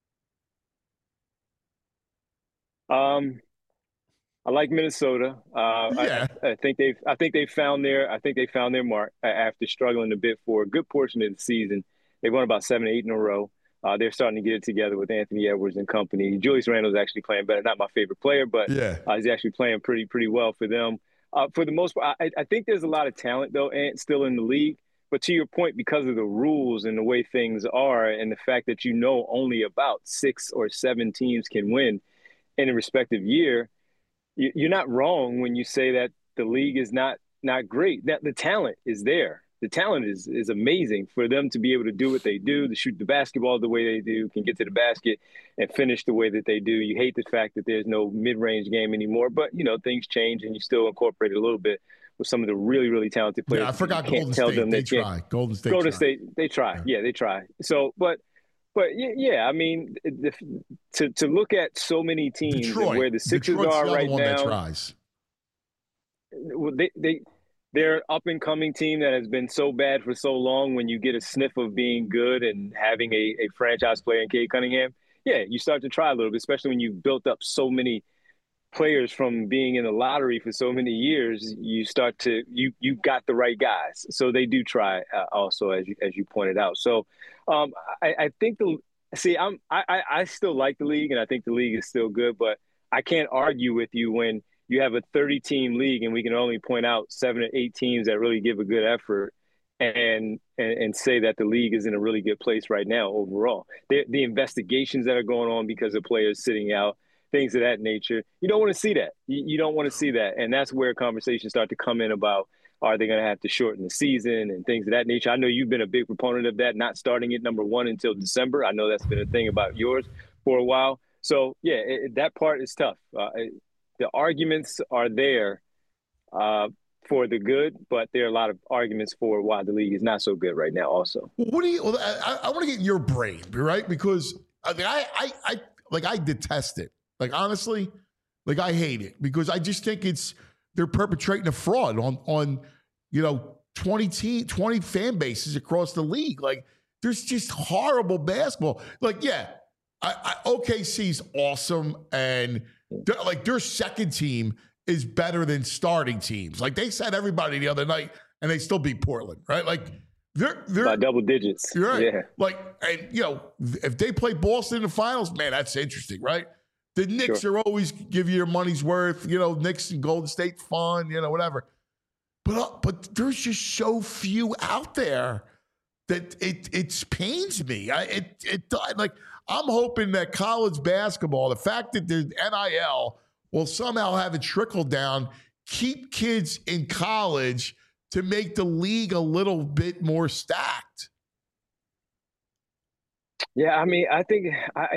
I like Minnesota. I think they found their mark after struggling a bit for a good portion of the season. They won about 7 or 8 in a row. They're starting to get it together with Anthony Edwards and company. Julius Randle's actually playing better. Not my favorite player, but he's actually playing pretty well for them. For the most part, I think there's a lot of talent though, and still in the league. But to your point, because of the rules and the way things are, and the fact that only about 6 or 7 teams can win in a respective year. You're not wrong when you say that the league is not great. That the talent is there. The talent is amazing for them to be able to do what they do, to shoot the basketball the way they do, can get to the basket and finish the way that they do. You hate the fact that there's no mid-range game anymore, but things change and you still incorporate it a I with some of the really, really talented players. Yeah, I forgot Golden State. They try. Golden State, they try. Yeah, they try. So, but yeah, I mean, to look at so many teams and where the Sixers are right now. That tries. Well, they're an up-and-coming team that has been so bad for so long. When you get a sniff of being good and having a franchise player in Cade Cunningham, you start to try a little bit, especially when you've built up so many players from being in the lottery for so many years. You start to you got the right guys, so they do try also, as you pointed out. So I think I still like the league, and I think the league is still good, but I can't argue with you when you have a 30-team league and we can only point out 7 or 8 teams that really give a good effort and say that the league is in a really good place right now overall. The investigations that are going on because of players sitting out, things of that nature, you don't want to see that. You don't want to see that. And that's where conversations start to come in about, are they going to have to shorten the season and things of that nature? I know you've been a big proponent of that, not starting at number 1 until December. I know that's been a thing about yours for a while. So, that part is tough. The arguments are there for the good, but there are a lot of arguments for why the league is not so good right now also. What do you? Well, I want to get your brain, right? Because I detest it. Like honestly, like I hate it because I just think they're perpetrating a fraud on 20 fan bases across the league. Like there's just horrible basketball. Like OKC's awesome, and their second team is better than starting teams. Like they said everybody the other night, and they still beat Portland, right? Like they're by double digits. Right. Yeah. Like, and if they play Boston in the finals, man, that's interesting, right? The Knicks are always give you your money's worth. Knicks and Golden State fun, whatever. But there's just so few out there that it pains me. I'm hoping that college basketball, the fact that there's NIL will somehow have it trickle down, keep kids in college to make the league a little bit more stacked. Yeah, I mean, I think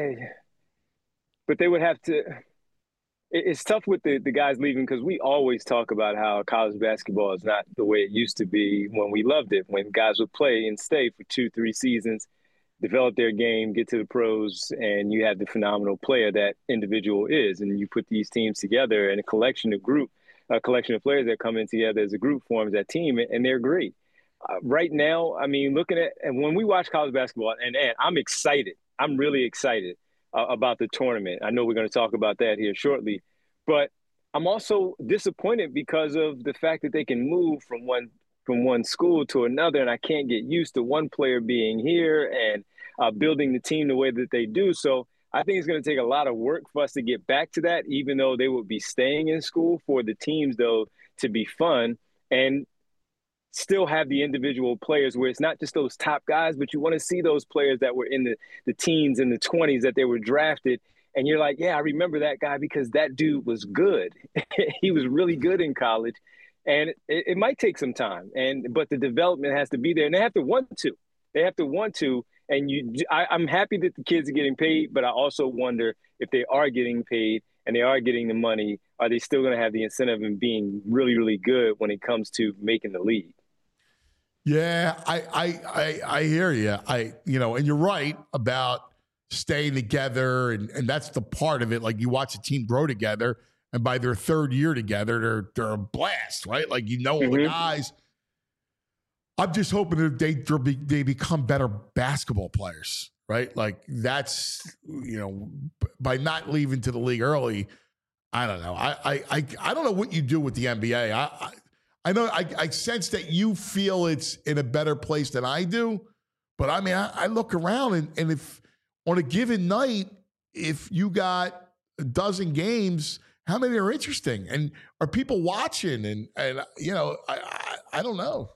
but they would have to. It's tough with the guys leaving because we always talk about how college basketball is not the way it used to be when we loved it, when guys would play and stay for 2-3 seasons, develop their game, get to the pros, and you have the phenomenal player that individual is. And you put these teams together and a collection of players that come in together as a group forms that team, and they're great. Right now, I mean, looking at – and when we watch college basketball, and I'm excited. I'm really excited about the tournament. I know we're going to talk about that here shortly. But I'm also disappointed because of the fact that they can move from one school to another, and I can't get used to one player being here and building the team the way that they do. So I think it's going to take a lot of work for us to get back to that, even though they would be staying in school, for the teams, though, to be fun and still have the individual players where it's not just those top guys, but you want to see those players that were in the teens and the 20s that they were drafted. And you're like, yeah, I remember that guy because that dude was good. He was really good in college. And it might take some time, but the development has to be there, and they have to want to. They have to want to. And I'm happy that the kids are getting paid, but I also wonder if they are getting paid and they are getting the money, are they still going to have the incentive in being really, really good when it comes to making the league? Yeah, I hear you. And you're right about staying together, and that's the part of it. Like you watch a team grow together, and by their third year together, they're a blast, right? Like all the guys. I'm just hoping that they become better basketball players, right? Like that's by not leaving to the league early. I don't know. I don't know what you do with the NBA. I know I sense that you feel it's in a better place than I do, but I mean I look around and if on a given night, if you got a dozen games, how many are interesting? And are people watching? And I don't know.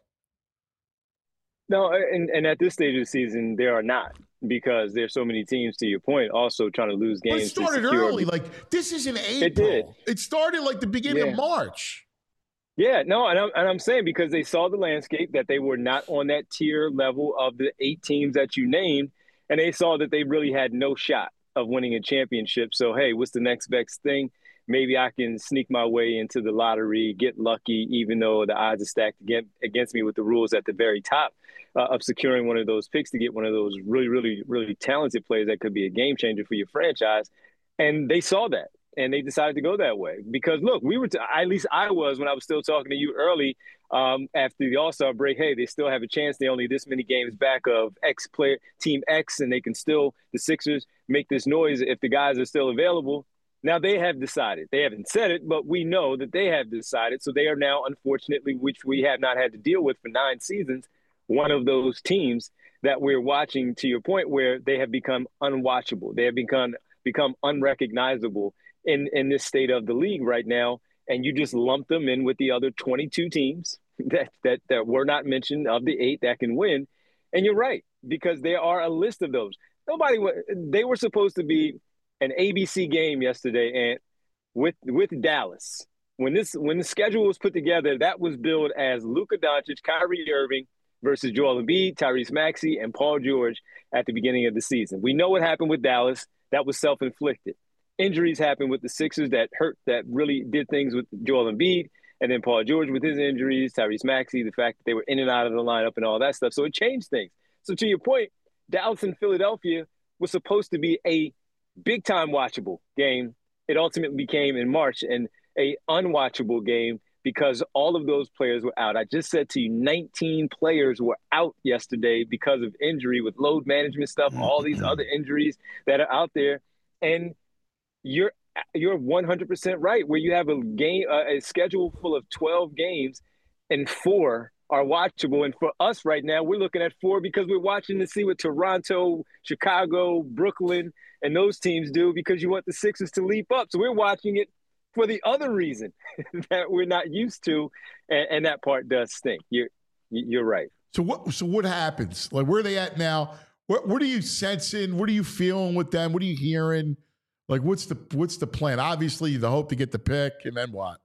No, and at this stage of the season, there are not, because there's so many teams, to your point, also trying to lose games. But it started early. Like this is in April. It did. It started like the beginning of March. Yeah, no, and I'm saying because they saw the landscape that they were not on that tier level of the 8 teams that you named, and they saw that they really had no shot of winning a championship. So, hey, what's the next best thing? Maybe I can sneak my way into the lottery, get lucky, even though the odds are stacked against me with the rules at the very top of securing one of those picks to get one of those really, really, really talented players that could be a game changer for your franchise. And they saw that, and they decided to go that way. Because, look, at least I was when I was still talking to you early after the All-Star break, hey, they still have a chance. They're only this many games back of X player, Team X, and they can still, the Sixers, make this noise if the guys are still available. Now they have decided. They haven't said it, but we know that they have decided. So they are now, unfortunately, which we have not had to deal with for 9 seasons, one of those teams that we're watching, to your point, where they have become unwatchable. They have become unrecognizable in this state of the league right now. And you just lump them in with the other 22 teams that were not mentioned of the 8 that can win. And you're right, because there are a list of those. They were supposed to be an ABC game yesterday, and with Dallas. When the schedule was put together, that was billed as Luka Doncic, Kyrie Irving versus Joel Embiid, Tyrese Maxey, and Paul George at the beginning of the season. We know what happened with Dallas. That was self-inflicted. Injuries happened with the Sixers that really did things with Joel Embiid. And then Paul George with his injuries, Tyrese Maxey, the fact that they were in and out of the lineup and all that stuff. So it changed things. So to your point, Dallas and Philadelphia was supposed to be a big-time watchable game. It ultimately became in March and a unwatchable game because all of those players were out. I just said to you, 19 players were out yesterday because of injury with load management stuff, all these other injuries that are out there. And you're 100% right, where you have a schedule full of 12 games and 4 are watchable. And for us right now, we're looking at 4 because we're watching to see what Toronto, Chicago, Brooklyn, and those teams do because you want the Sixers to leap up. So we're watching it for the other reason that we're not used to, and that part does stink. You're right. So what happens? Like, where are they at now? What are you sensing? What are you feeling with them? What are you hearing? Like, what's the plan? Obviously, the hope to get the pick, and then what?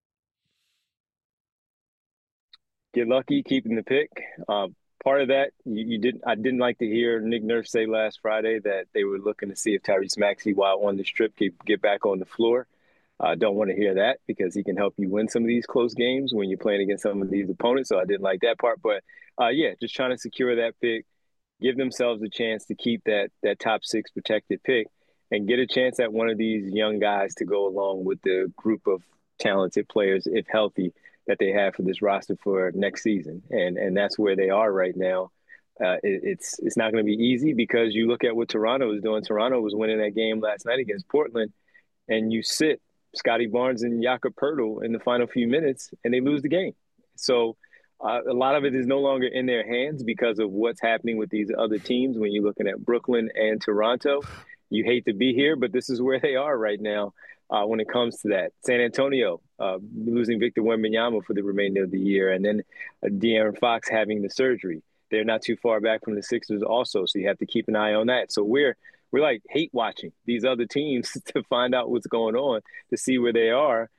Get lucky, keeping the pick. Part of that, I didn't like to hear Nick Nurse say last Friday that they were looking to see if Tyrese Maxey, while on this trip, could get back on the floor. I don't want to hear that because he can help you win some of these close games when you're playing against some of these opponents. So I didn't like that part. But, just trying to secure that pick, give themselves a chance to keep that top 6 protected pick and get a chance at one of these young guys to go along with the group of talented players, if healthy, that they have for this roster for next season. And that's where they are right now. It's not going to be easy because you look at what Toronto is doing. Toronto was winning that game last night against Portland, and you sit Scotty Barnes and Jakob Poeltl in the final few minutes, and they lose the game. So a lot of it is no longer in their hands because of what's happening with these other teams. When you're looking at Brooklyn and Toronto, you hate to be here, but this is where they are right now when it comes to that. San Antonio losing Victor Wembanyama for the remainder of the year, and then De'Aaron Fox having the surgery. They're not too far back from the Sixers also, so you have to keep an eye on that. So we're like hate watching these other teams to find out what's going on, to see where they are.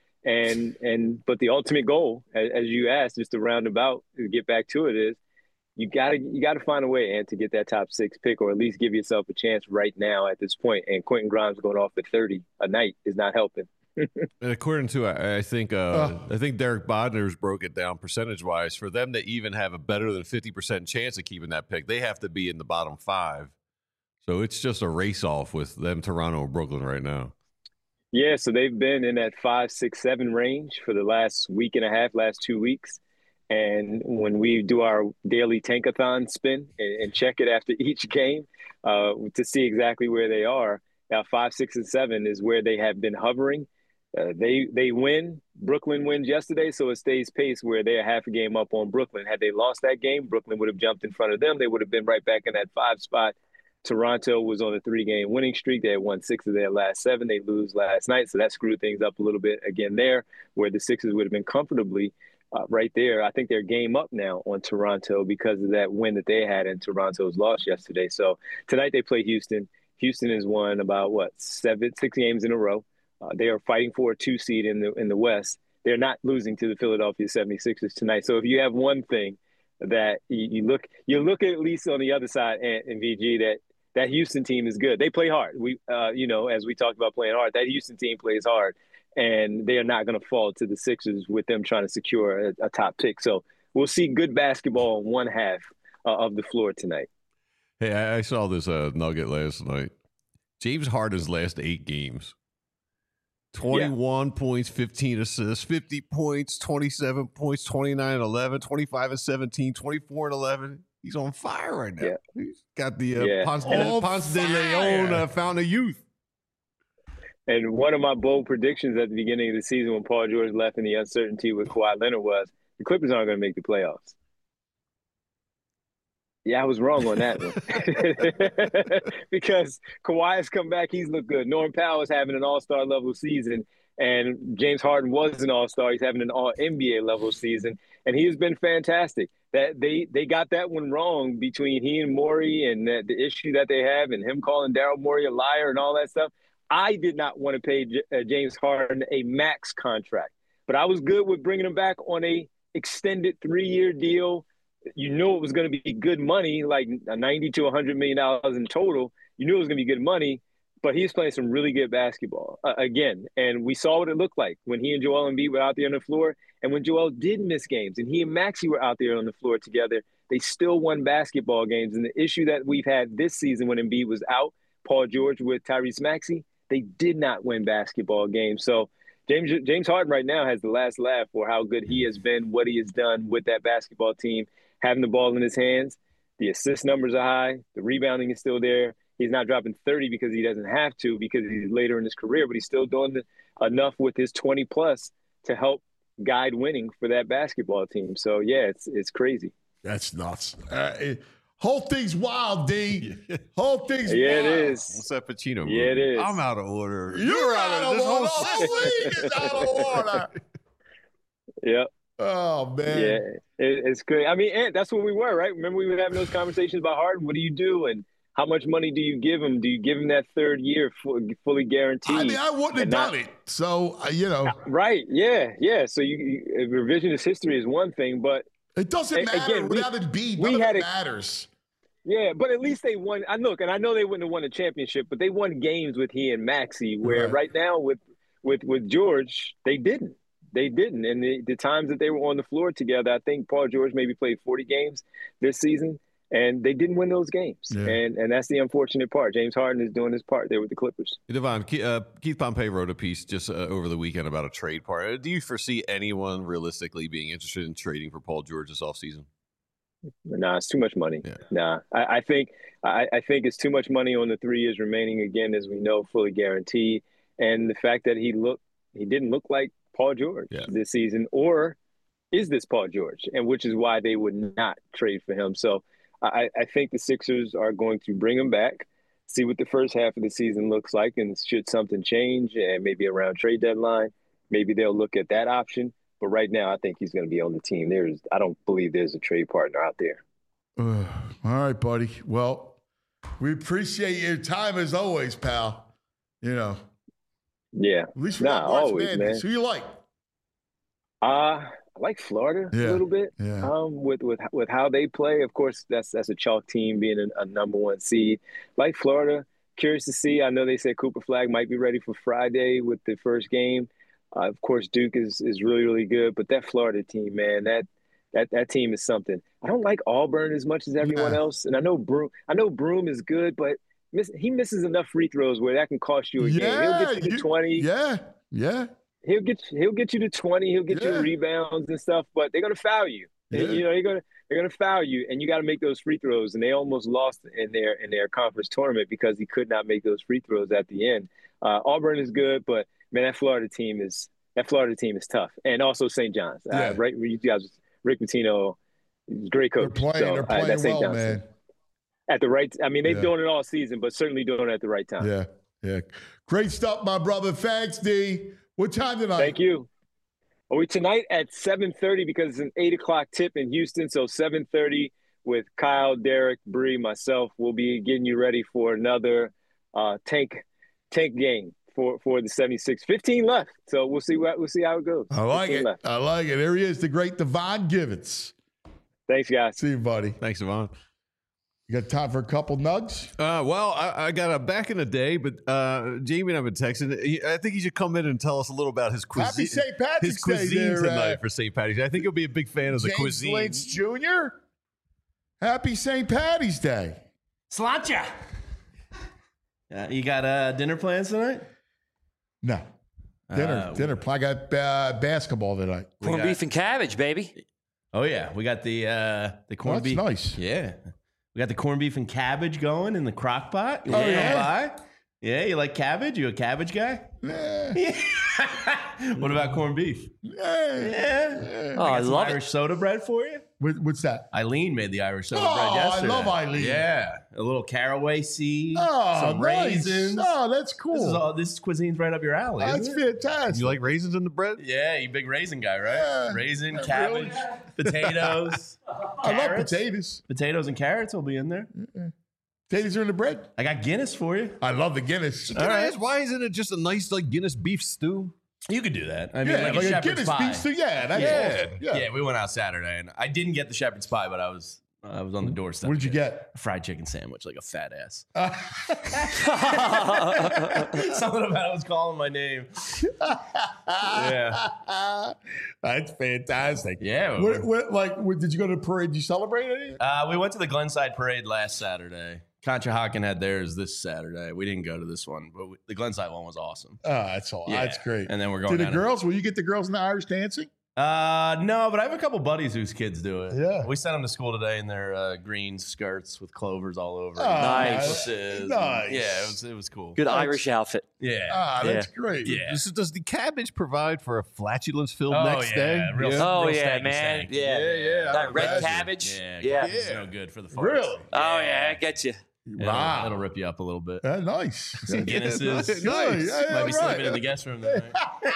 But the ultimate goal, as you asked, just to round about, to get back to it, is you gotta find a way, and to get that top 6 pick, or at least give yourself a chance right now at this point. And Quentin Grimes going off at 30 a night is not helping. And according to, I think Derek Bodner's broke it down percentage-wise. For them to even have a better than 50% chance of keeping that pick, they have to be in the bottom 5. So it's just a race-off with them, Toronto and Brooklyn right now. Yeah, so they've been in that 5, 6, 7 range for the last week and a half, last 2 weeks. And when we do our daily tankathon spin and check it after each game to see exactly where they are, now 5, 6, and 7 is where they have been hovering. They win. Brooklyn wins yesterday, so it stays pace where they're half a game up on Brooklyn. Had they lost that game, Brooklyn would have jumped in front of them. They would have been right back in that 5 spot. Toronto was on a 3-game winning streak. They had won 6 of their last 7. They lose last night, so that screwed things up a little bit again there, where the Sixers would have been comfortably right there. I think they're game up now on Toronto because of that win that they had and Toronto's loss yesterday. So tonight they play Houston. Houston has won about 6 games in a row. They are fighting for a 2 seed in the West. They're not losing to the Philadelphia 76ers tonight. So if you have one thing that you look at least on the other side, and VG, that Houston team is good. They play hard. As we talked about playing hard, that Houston team plays hard, and they are not going to fall to the Sixers with them trying to secure a top pick. So we'll see good basketball on one half of the floor tonight. Hey, I saw this nugget last night. James Harden's last 8 games. 21 points, 15 assists, 50 points, 27 points, 29 and 11, 25 and 17, 24 and 11. He's on fire right now. Yeah. He's got the Ponce de Leon Fountain of Youth. And one of my bold predictions at the beginning of the season when Paul George left and the uncertainty with Kawhi Leonard was the Clippers aren't going to make the playoffs. Yeah, I was wrong on that one. Because Kawhi has come back. He's looked good. Norm Powell is having an all-star level season. And James Harden was an all-star. He's having an all-NBA level season. And he has been fantastic. That they got that one wrong between he and Morey and the issue that they have and him calling Daryl Morey a liar and all that stuff. I did not want to pay James Harden a max contract. But I was good with bringing him back on a extended 3-year deal. You knew it was going to be good money, like $90 to $100 million in total. You knew it was going to be good money. but he's playing some really good basketball again. And we saw what it looked like when he and Joel Embiid were out there on the floor. And when Joel did miss games and he and Maxey were out there on the floor together, they still won basketball games. And the issue that we've had this season when Embiid was out, Paul George with Tyrese Maxey, they did not win basketball games. So James Harden right now has the last laugh for how good he has been, what he has done with that basketball team, having the ball in his hands. The assist numbers are high. The rebounding is still there. He's not dropping 30 because he doesn't have to, because he's later in his career, but he's still doing enough with his 20-plus to help guide winning for that basketball team. So, yeah, it's crazy. That's nuts. Whole thing's wild, D. Whole thing's wild. Yeah, it is. What's that Pacino movie? Yeah, it is. I'm out of order. You're out of this order. whole The whole league is out of order. Yep. Oh, man. Yeah, it's great. I mean, and that's what we were, right? Remember we were having those conversations about Harden. What do you do? And how much money do you give him? Do you give him that third year fully guaranteed? I mean, I wouldn't have done it. So, Right. Yeah. So revisionist history is one thing, but it doesn't matter. Again, without Embiid, none of it matters. Yeah, but at least they won. And I know they wouldn't have won a championship, but they won games with he and Maxey, where right now with George, they didn't. They didn't. And the times that they were on the floor together, I think Paul George maybe played 40 games this season, and they didn't win those games. Yeah. And that's the unfortunate part. James Harden is doing his part there with the Clippers. Hey, Devon, Keith Pompey wrote a piece just over the weekend about a trade part. Do you foresee anyone realistically being interested in trading for Paul George this offseason? Nah, it's too much money. Yeah. Nah, I think it's too much money on the 3 years remaining, again, as we know, fully guaranteed. And the fact that he didn't look like Paul George this season, or is this Paul George? And which is why they would not trade for him. So I think the Sixers are going to bring him back, see what the first half of the season looks like, and should something change, and maybe around trade deadline, maybe they'll look at that option. But right now, I think he's going to be on the team. I don't believe there's a trade partner out there. All right, buddy. Well, we appreciate your time as always, pal. Yeah. At least we're not always, man. Who you like? I like Florida a little bit. Yeah. With how they play, of course, that's a chalk team being a number one seed. Like Florida, curious to see. I know they said Cooper Flag might be ready for Friday with the first game. Of course, Duke is really, really good, but that Florida team, man, that team is something. I don't like Auburn as much as everyone else, and I know Broom is good, but he misses enough free throws where that can cost you a game. He'll get you to 20. Yeah. He'll get you to 20. He'll get you rebounds and stuff, but they're gonna foul you. Yeah. They're gonna foul you, and you got to make those free throws. And they almost lost in their conference tournament because he could not make those free throws at the end. Auburn is good, but man, that Florida team is tough, and also St. John's. Right, you guys, Rick Pitino, great coach. They're playing well, Johnson. Man. At the right, I mean, they've done it all season, but certainly doing it at the right time. Yeah. Great stuff, my brother. Thanks, D. What time tonight? Thank you. Are we tonight at 7:30 because it's an 8:00 tip in Houston, so 7:30 with Kyle, Derek, Bree, myself. We'll be getting you ready for another tank game for the 76. 15 left, so we'll see how it goes. I like it. Left. I like it. There he is, the great Devon Givens. Thanks, guys. See you, buddy. Thanks, Devon. You got time for a couple nugs? Well, I got a back in the day, but Jamie and I've been texting. I think he should come in and tell us a little about his cuisine. Happy St. Patrick's his cuisine Day tonight for St. Patrick's Day. I think he'll be a big fan of the cuisine. James Lynch Jr. Happy St. Patty's Day. Sláinte. You got dinner plans tonight? No. Dinner. I got basketball tonight. Corned beef and cabbage, baby. Oh yeah, we got the corned beef. That's nice. Yeah, we got the corned beef and cabbage going in the crock pot. You Yeah, you like cabbage? You a cabbage guy? Yeah. What about corned beef? Yeah. Oh, I love Irish soda bread for you. What's that? Eileen made the Irish soda bread yesterday. I love Eileen. Yeah, a little caraway seed, some nice. raisins. Oh, that's cool. This cuisine's right up your alley. That's fantastic. You like raisins in the bread? Yeah, you big raisin guy, right? Yeah. Raisin, cabbage, potatoes. I love potatoes. Potatoes and carrots will be in there. Potatoes are in the bread. I got Guinness for you. I love the Guinness. Can I ask, why isn't it just a nice Guinness beef stew? You could do that. I mean, like a shepherd's Guinness pie. beef stew. Yeah, that's awesome. Yeah, we went out Saturday, and I didn't get the shepherd's pie, but I was I was on the doorstep. What did you get? A fried chicken sandwich, like a fat ass. Something about it was calling my name. Yeah. That's fantastic. Yeah. What, did you go to the parade? Did you celebrate anything? We went to the Glenside Parade last Saturday. Conshohocken had theirs this Saturday. We didn't go to this one, but the Glenside one was awesome. Oh, that's all. Yeah. That's great. And then we're going to the down girls. Will you get the girls in the Irish dancing? No, but I have a couple buddies whose kids do it. Yeah. We sent them to school today in their green skirts with clovers all over. Nice. Nice. Yeah, it was cool. Good Irish outfit. Yeah. That's great. Yeah. Does the cabbage provide for a flatulence filled next day? Real man. stank. Yeah. That red imagine. cabbage. Yeah. It's no good for the farts. Really? Oh, yeah. I get you. Wow. It'll rip you up a little bit. Nice. Some Guinnesses. Nice. Yeah, Might be right. sleeping in the guest room tonight.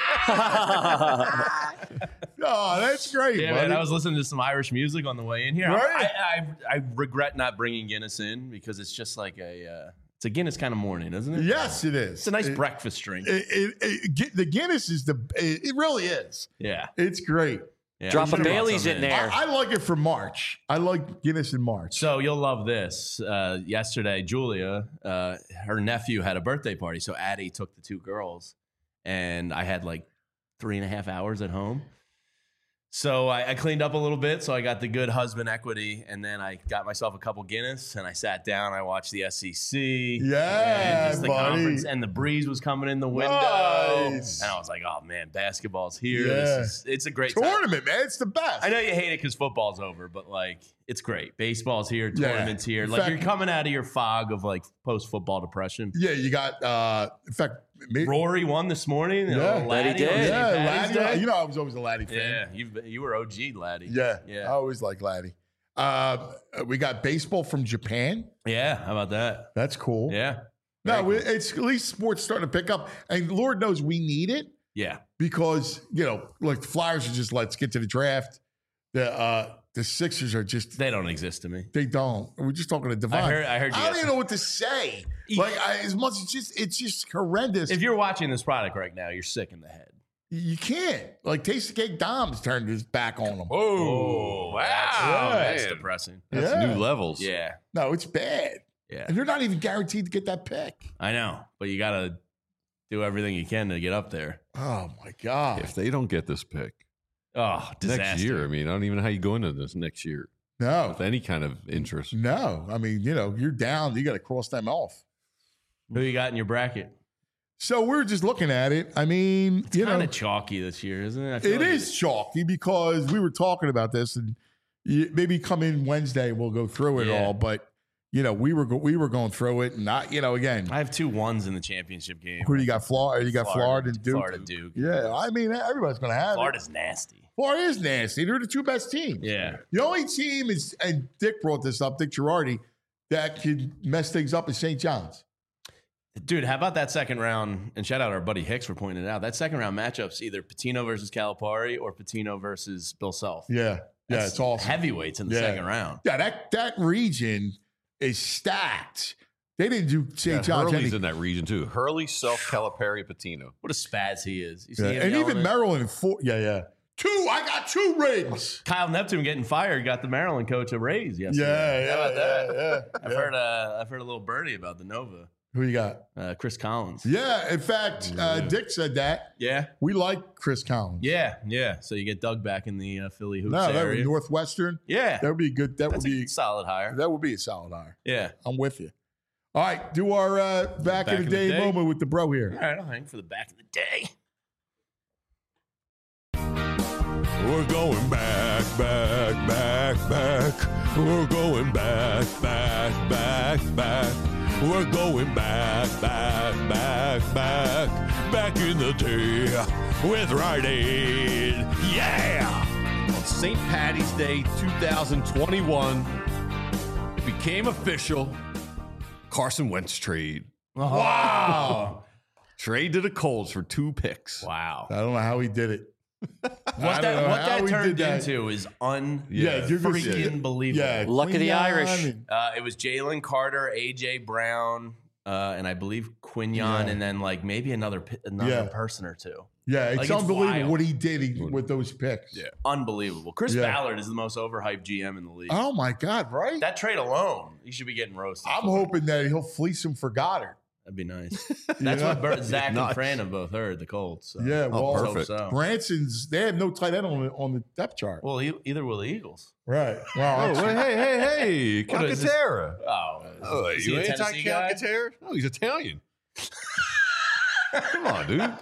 Oh, that's great. Yeah, buddy. man. I was listening to some Irish music on the way in here. Right. I regret not bringing Guinness in because it's just like it's a Guinness kind of morning, isn't it? Yes, it is. It's a nice breakfast drink. The Guinness is it really is. Yeah. It's great. Yeah, Drop we a should've brought Bailey's some in there. I like it for March. I like Guinness in March. So you'll love this. Yesterday, Julia, her nephew had a birthday party. So Addie took the two girls, and I had like 3.5 hours at home. So I cleaned up a little bit. So I got the good husband equity, and then I got myself a couple Guinness, and I sat down. I watched the SEC. Yeah, and just the buddy. conference, and the breeze was coming in the window. Nice. And I was like, oh, man, basketball's here. Yeah. It's a great time. Tournament, man. It's the best. I know you hate it because football's over, but like it's great. Baseball's here, Yeah. tournaments here. In Like fact- you're coming out of your fog of like post-football depression. Yeah, you got, in fact, Rory won this morning. Yeah. Laddie That he did. on St. Yeah, Patty's Laddie. Day. You know, I was always a Laddie fan. Yeah, you were OG Laddie. Yeah. Yeah. I always like Laddie. We got baseball from Japan. Yeah, how about that? That's cool. Yeah. No, it's at least sports starting to pick up. And Lord knows we need it Yeah. because, like the Flyers are just, let's get to the draft. The Sixers are just, They don't exist to me. they don't. We're just talking to Devon. I heard you I don't guys- even know what to say. Like, as much as it's just horrendous. If you're watching this product right now, you're sick in the head. You can't. Like, Tasty Cake Dom's turned his back on them. Oh, wow. That's man. depressing. That's Yeah. new levels. Yeah. No, it's bad. Yeah. And they're not even guaranteed to get that pick. I know, but you got to do everything you can to get up there. Oh, my God. If they don't get this pick Oh, disaster. next year, I mean, I don't even know how you go into this next year No. with any kind of interest. No. I mean, you're down. You got to cross them off. Who you got in your bracket? So we're just looking at it. I mean, It's kind of chalky this year, isn't it? I feel it like is chalky because we were talking about this, and maybe come in Wednesday we'll go through it Yeah. all. But we were going through it, and again, I have 2 1s in the championship game. who do you got? Florida. You got Florida and Duke. Florida, Duke. Yeah, I mean everybody's going to have Florida's nasty. it. Florida is nasty. They're the 2 best teams. Yeah. The only team is, and Dick brought this up, Dick Girardi, that could mess things up is St. John's. Dude, how about that second round? And shout out our buddy Hicks for pointing it out. That second round matchup's either Patino versus Calipari or Patino versus Bill Self. Yeah, That's it's awesome. Heavyweights in the second round. Yeah, that region is stacked. They didn't do St. John's. Hurley's in that region too. Hurley, Self, Calipari, Patino. What a spaz he is. You see Yeah, him and yelling even at- Maryland, 4. Yeah. 2. I got 2 rings. Kyle Neptune getting fired got the Maryland coach a raise yesterday. How about that? I've heard a little birdie about the Nova. Who you got? Chris Collins. Yeah, in fact, Dick said that. Yeah. We like Chris Collins. Yeah. So you get Doug back in the Philly hoops No, that would area. be Northwestern. Yeah. That would be good. That That's would be a solid hire. That would be a solid hire. Yeah. I'm with you. All right, do our back in the day moment with the bro All here. right, I'll hang for the back of the day. We're going back. We're going back. We're going back in the day with Rite Aid. Yeah! On St. Patty's Day 2021, it became official. Carson Wentz trade. Wow. Trade to the Colts for 2 picks. Wow. I don't know how he did it. What that turned into is freaking believable. Yeah, Luck of the Quinyon Irish. and- It was Jalen Carter, AJ Brown, and I believe Quinyon, and then like maybe another Yeah. person or two. Yeah, it's Like, it's unbelievable wild. what he did with those picks. Yeah. Unbelievable. Chris Yeah. Ballard is the most overhyped GM in the league. Oh my God! Right? That trade alone, he should be getting roasted. I'm for it. hoping that he'll fleece him for Goddard. That'd be nice. You That's know? what Zach Nice. and Fran have both heard, the Colts. So. Yeah, well, Let's hope perfect. so. Branson's. They have no tight end on the depth chart. Well, either will the Eagles. Right. Oh, Well, hey, What is this? Calcaterra. Oh, is he you a ain't Tennessee guy? Calcaterra? No, he's Italian. Come on, dude.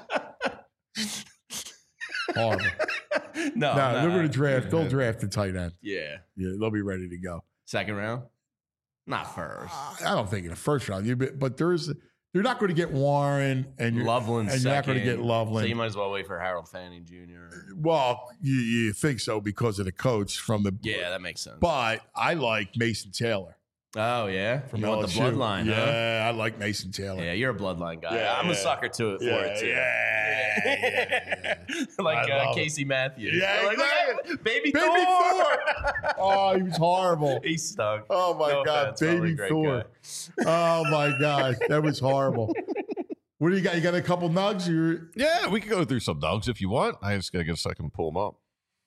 horrible. No, No, no, they're going to draft. They'll draft the tight end. Yeah, Yeah, they'll be ready to go. second round, not first. I don't think in the first round. But they're not going to get Warren and Loveland, and you're not going to get second. Loveland. So you might as well wait for Harold Fanning Jr. Well, you think so because of the coach from the. Yeah, that makes sense. But I like Mason Taylor Oh yeah, from you want the LSU. bloodline? Huh? Yeah, I like Mason Taylor. Yeah, you're a bloodline guy. Yeah, I'm a yeah. sucker to it for it too. Yeah. Like I love Casey Matthews. Yeah, Like, exactly. Baby Baby Thor. Thor. Oh, he was horrible. He stunk. Oh my No God, offense, probably a Baby great Thor. Oh my God, that was horrible. What do you got? You got a couple nugs? Yeah, we can go through some dogs if you want. I just got to get a second to pull them up.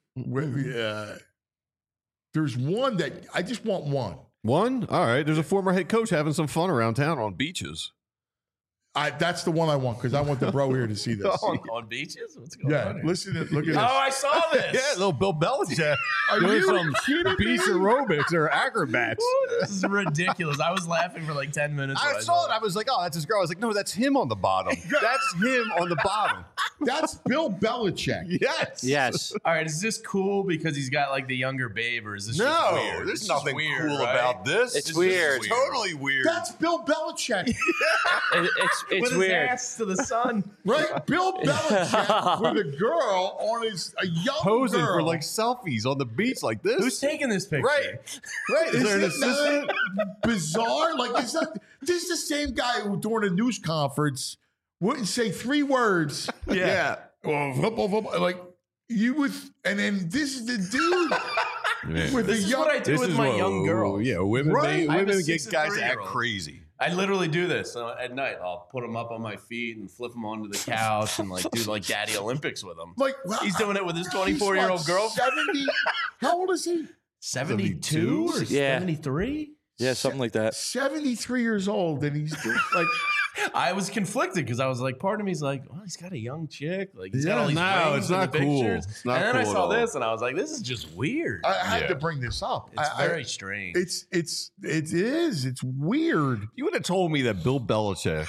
There's one that I just want one. One? All right. There's a former head coach having some fun around town on beaches. That's the one I want because I want the bro here to see this. On beaches? What's going Yeah, on here? listen, look at this. Oh, I saw this. Yeah, little Bill Belichick. Are doing you some kidding beach me? aerobics or acrobats. This is ridiculous. I was laughing for like 10 minutes. I when saw it. I was like, oh, that's his girl. I was like, no, that's him on the bottom. That's him on the bottom. That's Bill Belichick. Yes. Yes. All right, is this cool because he's got like the younger babe, or is this just No, weird? there's This is nothing weird, cool right? about this. It's just weird. Totally weird. That's Bill Belichick. It's With his weird. ass to the sun. Right? Bill Belichick with a girl on a young posing girl. for like selfies on the beach like this. Who's taking this picture? Right. Right. Is there an assistant? Bizarre? Like, this is the same guy who during a news conference wouldn't say 3 words. Yeah. Well, football, like you would, and then this is the dude with This the is young. what I do with my young girl. Yeah, women, Right. I have a women 6 get and guys to 3-year-old. act crazy. I literally do this at night. I'll put him up on my feet and flip him onto the couch and like do like Daddy Olympics with him. Like He's doing it with his he's 24-year-old what, girlfriend. 70? How old is he? 72 or Yeah. 73? Yeah, something like that. 73 years old, and he's doing, like, I was conflicted because I was like, part of me's like, well, he's got a young chick. Like, he's got all these no, rings it's in the not cool. pictures. It's not and then I cool at saw all. this and I was like, this is just weird. I had Yeah. to bring this up. It's I- very strange. It is. It's weird. You would have told me that Bill Belichick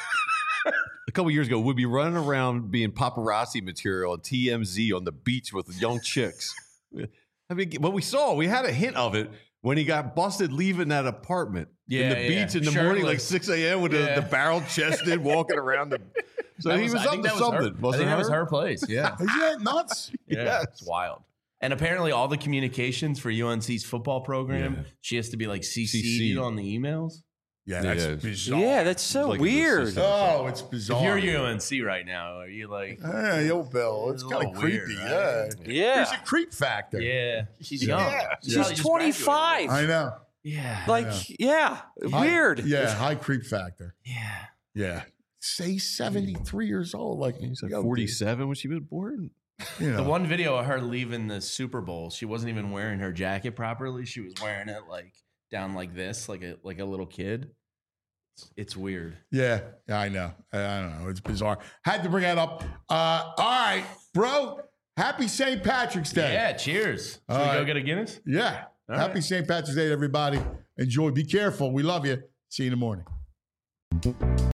a couple years ago would be running around being paparazzi material on TMZ on the beach with young chicks. I mean, what we saw, we had a hint of it when he got busted leaving that apartment in the beach in the morning, like Shirtless. 6 a.m. with the barrel chested walking around the. So That he was I up think to that was her- something. I Wasn't think that it was her place. Yeah. Isn't that nuts? Yeah, Yes. it's wild. And apparently, all the communications for UNC's football program, Yeah. she has to be like CC'd CC'd. on the emails. Yeah, that's Yeah. bizarre. Yeah, that's so Like his weird. assistant. Oh, it's If bizarre. you're UNC right now, are you like, Hey, yo, Bill. It's a kind of little weird, creepy. right? Yeah. There's Yeah. a creep factor. yeah, she's Yeah. young. Yeah. She's She's probably just 25. graduated. I know. Yeah. Like, yeah, weird. Yeah, high creep factor. Yeah. Yeah. Say 73 years old. Like, He's like yo, 47 when she was born. dude, you know. The one video of her leaving the Super Bowl, she wasn't even wearing her jacket properly. She was wearing it like down like this, like a little kid. It's weird. Yeah, I know. I don't know. It's bizarre. Had to bring that up. All right, bro. Happy St. Patrick's Day. Yeah, cheers. Should All we go right. get a Guinness? Yeah. All Happy right. St. Patrick's Day, everybody. Enjoy. Be careful. We love you. See you in the morning.